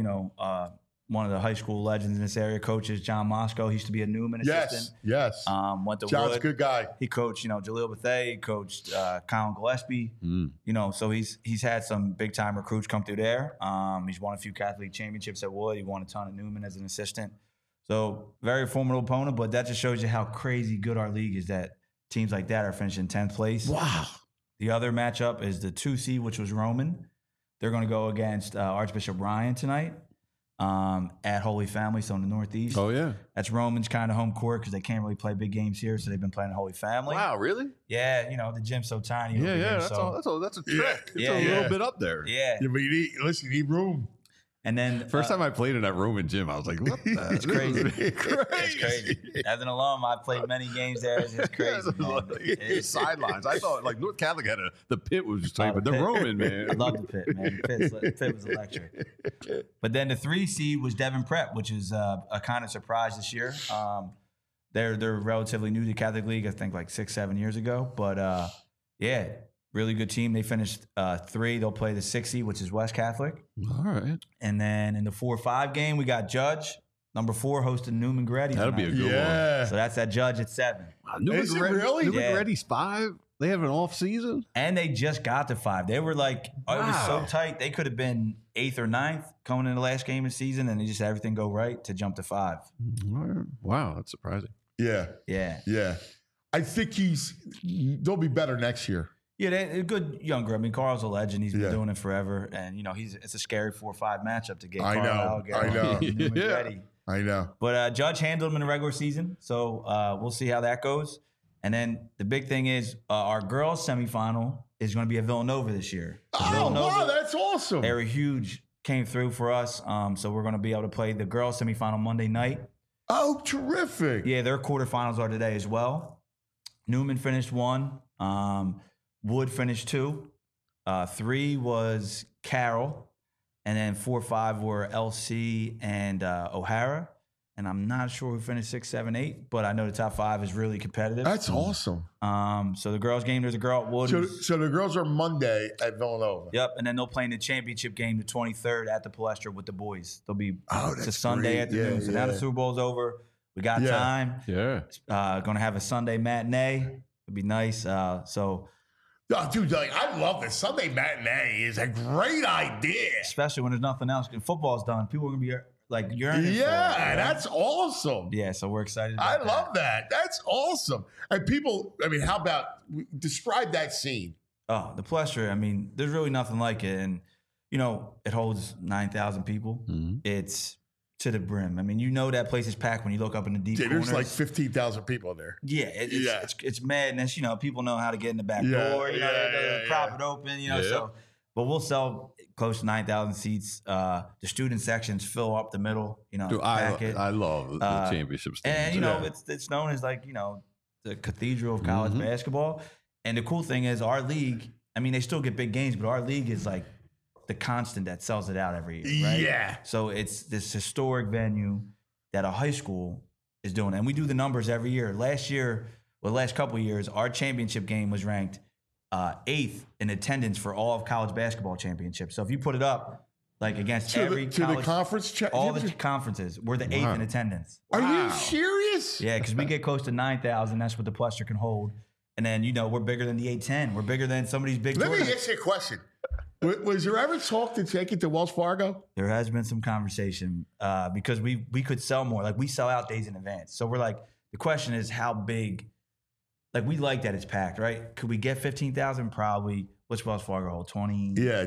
one of the high school legends in this area, coaches John Moscow. He used to be a Newman assistant. Yes. Went to John's Wood. a good guy. He coached, Jaleel Bethea. He coached Colin Gillespie. So he's had some big time recruits come through there. He's won a few Catholic League championships at Wood. He won a ton at Newman as an assistant. So very formidable opponent, but that just shows you how crazy good our league is that teams like that are finishing 10th place. Wow. The other matchup is the 2 seed, which was Roman. They're going to go against Archbishop Ryan tonight at Holy Family, so in the Northeast. Oh, yeah. That's Roman's kind of home court because they can't really play big games here, so they've been playing at Holy Family. Wow, really? Yeah, the gym's so tiny. Yeah, over here, that's a trick. It's a little bit up there. Yeah. But you need room. And then first time I played in that Roman gym, I was like, "What? It's crazy. It's crazy." As an alum, I played many games there. It's just crazy. Sidelines. I thought North Catholic had the pit was just tight, but the Roman, man. I love the pit, man. The pit was electric. But then the 3 seed was Devon Prep, which is a kind of surprise this year. They're relatively new to Catholic League, I think 6-7 years ago. But really good team. They finished 3. They'll play the 6 seed, which is West Catholic. All right. And then in the 4-5 game, we got Judge, number 4, hosting Newman Goretti. That'll be a good one. So that's at Judge at 7. Newman really? Newman Goretti's 5? They have an off season? And they just got to 5. They were it was so tight. They could have been 8th or 9th coming in the last game of the season, and they just had everything go right to jump to 5. Wow, that's surprising. Yeah. I think they'll be better next year. Yeah, they're good younger. I mean, Carl's a legend. He's been doing it forever. And, it's a scary 4-5 matchup to get Carl I know. But Judge handled him in the regular season. So we'll see how that goes. And then the big thing is our girls semifinal is going to be at Villanova this year. Wow, that's awesome. They're a huge came through for us. So we're going to be able to play the girls semifinal Monday night. Oh, terrific. Yeah, their quarterfinals are today as well. Newman finished 1. Wood finished 2. 3 was Carroll. And then 4, 5 were LC and O'Hara. And I'm not sure who finished 6, 7, 8, but I know the top 5 is really competitive. That's awesome. So the girls game, there's a girl at Wood. So the girls are Monday at Villanova. Yep, and then they'll play in the championship game the 23rd at the Palestra with the boys. They'll be it's a that's Sunday great. afternoon. Yeah, so now the Super Bowl's over. We got time. Yeah. Going to have a Sunday matinee. It'll be nice. Oh, dude, like, I love this. Sunday matinee is a great idea. Especially when there's nothing else. Football's done. People are going to be like yearning for it, right? That's awesome. Yeah, so we're excited I about love that. That's awesome. And people, I mean, how about describe that scene? Oh, the Palestra, I mean, there's really nothing like it. And, you know, it holds 9,000 people. It's to the brim. I mean, you know that place is packed when you look up in the deep corners. There's like 15,000 people in there. Yeah, it's madness. You know, people know how to get in the back door. You know, they prop it open. You know, so. But we'll sell close to 9,000 seats. The student sections fill up the middle. You know, Dude, I love the championship stage. And you know, it's known as like, you know, the cathedral of college basketball. And the cool thing is, our league. I mean, they still get big games, but our league is like the constant that sells it out every year, right? Yeah. So it's this historic venue that a high school is doing. And we do the numbers every year. The last couple of years, our championship game was ranked 8th in attendance for all of college basketball championships. So if you put it up, like against every college, the conference, all the conferences, we're the 8th in attendance. Are you serious? Yeah, because we get close to 9,000. That's what the Palestra can hold. And then, you know, we're bigger than the 810. We're bigger than some of these big Let tournaments. me ask you a question. Was there ever talk to take it to Wells Fargo? There has been some conversation because we could sell more. Like, we sell out days in advance. So we're like, the question is how big. Like, we like that it's packed, right? Could we get 15,000? Probably. What's Wells Fargo hold? 20? Yeah,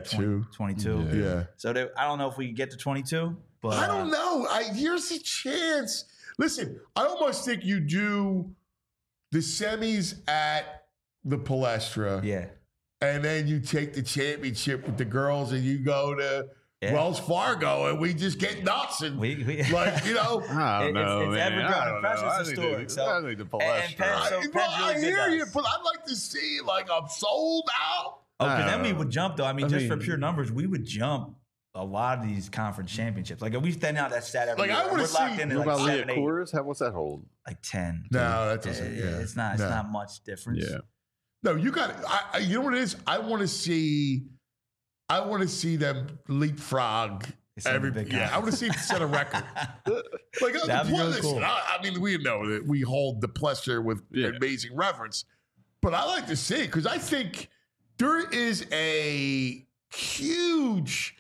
22. Yeah. So I don't know if we could get to 22, but I don't know. Here's a chance. Listen, I almost think you do the semis at the Palestra. Yeah. And then you take the championship with the girls and you go to Wells Fargo and we just get nuts and we like, you know. I don't know, it's man. ever-growing. Precious historic. I need the Palestra. I hear you, but I'd like to see, like, I'm sold out. Oh, because then we would jump, though. I mean, for pure numbers, we would jump a lot of these conference championships. Like, if we stand out that stat every year, we're locked in what like about 7, 8. What's that hold? Like 10. No, that doesn't. It's not much difference. Yeah. No, you got it. You know what it is? I want to see them leapfrog. I want to see it set a record. Like, really cool. I mean, we know that we hold the Palestra with amazing reverence, but I like to see it because I think there is a huge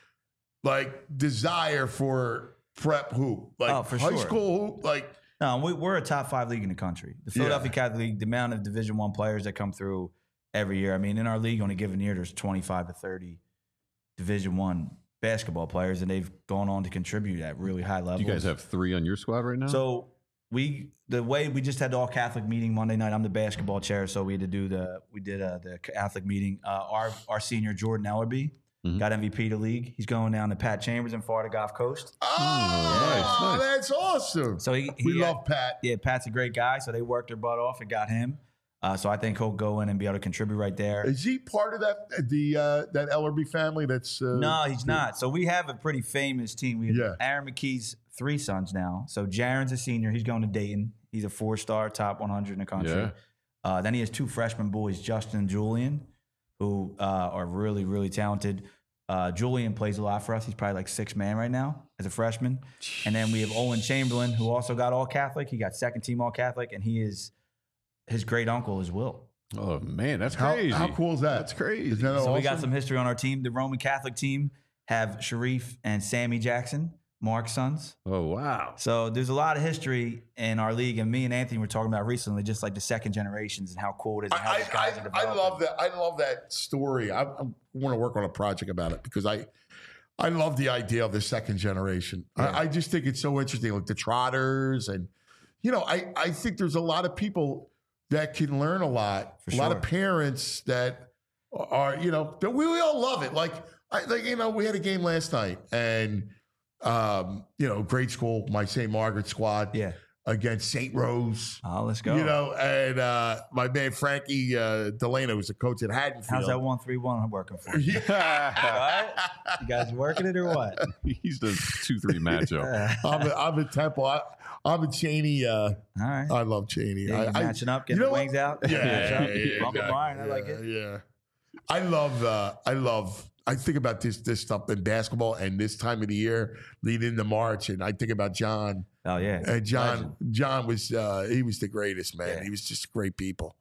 desire for prep hoop, for high sure. school hoop, like. No, we're a top 5 league in the country. The Philadelphia Catholic League, the amount of Division I players that come through every year. I mean, in our league on a given year, there's 25 to 30 Division I basketball players, and they've gone on to contribute at really high levels. Do you guys have 3 on your squad right now? So we just had the all Catholic meeting Monday night. I'm the basketball chair, so we had to do the Catholic meeting. Our senior Jordan Ellerby got MVP of the league. He's going down to Pat Chambers in Florida Gulf Coast. Oh, nice. That's awesome. So we love Pat. Yeah, Pat's a great guy. So they worked their butt off and got him. So I think he'll go in and be able to contribute right there. Is he part of that Ellerby family? That's no, he's not. So we have a pretty famous team. We have Aaron McKee's 3 sons now. So Jaron's a senior. He's going to Dayton. He's a 4-star, top 100 in the country. Yeah. Then he has 2 freshman boys, Justin and Julian, who are really, really talented. Julian plays a lot for us. He's probably like 6th man right now as a freshman. And then we have Owen Chamberlain, who also got all Catholic. He got 2nd team all Catholic, and his great uncle is Will. Oh man, that's crazy. How cool is that? That's crazy. So awesome? We got some history on our team. The Roman Catholic team have Sharif and Sammy Jackson, Mark's sons. Oh wow. So there's a lot of history in our league, and me and Anthony were talking about recently, just like the second generations and how cool it is. And how these guys are developing. I love that. I love that story. I want to work on a project about it because I love the idea of the second generation. Yeah. I just think it's so interesting, like the Trotters, and I think there's a lot of people that can learn a lot. A lot of parents that are, we all love it. Like we had a game last night and, grade school, my St. Margaret squad. Yeah. Against St. Rose. Oh, let's go. And my man Frankie Delano was the coach at Haddonfield. How's that 1-3-1 working for you? Yeah. You guys working it or what? He's the 2-3 matchup. I'm a Temple. I'm a Cheney. All right. I love Cheney. Yeah, matching up, getting the wings out. Yeah. Brian, I like it. Yeah. I think about this stuff in basketball and this time of the year leading into March, and I think about John. Oh yeah, and John was he was the greatest, man. Yeah. He was just great people.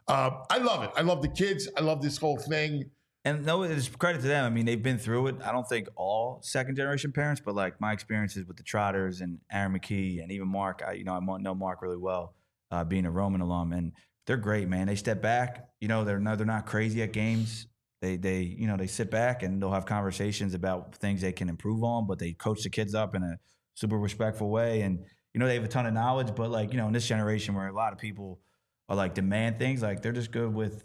I love it. I love the kids. I love this whole thing. And no, it's credit to them. I mean, they've been through it. I don't think all second generation parents, but like my experiences with the Trotters and Aaron McKee and even Mark. I know Mark really well, being a Roman alum, and they're great, man. They step back. They're not crazy at games. They sit back and they'll have conversations about things they can improve on, but they coach the kids up in a super respectful way. And, they have a ton of knowledge, but in this generation where a lot of people are like demand things, like they're just good with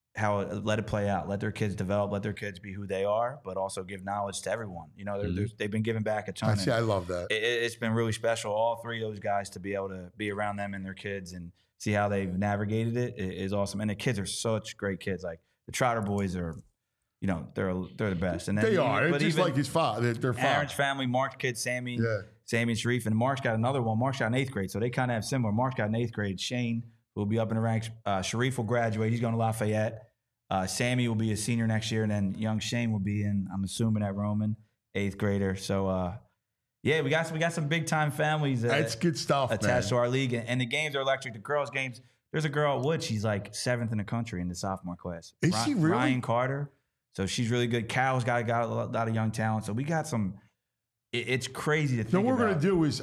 let it play out, let their kids develop, let their kids be who they are, but also give knowledge to everyone. They've been giving back a ton. I love that. It's been really special. All three of those guys to be able to be around them and their kids and see how they've navigated it is awesome. And the kids are such great kids. Like the Trotter boys are, they're the best. And then, they are. It's just like his father. They're Aaron's family, Mark's kids, Sammy and Sharif, and Mark's got another one. Mark's got an 8th grade, so they kind of have similar. Mark's got an 8th grade. Shane will be up in the ranks. Sharif will graduate. He's going to Lafayette. Sammy will be a senior next year, and then young Shane will be I'm assuming, at Roman, 8th grader. So, we got some big time families. That's good stuff, attached to our league, and the games are electric. The girls' games. There's a girl at Wood. She's like 7th in the country in the sophomore class. Is she really? Ryan Carter. So she's really good. Carol's got a lot of young talent. So we got some. It's crazy to think. So what we're going to do is,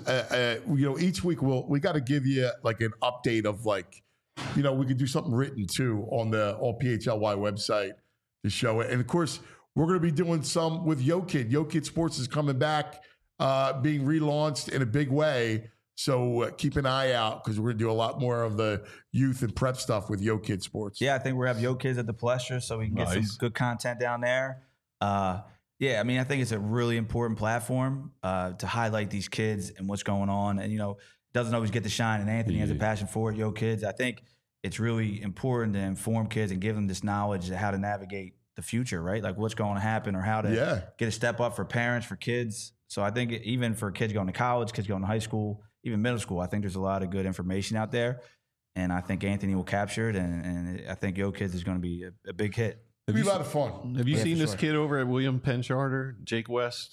each week we got to give you like an update of like, we could do something written too on the All PHLY website to show it. And of course, we're going to be doing some with YoKid. YoKid Sports is coming back, being relaunched in a big way. So keep an eye out because we're going to do a lot more of the youth and prep stuff with YoKid Sports. Yeah, I think we'll have YoKids at the Palestra so we can get some good content down there. I think it's a really important platform to highlight these kids and what's going on. And, doesn't always get to shine. And Anthony has a passion for it, YoKids. I think it's really important to inform kids and give them this knowledge of how to navigate the future, right? Like what's going to happen or how to get a step up for parents, for kids. So I think even for kids going to college, kids going to high school, even middle school, I think there's a lot of good information out there. And I think Anthony will capture it. And I think YoKids is going to be a big hit. It'll be a lot of fun. Have you seen this kid over at William Penn Charter, Jake West?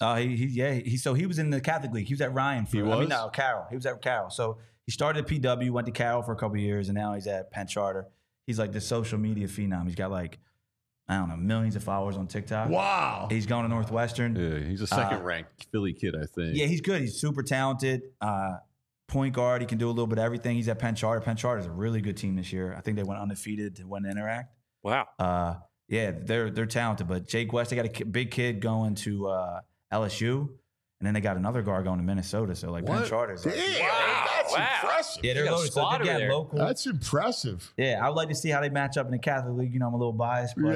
He was in the Catholic League. He was at Ryan. Carroll. He was at Carroll. So he started at PW, went to Carroll for a couple of years, and now he's at Penn Charter. He's like the social media phenom. He's got millions of followers on TikTok. Wow. He's going to Northwestern. Yeah, he's a second-ranked Philly kid, I think. Yeah, he's good. He's super talented. Point guard. He can do a little bit of everything. He's at Penn Charter. Penn Charter is a really good team this year. I think they went undefeated to win Interact. Wow. They're talented. But Jake West, they got a big kid going to LSU, and then they got another guard going to Minnesota. So Penn Charter's that's impressive. Yeah, they're loaded. So they local. That's impressive. Yeah, I would like to see how they match up in the Catholic League. I'm a little biased, but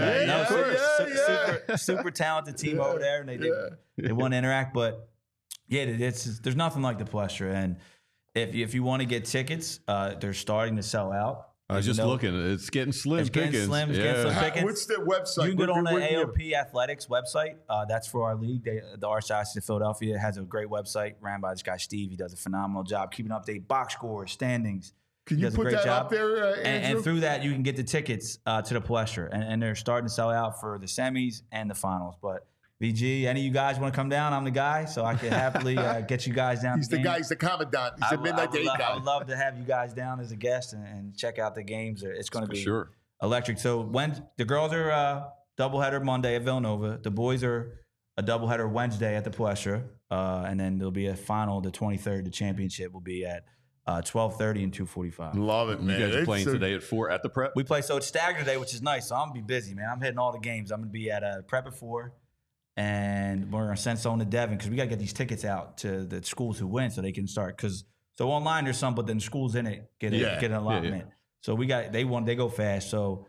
super talented team over there, and they won Interact. But there's nothing like the Palestra, and if you want to get tickets, they're starting to sell out. I was just looking. It's getting slim. It's getting slim pickings. What's the website? You can go on the AOP Athletics website. That's for our league. The Archdiocese of Philadelphia has a great website ran by this guy, Steve. He does a phenomenal job keeping update, box scores, standings. Can you put that up there, Andrew? And through that, you can get the tickets to the Palestra. And they're starting to sell out for the semis and the finals. But VG, any of you guys want to come down? I'm the guy, so I can happily get you guys down. He's the guy. He's the commandant. He's the midnight date guy. I would love to have you guys down as a guest and check out the games. It's going to be electric. So when the girls are doubleheader Monday at Villanova, the boys are a doubleheader Wednesday at the Palestra, and then there'll be a final the 23rd. The championship will be at 12:30 and 2:45. Love it, man. You guys are playing today at 4 at the prep? We play, so it's staggered today, which is nice. So I'm going to be busy, man. I'm hitting all the games. I'm going to be at prep at 4. And we're going to send someone to Devon because we got to get these tickets out to the schools who win so they can start. So online there's some, but then schools in it get an allotment. So they go fast. So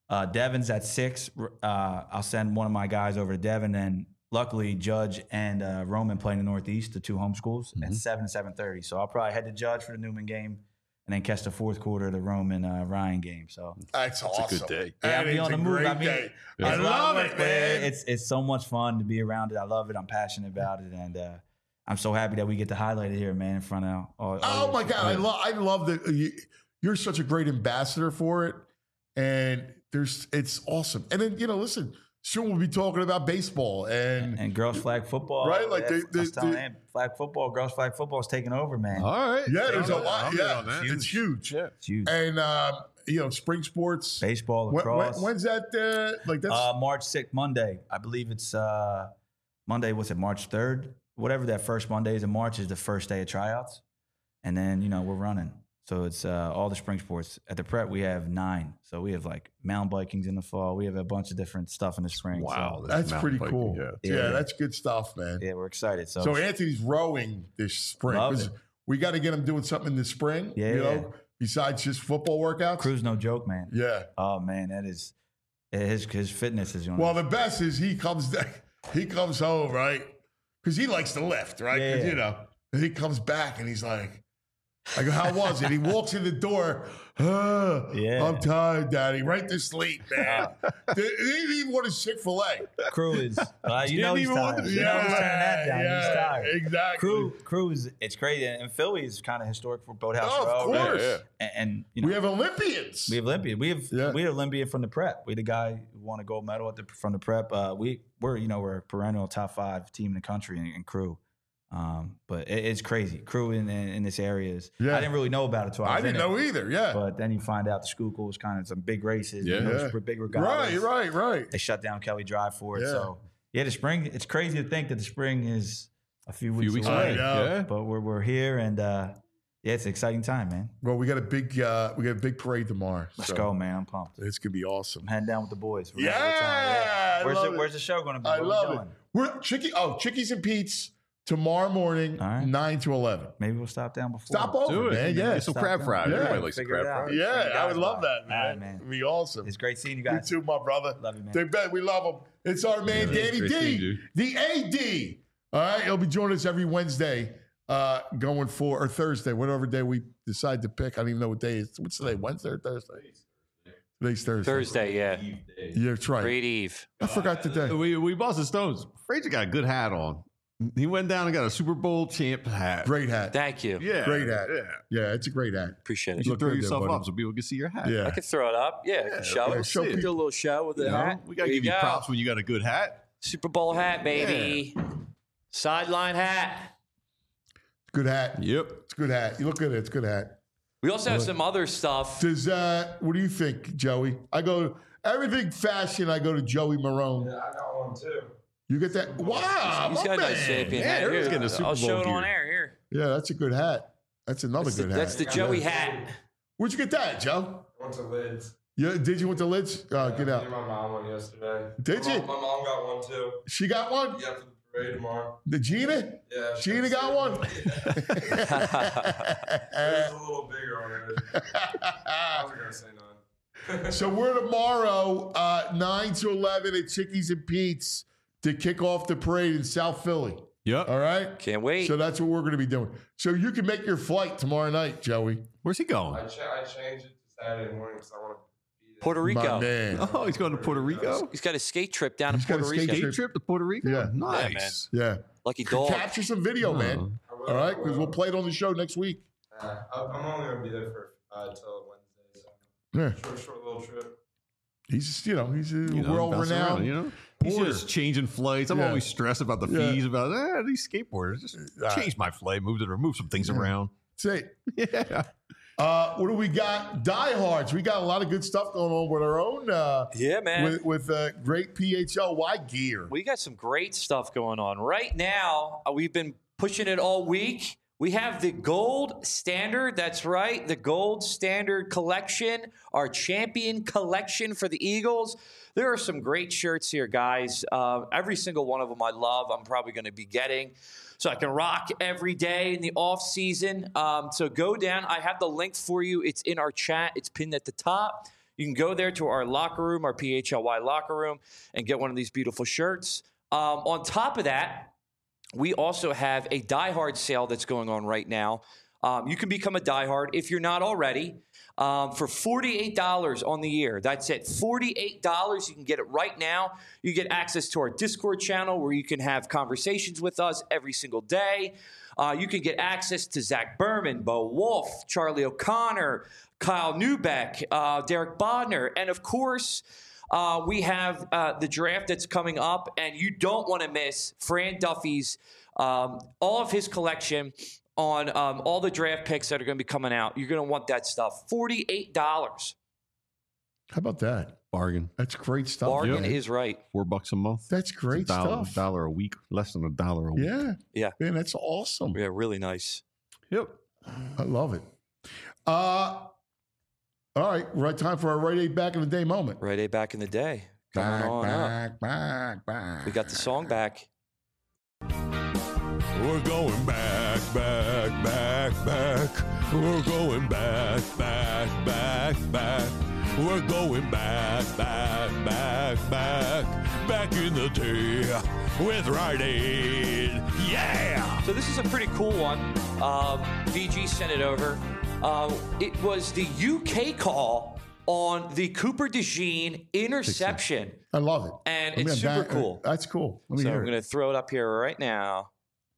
Devon's at 6. I'll send one of my guys over to Devon, and luckily Judge and Roman play in the Northeast, the 2 home schools, at 7 and 7:30. So I'll probably head to Judge for the Newman game, and then catch the fourth quarter of the Roman Ryan game. So that's awesome. It's a good day. Yeah, I'll be on the move. I mean, day. it's I a lot love of work, it, but man. It's so much fun to be around it. I love it. I'm passionate about it, and I'm so happy that we get to highlight it here, man, in front of all. Oh my God, I love that you're such a great ambassador for it, and it's awesome. And then listen, soon we'll be talking about baseball and girls flag football, right? Like flag football, girls flag football is taking over, man. All right, yeah, there's a lot. Yeah, it's huge. Yeah, it's huge. And spring sports, baseball, lacrosse. When's that? That's March 6th, Monday. I believe it's Monday. What's it? March 3rd. Whatever that first Monday is in March is the first day of tryouts, and then we're running. So it's all the spring sports. At the prep, we have 9. So we have like mountain bikings in the fall. We have a bunch of different stuff in the spring. Wow, so that's pretty cool. Yeah, that's good stuff, man. Yeah, we're excited. So Anthony's rowing this spring. We got to get him doing something in the spring. Yeah, besides just football workouts. Crew's no joke, man. Yeah. Oh man, that is his fitness is. Well, the best is he comes home, right? Because he likes to lift, right? Yeah. And he comes back and he's like, I go, how was it? He walks in the door. I'm tired, Daddy. Right to sleep, man. He didn't even want his Chick-fil-A. Crew is, he's tired. He's turning that down. He's tired. Exactly. Crew is, it's crazy. And Philly is kind of historic for Boathouse Row. Of course. Yeah. And we have Olympians. We have Olympian from the prep. We the guy who won a gold medal from the prep. We're a perennial top 5 team in the country in Crew. But it's crazy. Crew in this area is. Yeah. I didn't really know about it till I didn't know either. Yeah. But then you find out the Schuylkill was kind of some big races. Big regattas. Right. They shut down Kelly Drive for it. Yeah. So the spring. It's crazy to think that the spring is a few weeks away. Yeah. But we're here, and it's an exciting time, man. Well, we got a big parade tomorrow. Let's go, man. I'm pumped. It's gonna be awesome. I'm heading down with the boys. Yeah. Where's the show gonna be? I love it. We're Chickies and Pete's. Tomorrow morning, 9 to 11. Maybe we'll stop down before. Stop over, man. Yeah. Get some crab fries. Yeah. Everybody likes crab fries. Yeah, I would love that, man. It'd be awesome. It's great seeing you guys. You too, my brother. Love you, man. We love him. It's our man, Danny D, the AD. All right, he'll be joining us every Wednesday, going for, or Thursday, whatever day we decide to pick. I don't even know what day it is. What's today, Wednesday or Thursday? Today's Thursday. Thursday, yeah. Yeah, that's right. Great Eve. I forgot the day. We Boston Stones. Frazier got a good hat on. He went down and got a Super Bowl champ hat. Great hat. Thank you. Yeah. Great hat. Yeah, it's a great hat. Appreciate it. You should throw yourself up so people can see your hat. Yeah. I can throw it up. Yeah, show it. Show Do a little show with the hat. We got to give you props when you got a good hat. Super Bowl hat, baby. Yeah. Sideline hat. Good hat. Yep. It's a good hat. You look good. It's a good hat. We also have some other stuff. Does what do you think, Joey? I go everything fashion. I go to Joey Marone. Yeah, I got one too. You get that? Wow, he's got a nice champion hat. Everyone's getting a Super Bowl I'll show it gear. on air here. Yeah, that's a good hat. That's another good hat. That's the Joey hat. Where'd you get that, Joe? I went to Lids. Yeah, did you went to Lids? Get out. Me and my mom went yesterday. Did you? My mom got one too. She got one? Yeah, for the parade tomorrow. The Gina? Yeah. Gina got one? It was a little bigger on it. I was going to say none. So we're tomorrow, 9 to 11 at Chickies and Pete's to kick off the parade in South Philly. Yep. All right? Can't wait. So that's what we're going to be doing. So you can make your flight tomorrow night, Joey. Where's he going? I changed it to Saturday morning because I want to be there. Puerto Rico. My man. Oh, he's going to Puerto Rico? He's got a skate trip down to Puerto Rico. Skate trip to Puerto Rico? Yeah. Nice. Yeah. Lucky dog. Capture some video, man. All right? Because we'll play it on the show next week. I'm only going to be there for until Wednesday. So short little trip. He's world-renowned. He's just changing flights. I'm always stressed about the fees, about these skateboarders. Just change my flight, move some things around. Say, yeah. What do we got? Diehards. We got a lot of good stuff going on with our own. Yeah, man. With great PHLY gear. We got some great stuff going on right now. We've been pushing it all week. We have the Gold Standard. That's right. The Gold Standard collection, our champion collection for the Eagles. There are some great shirts here, guys. Every single one of them I love. I'm probably going to be getting so I can rock every day in the off season. So go down. I have the link for you. It's in our chat. It's pinned at the top. You can go there to our locker room, our PHLY locker room, and get one of these beautiful shirts. On top of that, we also have a Die Hard sale that's going on right now. You can become a Die Hard if you're not already for $48 on the year. That's it, $48. You can get it right now. You get access to our Discord channel where you can have conversations with us every single day. You can get access to Zach Berman, Bo Wolf, Charlie O'Connor, Kyle Neubeck, Derek Bodner, and of course, we have the draft that's coming up, and you don't want to miss Fran Duffy's, all of his collection on all the draft picks that are going to be coming out. You're going to want that stuff. $48. How about that? Bargain. That's great stuff. Bargain is right. $4 a month. That's great stuff. $1 a week, less than $1 a week. Yeah. Yeah. Man, that's awesome. Yeah, really nice. Yep. I love it. All right. Right time for our Rite Aid Back in the Day moment. Rite Aid Back in the Day. Coming on up. Back. We got the song back. We're going back. We're going back. We're going back in the day with Rite Aid. Yeah! So this is a pretty cool one. VG sent it over. It was the UK call on the Cooper DeJean interception. I love it. And it's super cool. That's cool. So I'm going to throw it up here right now.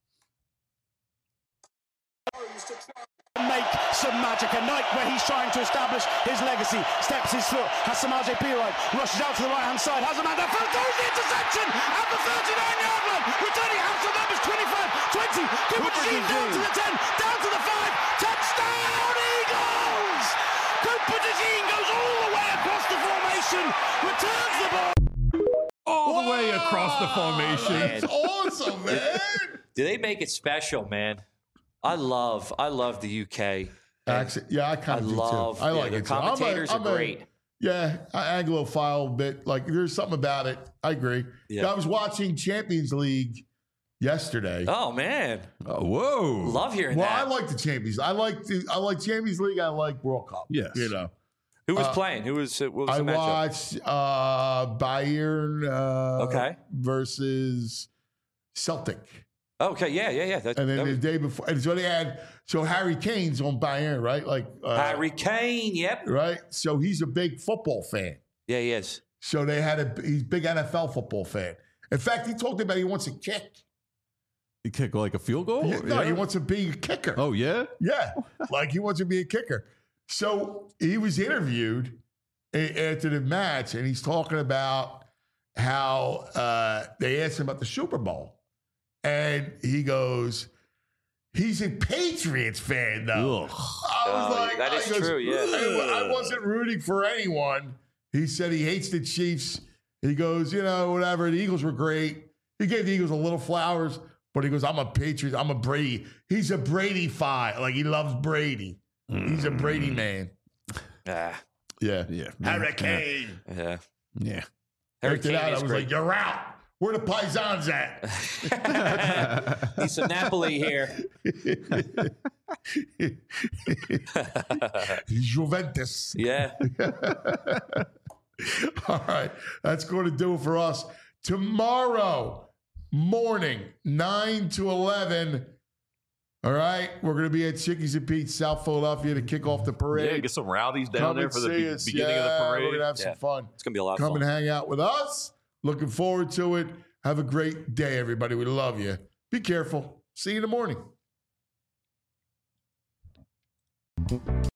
Make some magic. A night where he's trying to establish his legacy. Steps his foot. Has Samaje Perine. Rushes out to the right-hand side. Has a man that throws the interception at the 39-yard line. Returning out to numbers 25, 20. Cooper DeJean down to the 10. Down to the 5. Touchdown Eagles! Cooper DeJean goes all the way across the formation. Returns the ball. All the way across the formation. That's awesome, man. Do they make it special, man? I love the UK. Accent. Yeah, I kind of do love, too. I like their it. commentators are great. Anglophile bit. Like, there's something about it. I agree. Yeah. I was watching Champions League yesterday. Oh man! Whoa! Love hearing well, that. I like the Champions. I like Champions League. I like World Cup. Yes. You know. Who was playing? What was the matchup? watched Bayern versus Celtic. Okay, yeah. And then the day before, and so they had, Harry Kane's on Bayern, right? Harry Kane, yep. Right? So he's a big football fan. Yeah, he is. So he's a big NFL football fan. In fact, he talked about he wants a kick. You kick like a field goal? No, he wants to be a kicker. Oh, yeah? Yeah, like he wants to be a kicker. So he was interviewed after the match, and he's talking about how they asked him about the Super Bowl. And he goes, he's a Patriots fan, though. Ugh. I was like, that is true, yeah. I wasn't rooting for anyone. He said he hates the Chiefs. He goes, whatever. The Eagles were great. He gave the Eagles a little flowers, but he goes, I'm a Patriot. I'm a Brady. He's a Brady fi. Like, he loves Brady. He's a Brady man. Yeah. Hurricane. Yeah. After that, I was like, you're out. Where the Paisans at? Need some Napoli here. Juventus. Yeah. All right. That's going to do it for us. Tomorrow morning, 9 to 11. All right. We're going to be at Chickies and Pete's, South Philadelphia, to kick off the parade. Yeah, get some rowdies down there for the beginning of the parade. We're going to have some fun. It's going to be a lot of fun. fun. Come and hang out with us. Looking forward to it. Have a great day, everybody. We love you. Be careful. See you in the morning.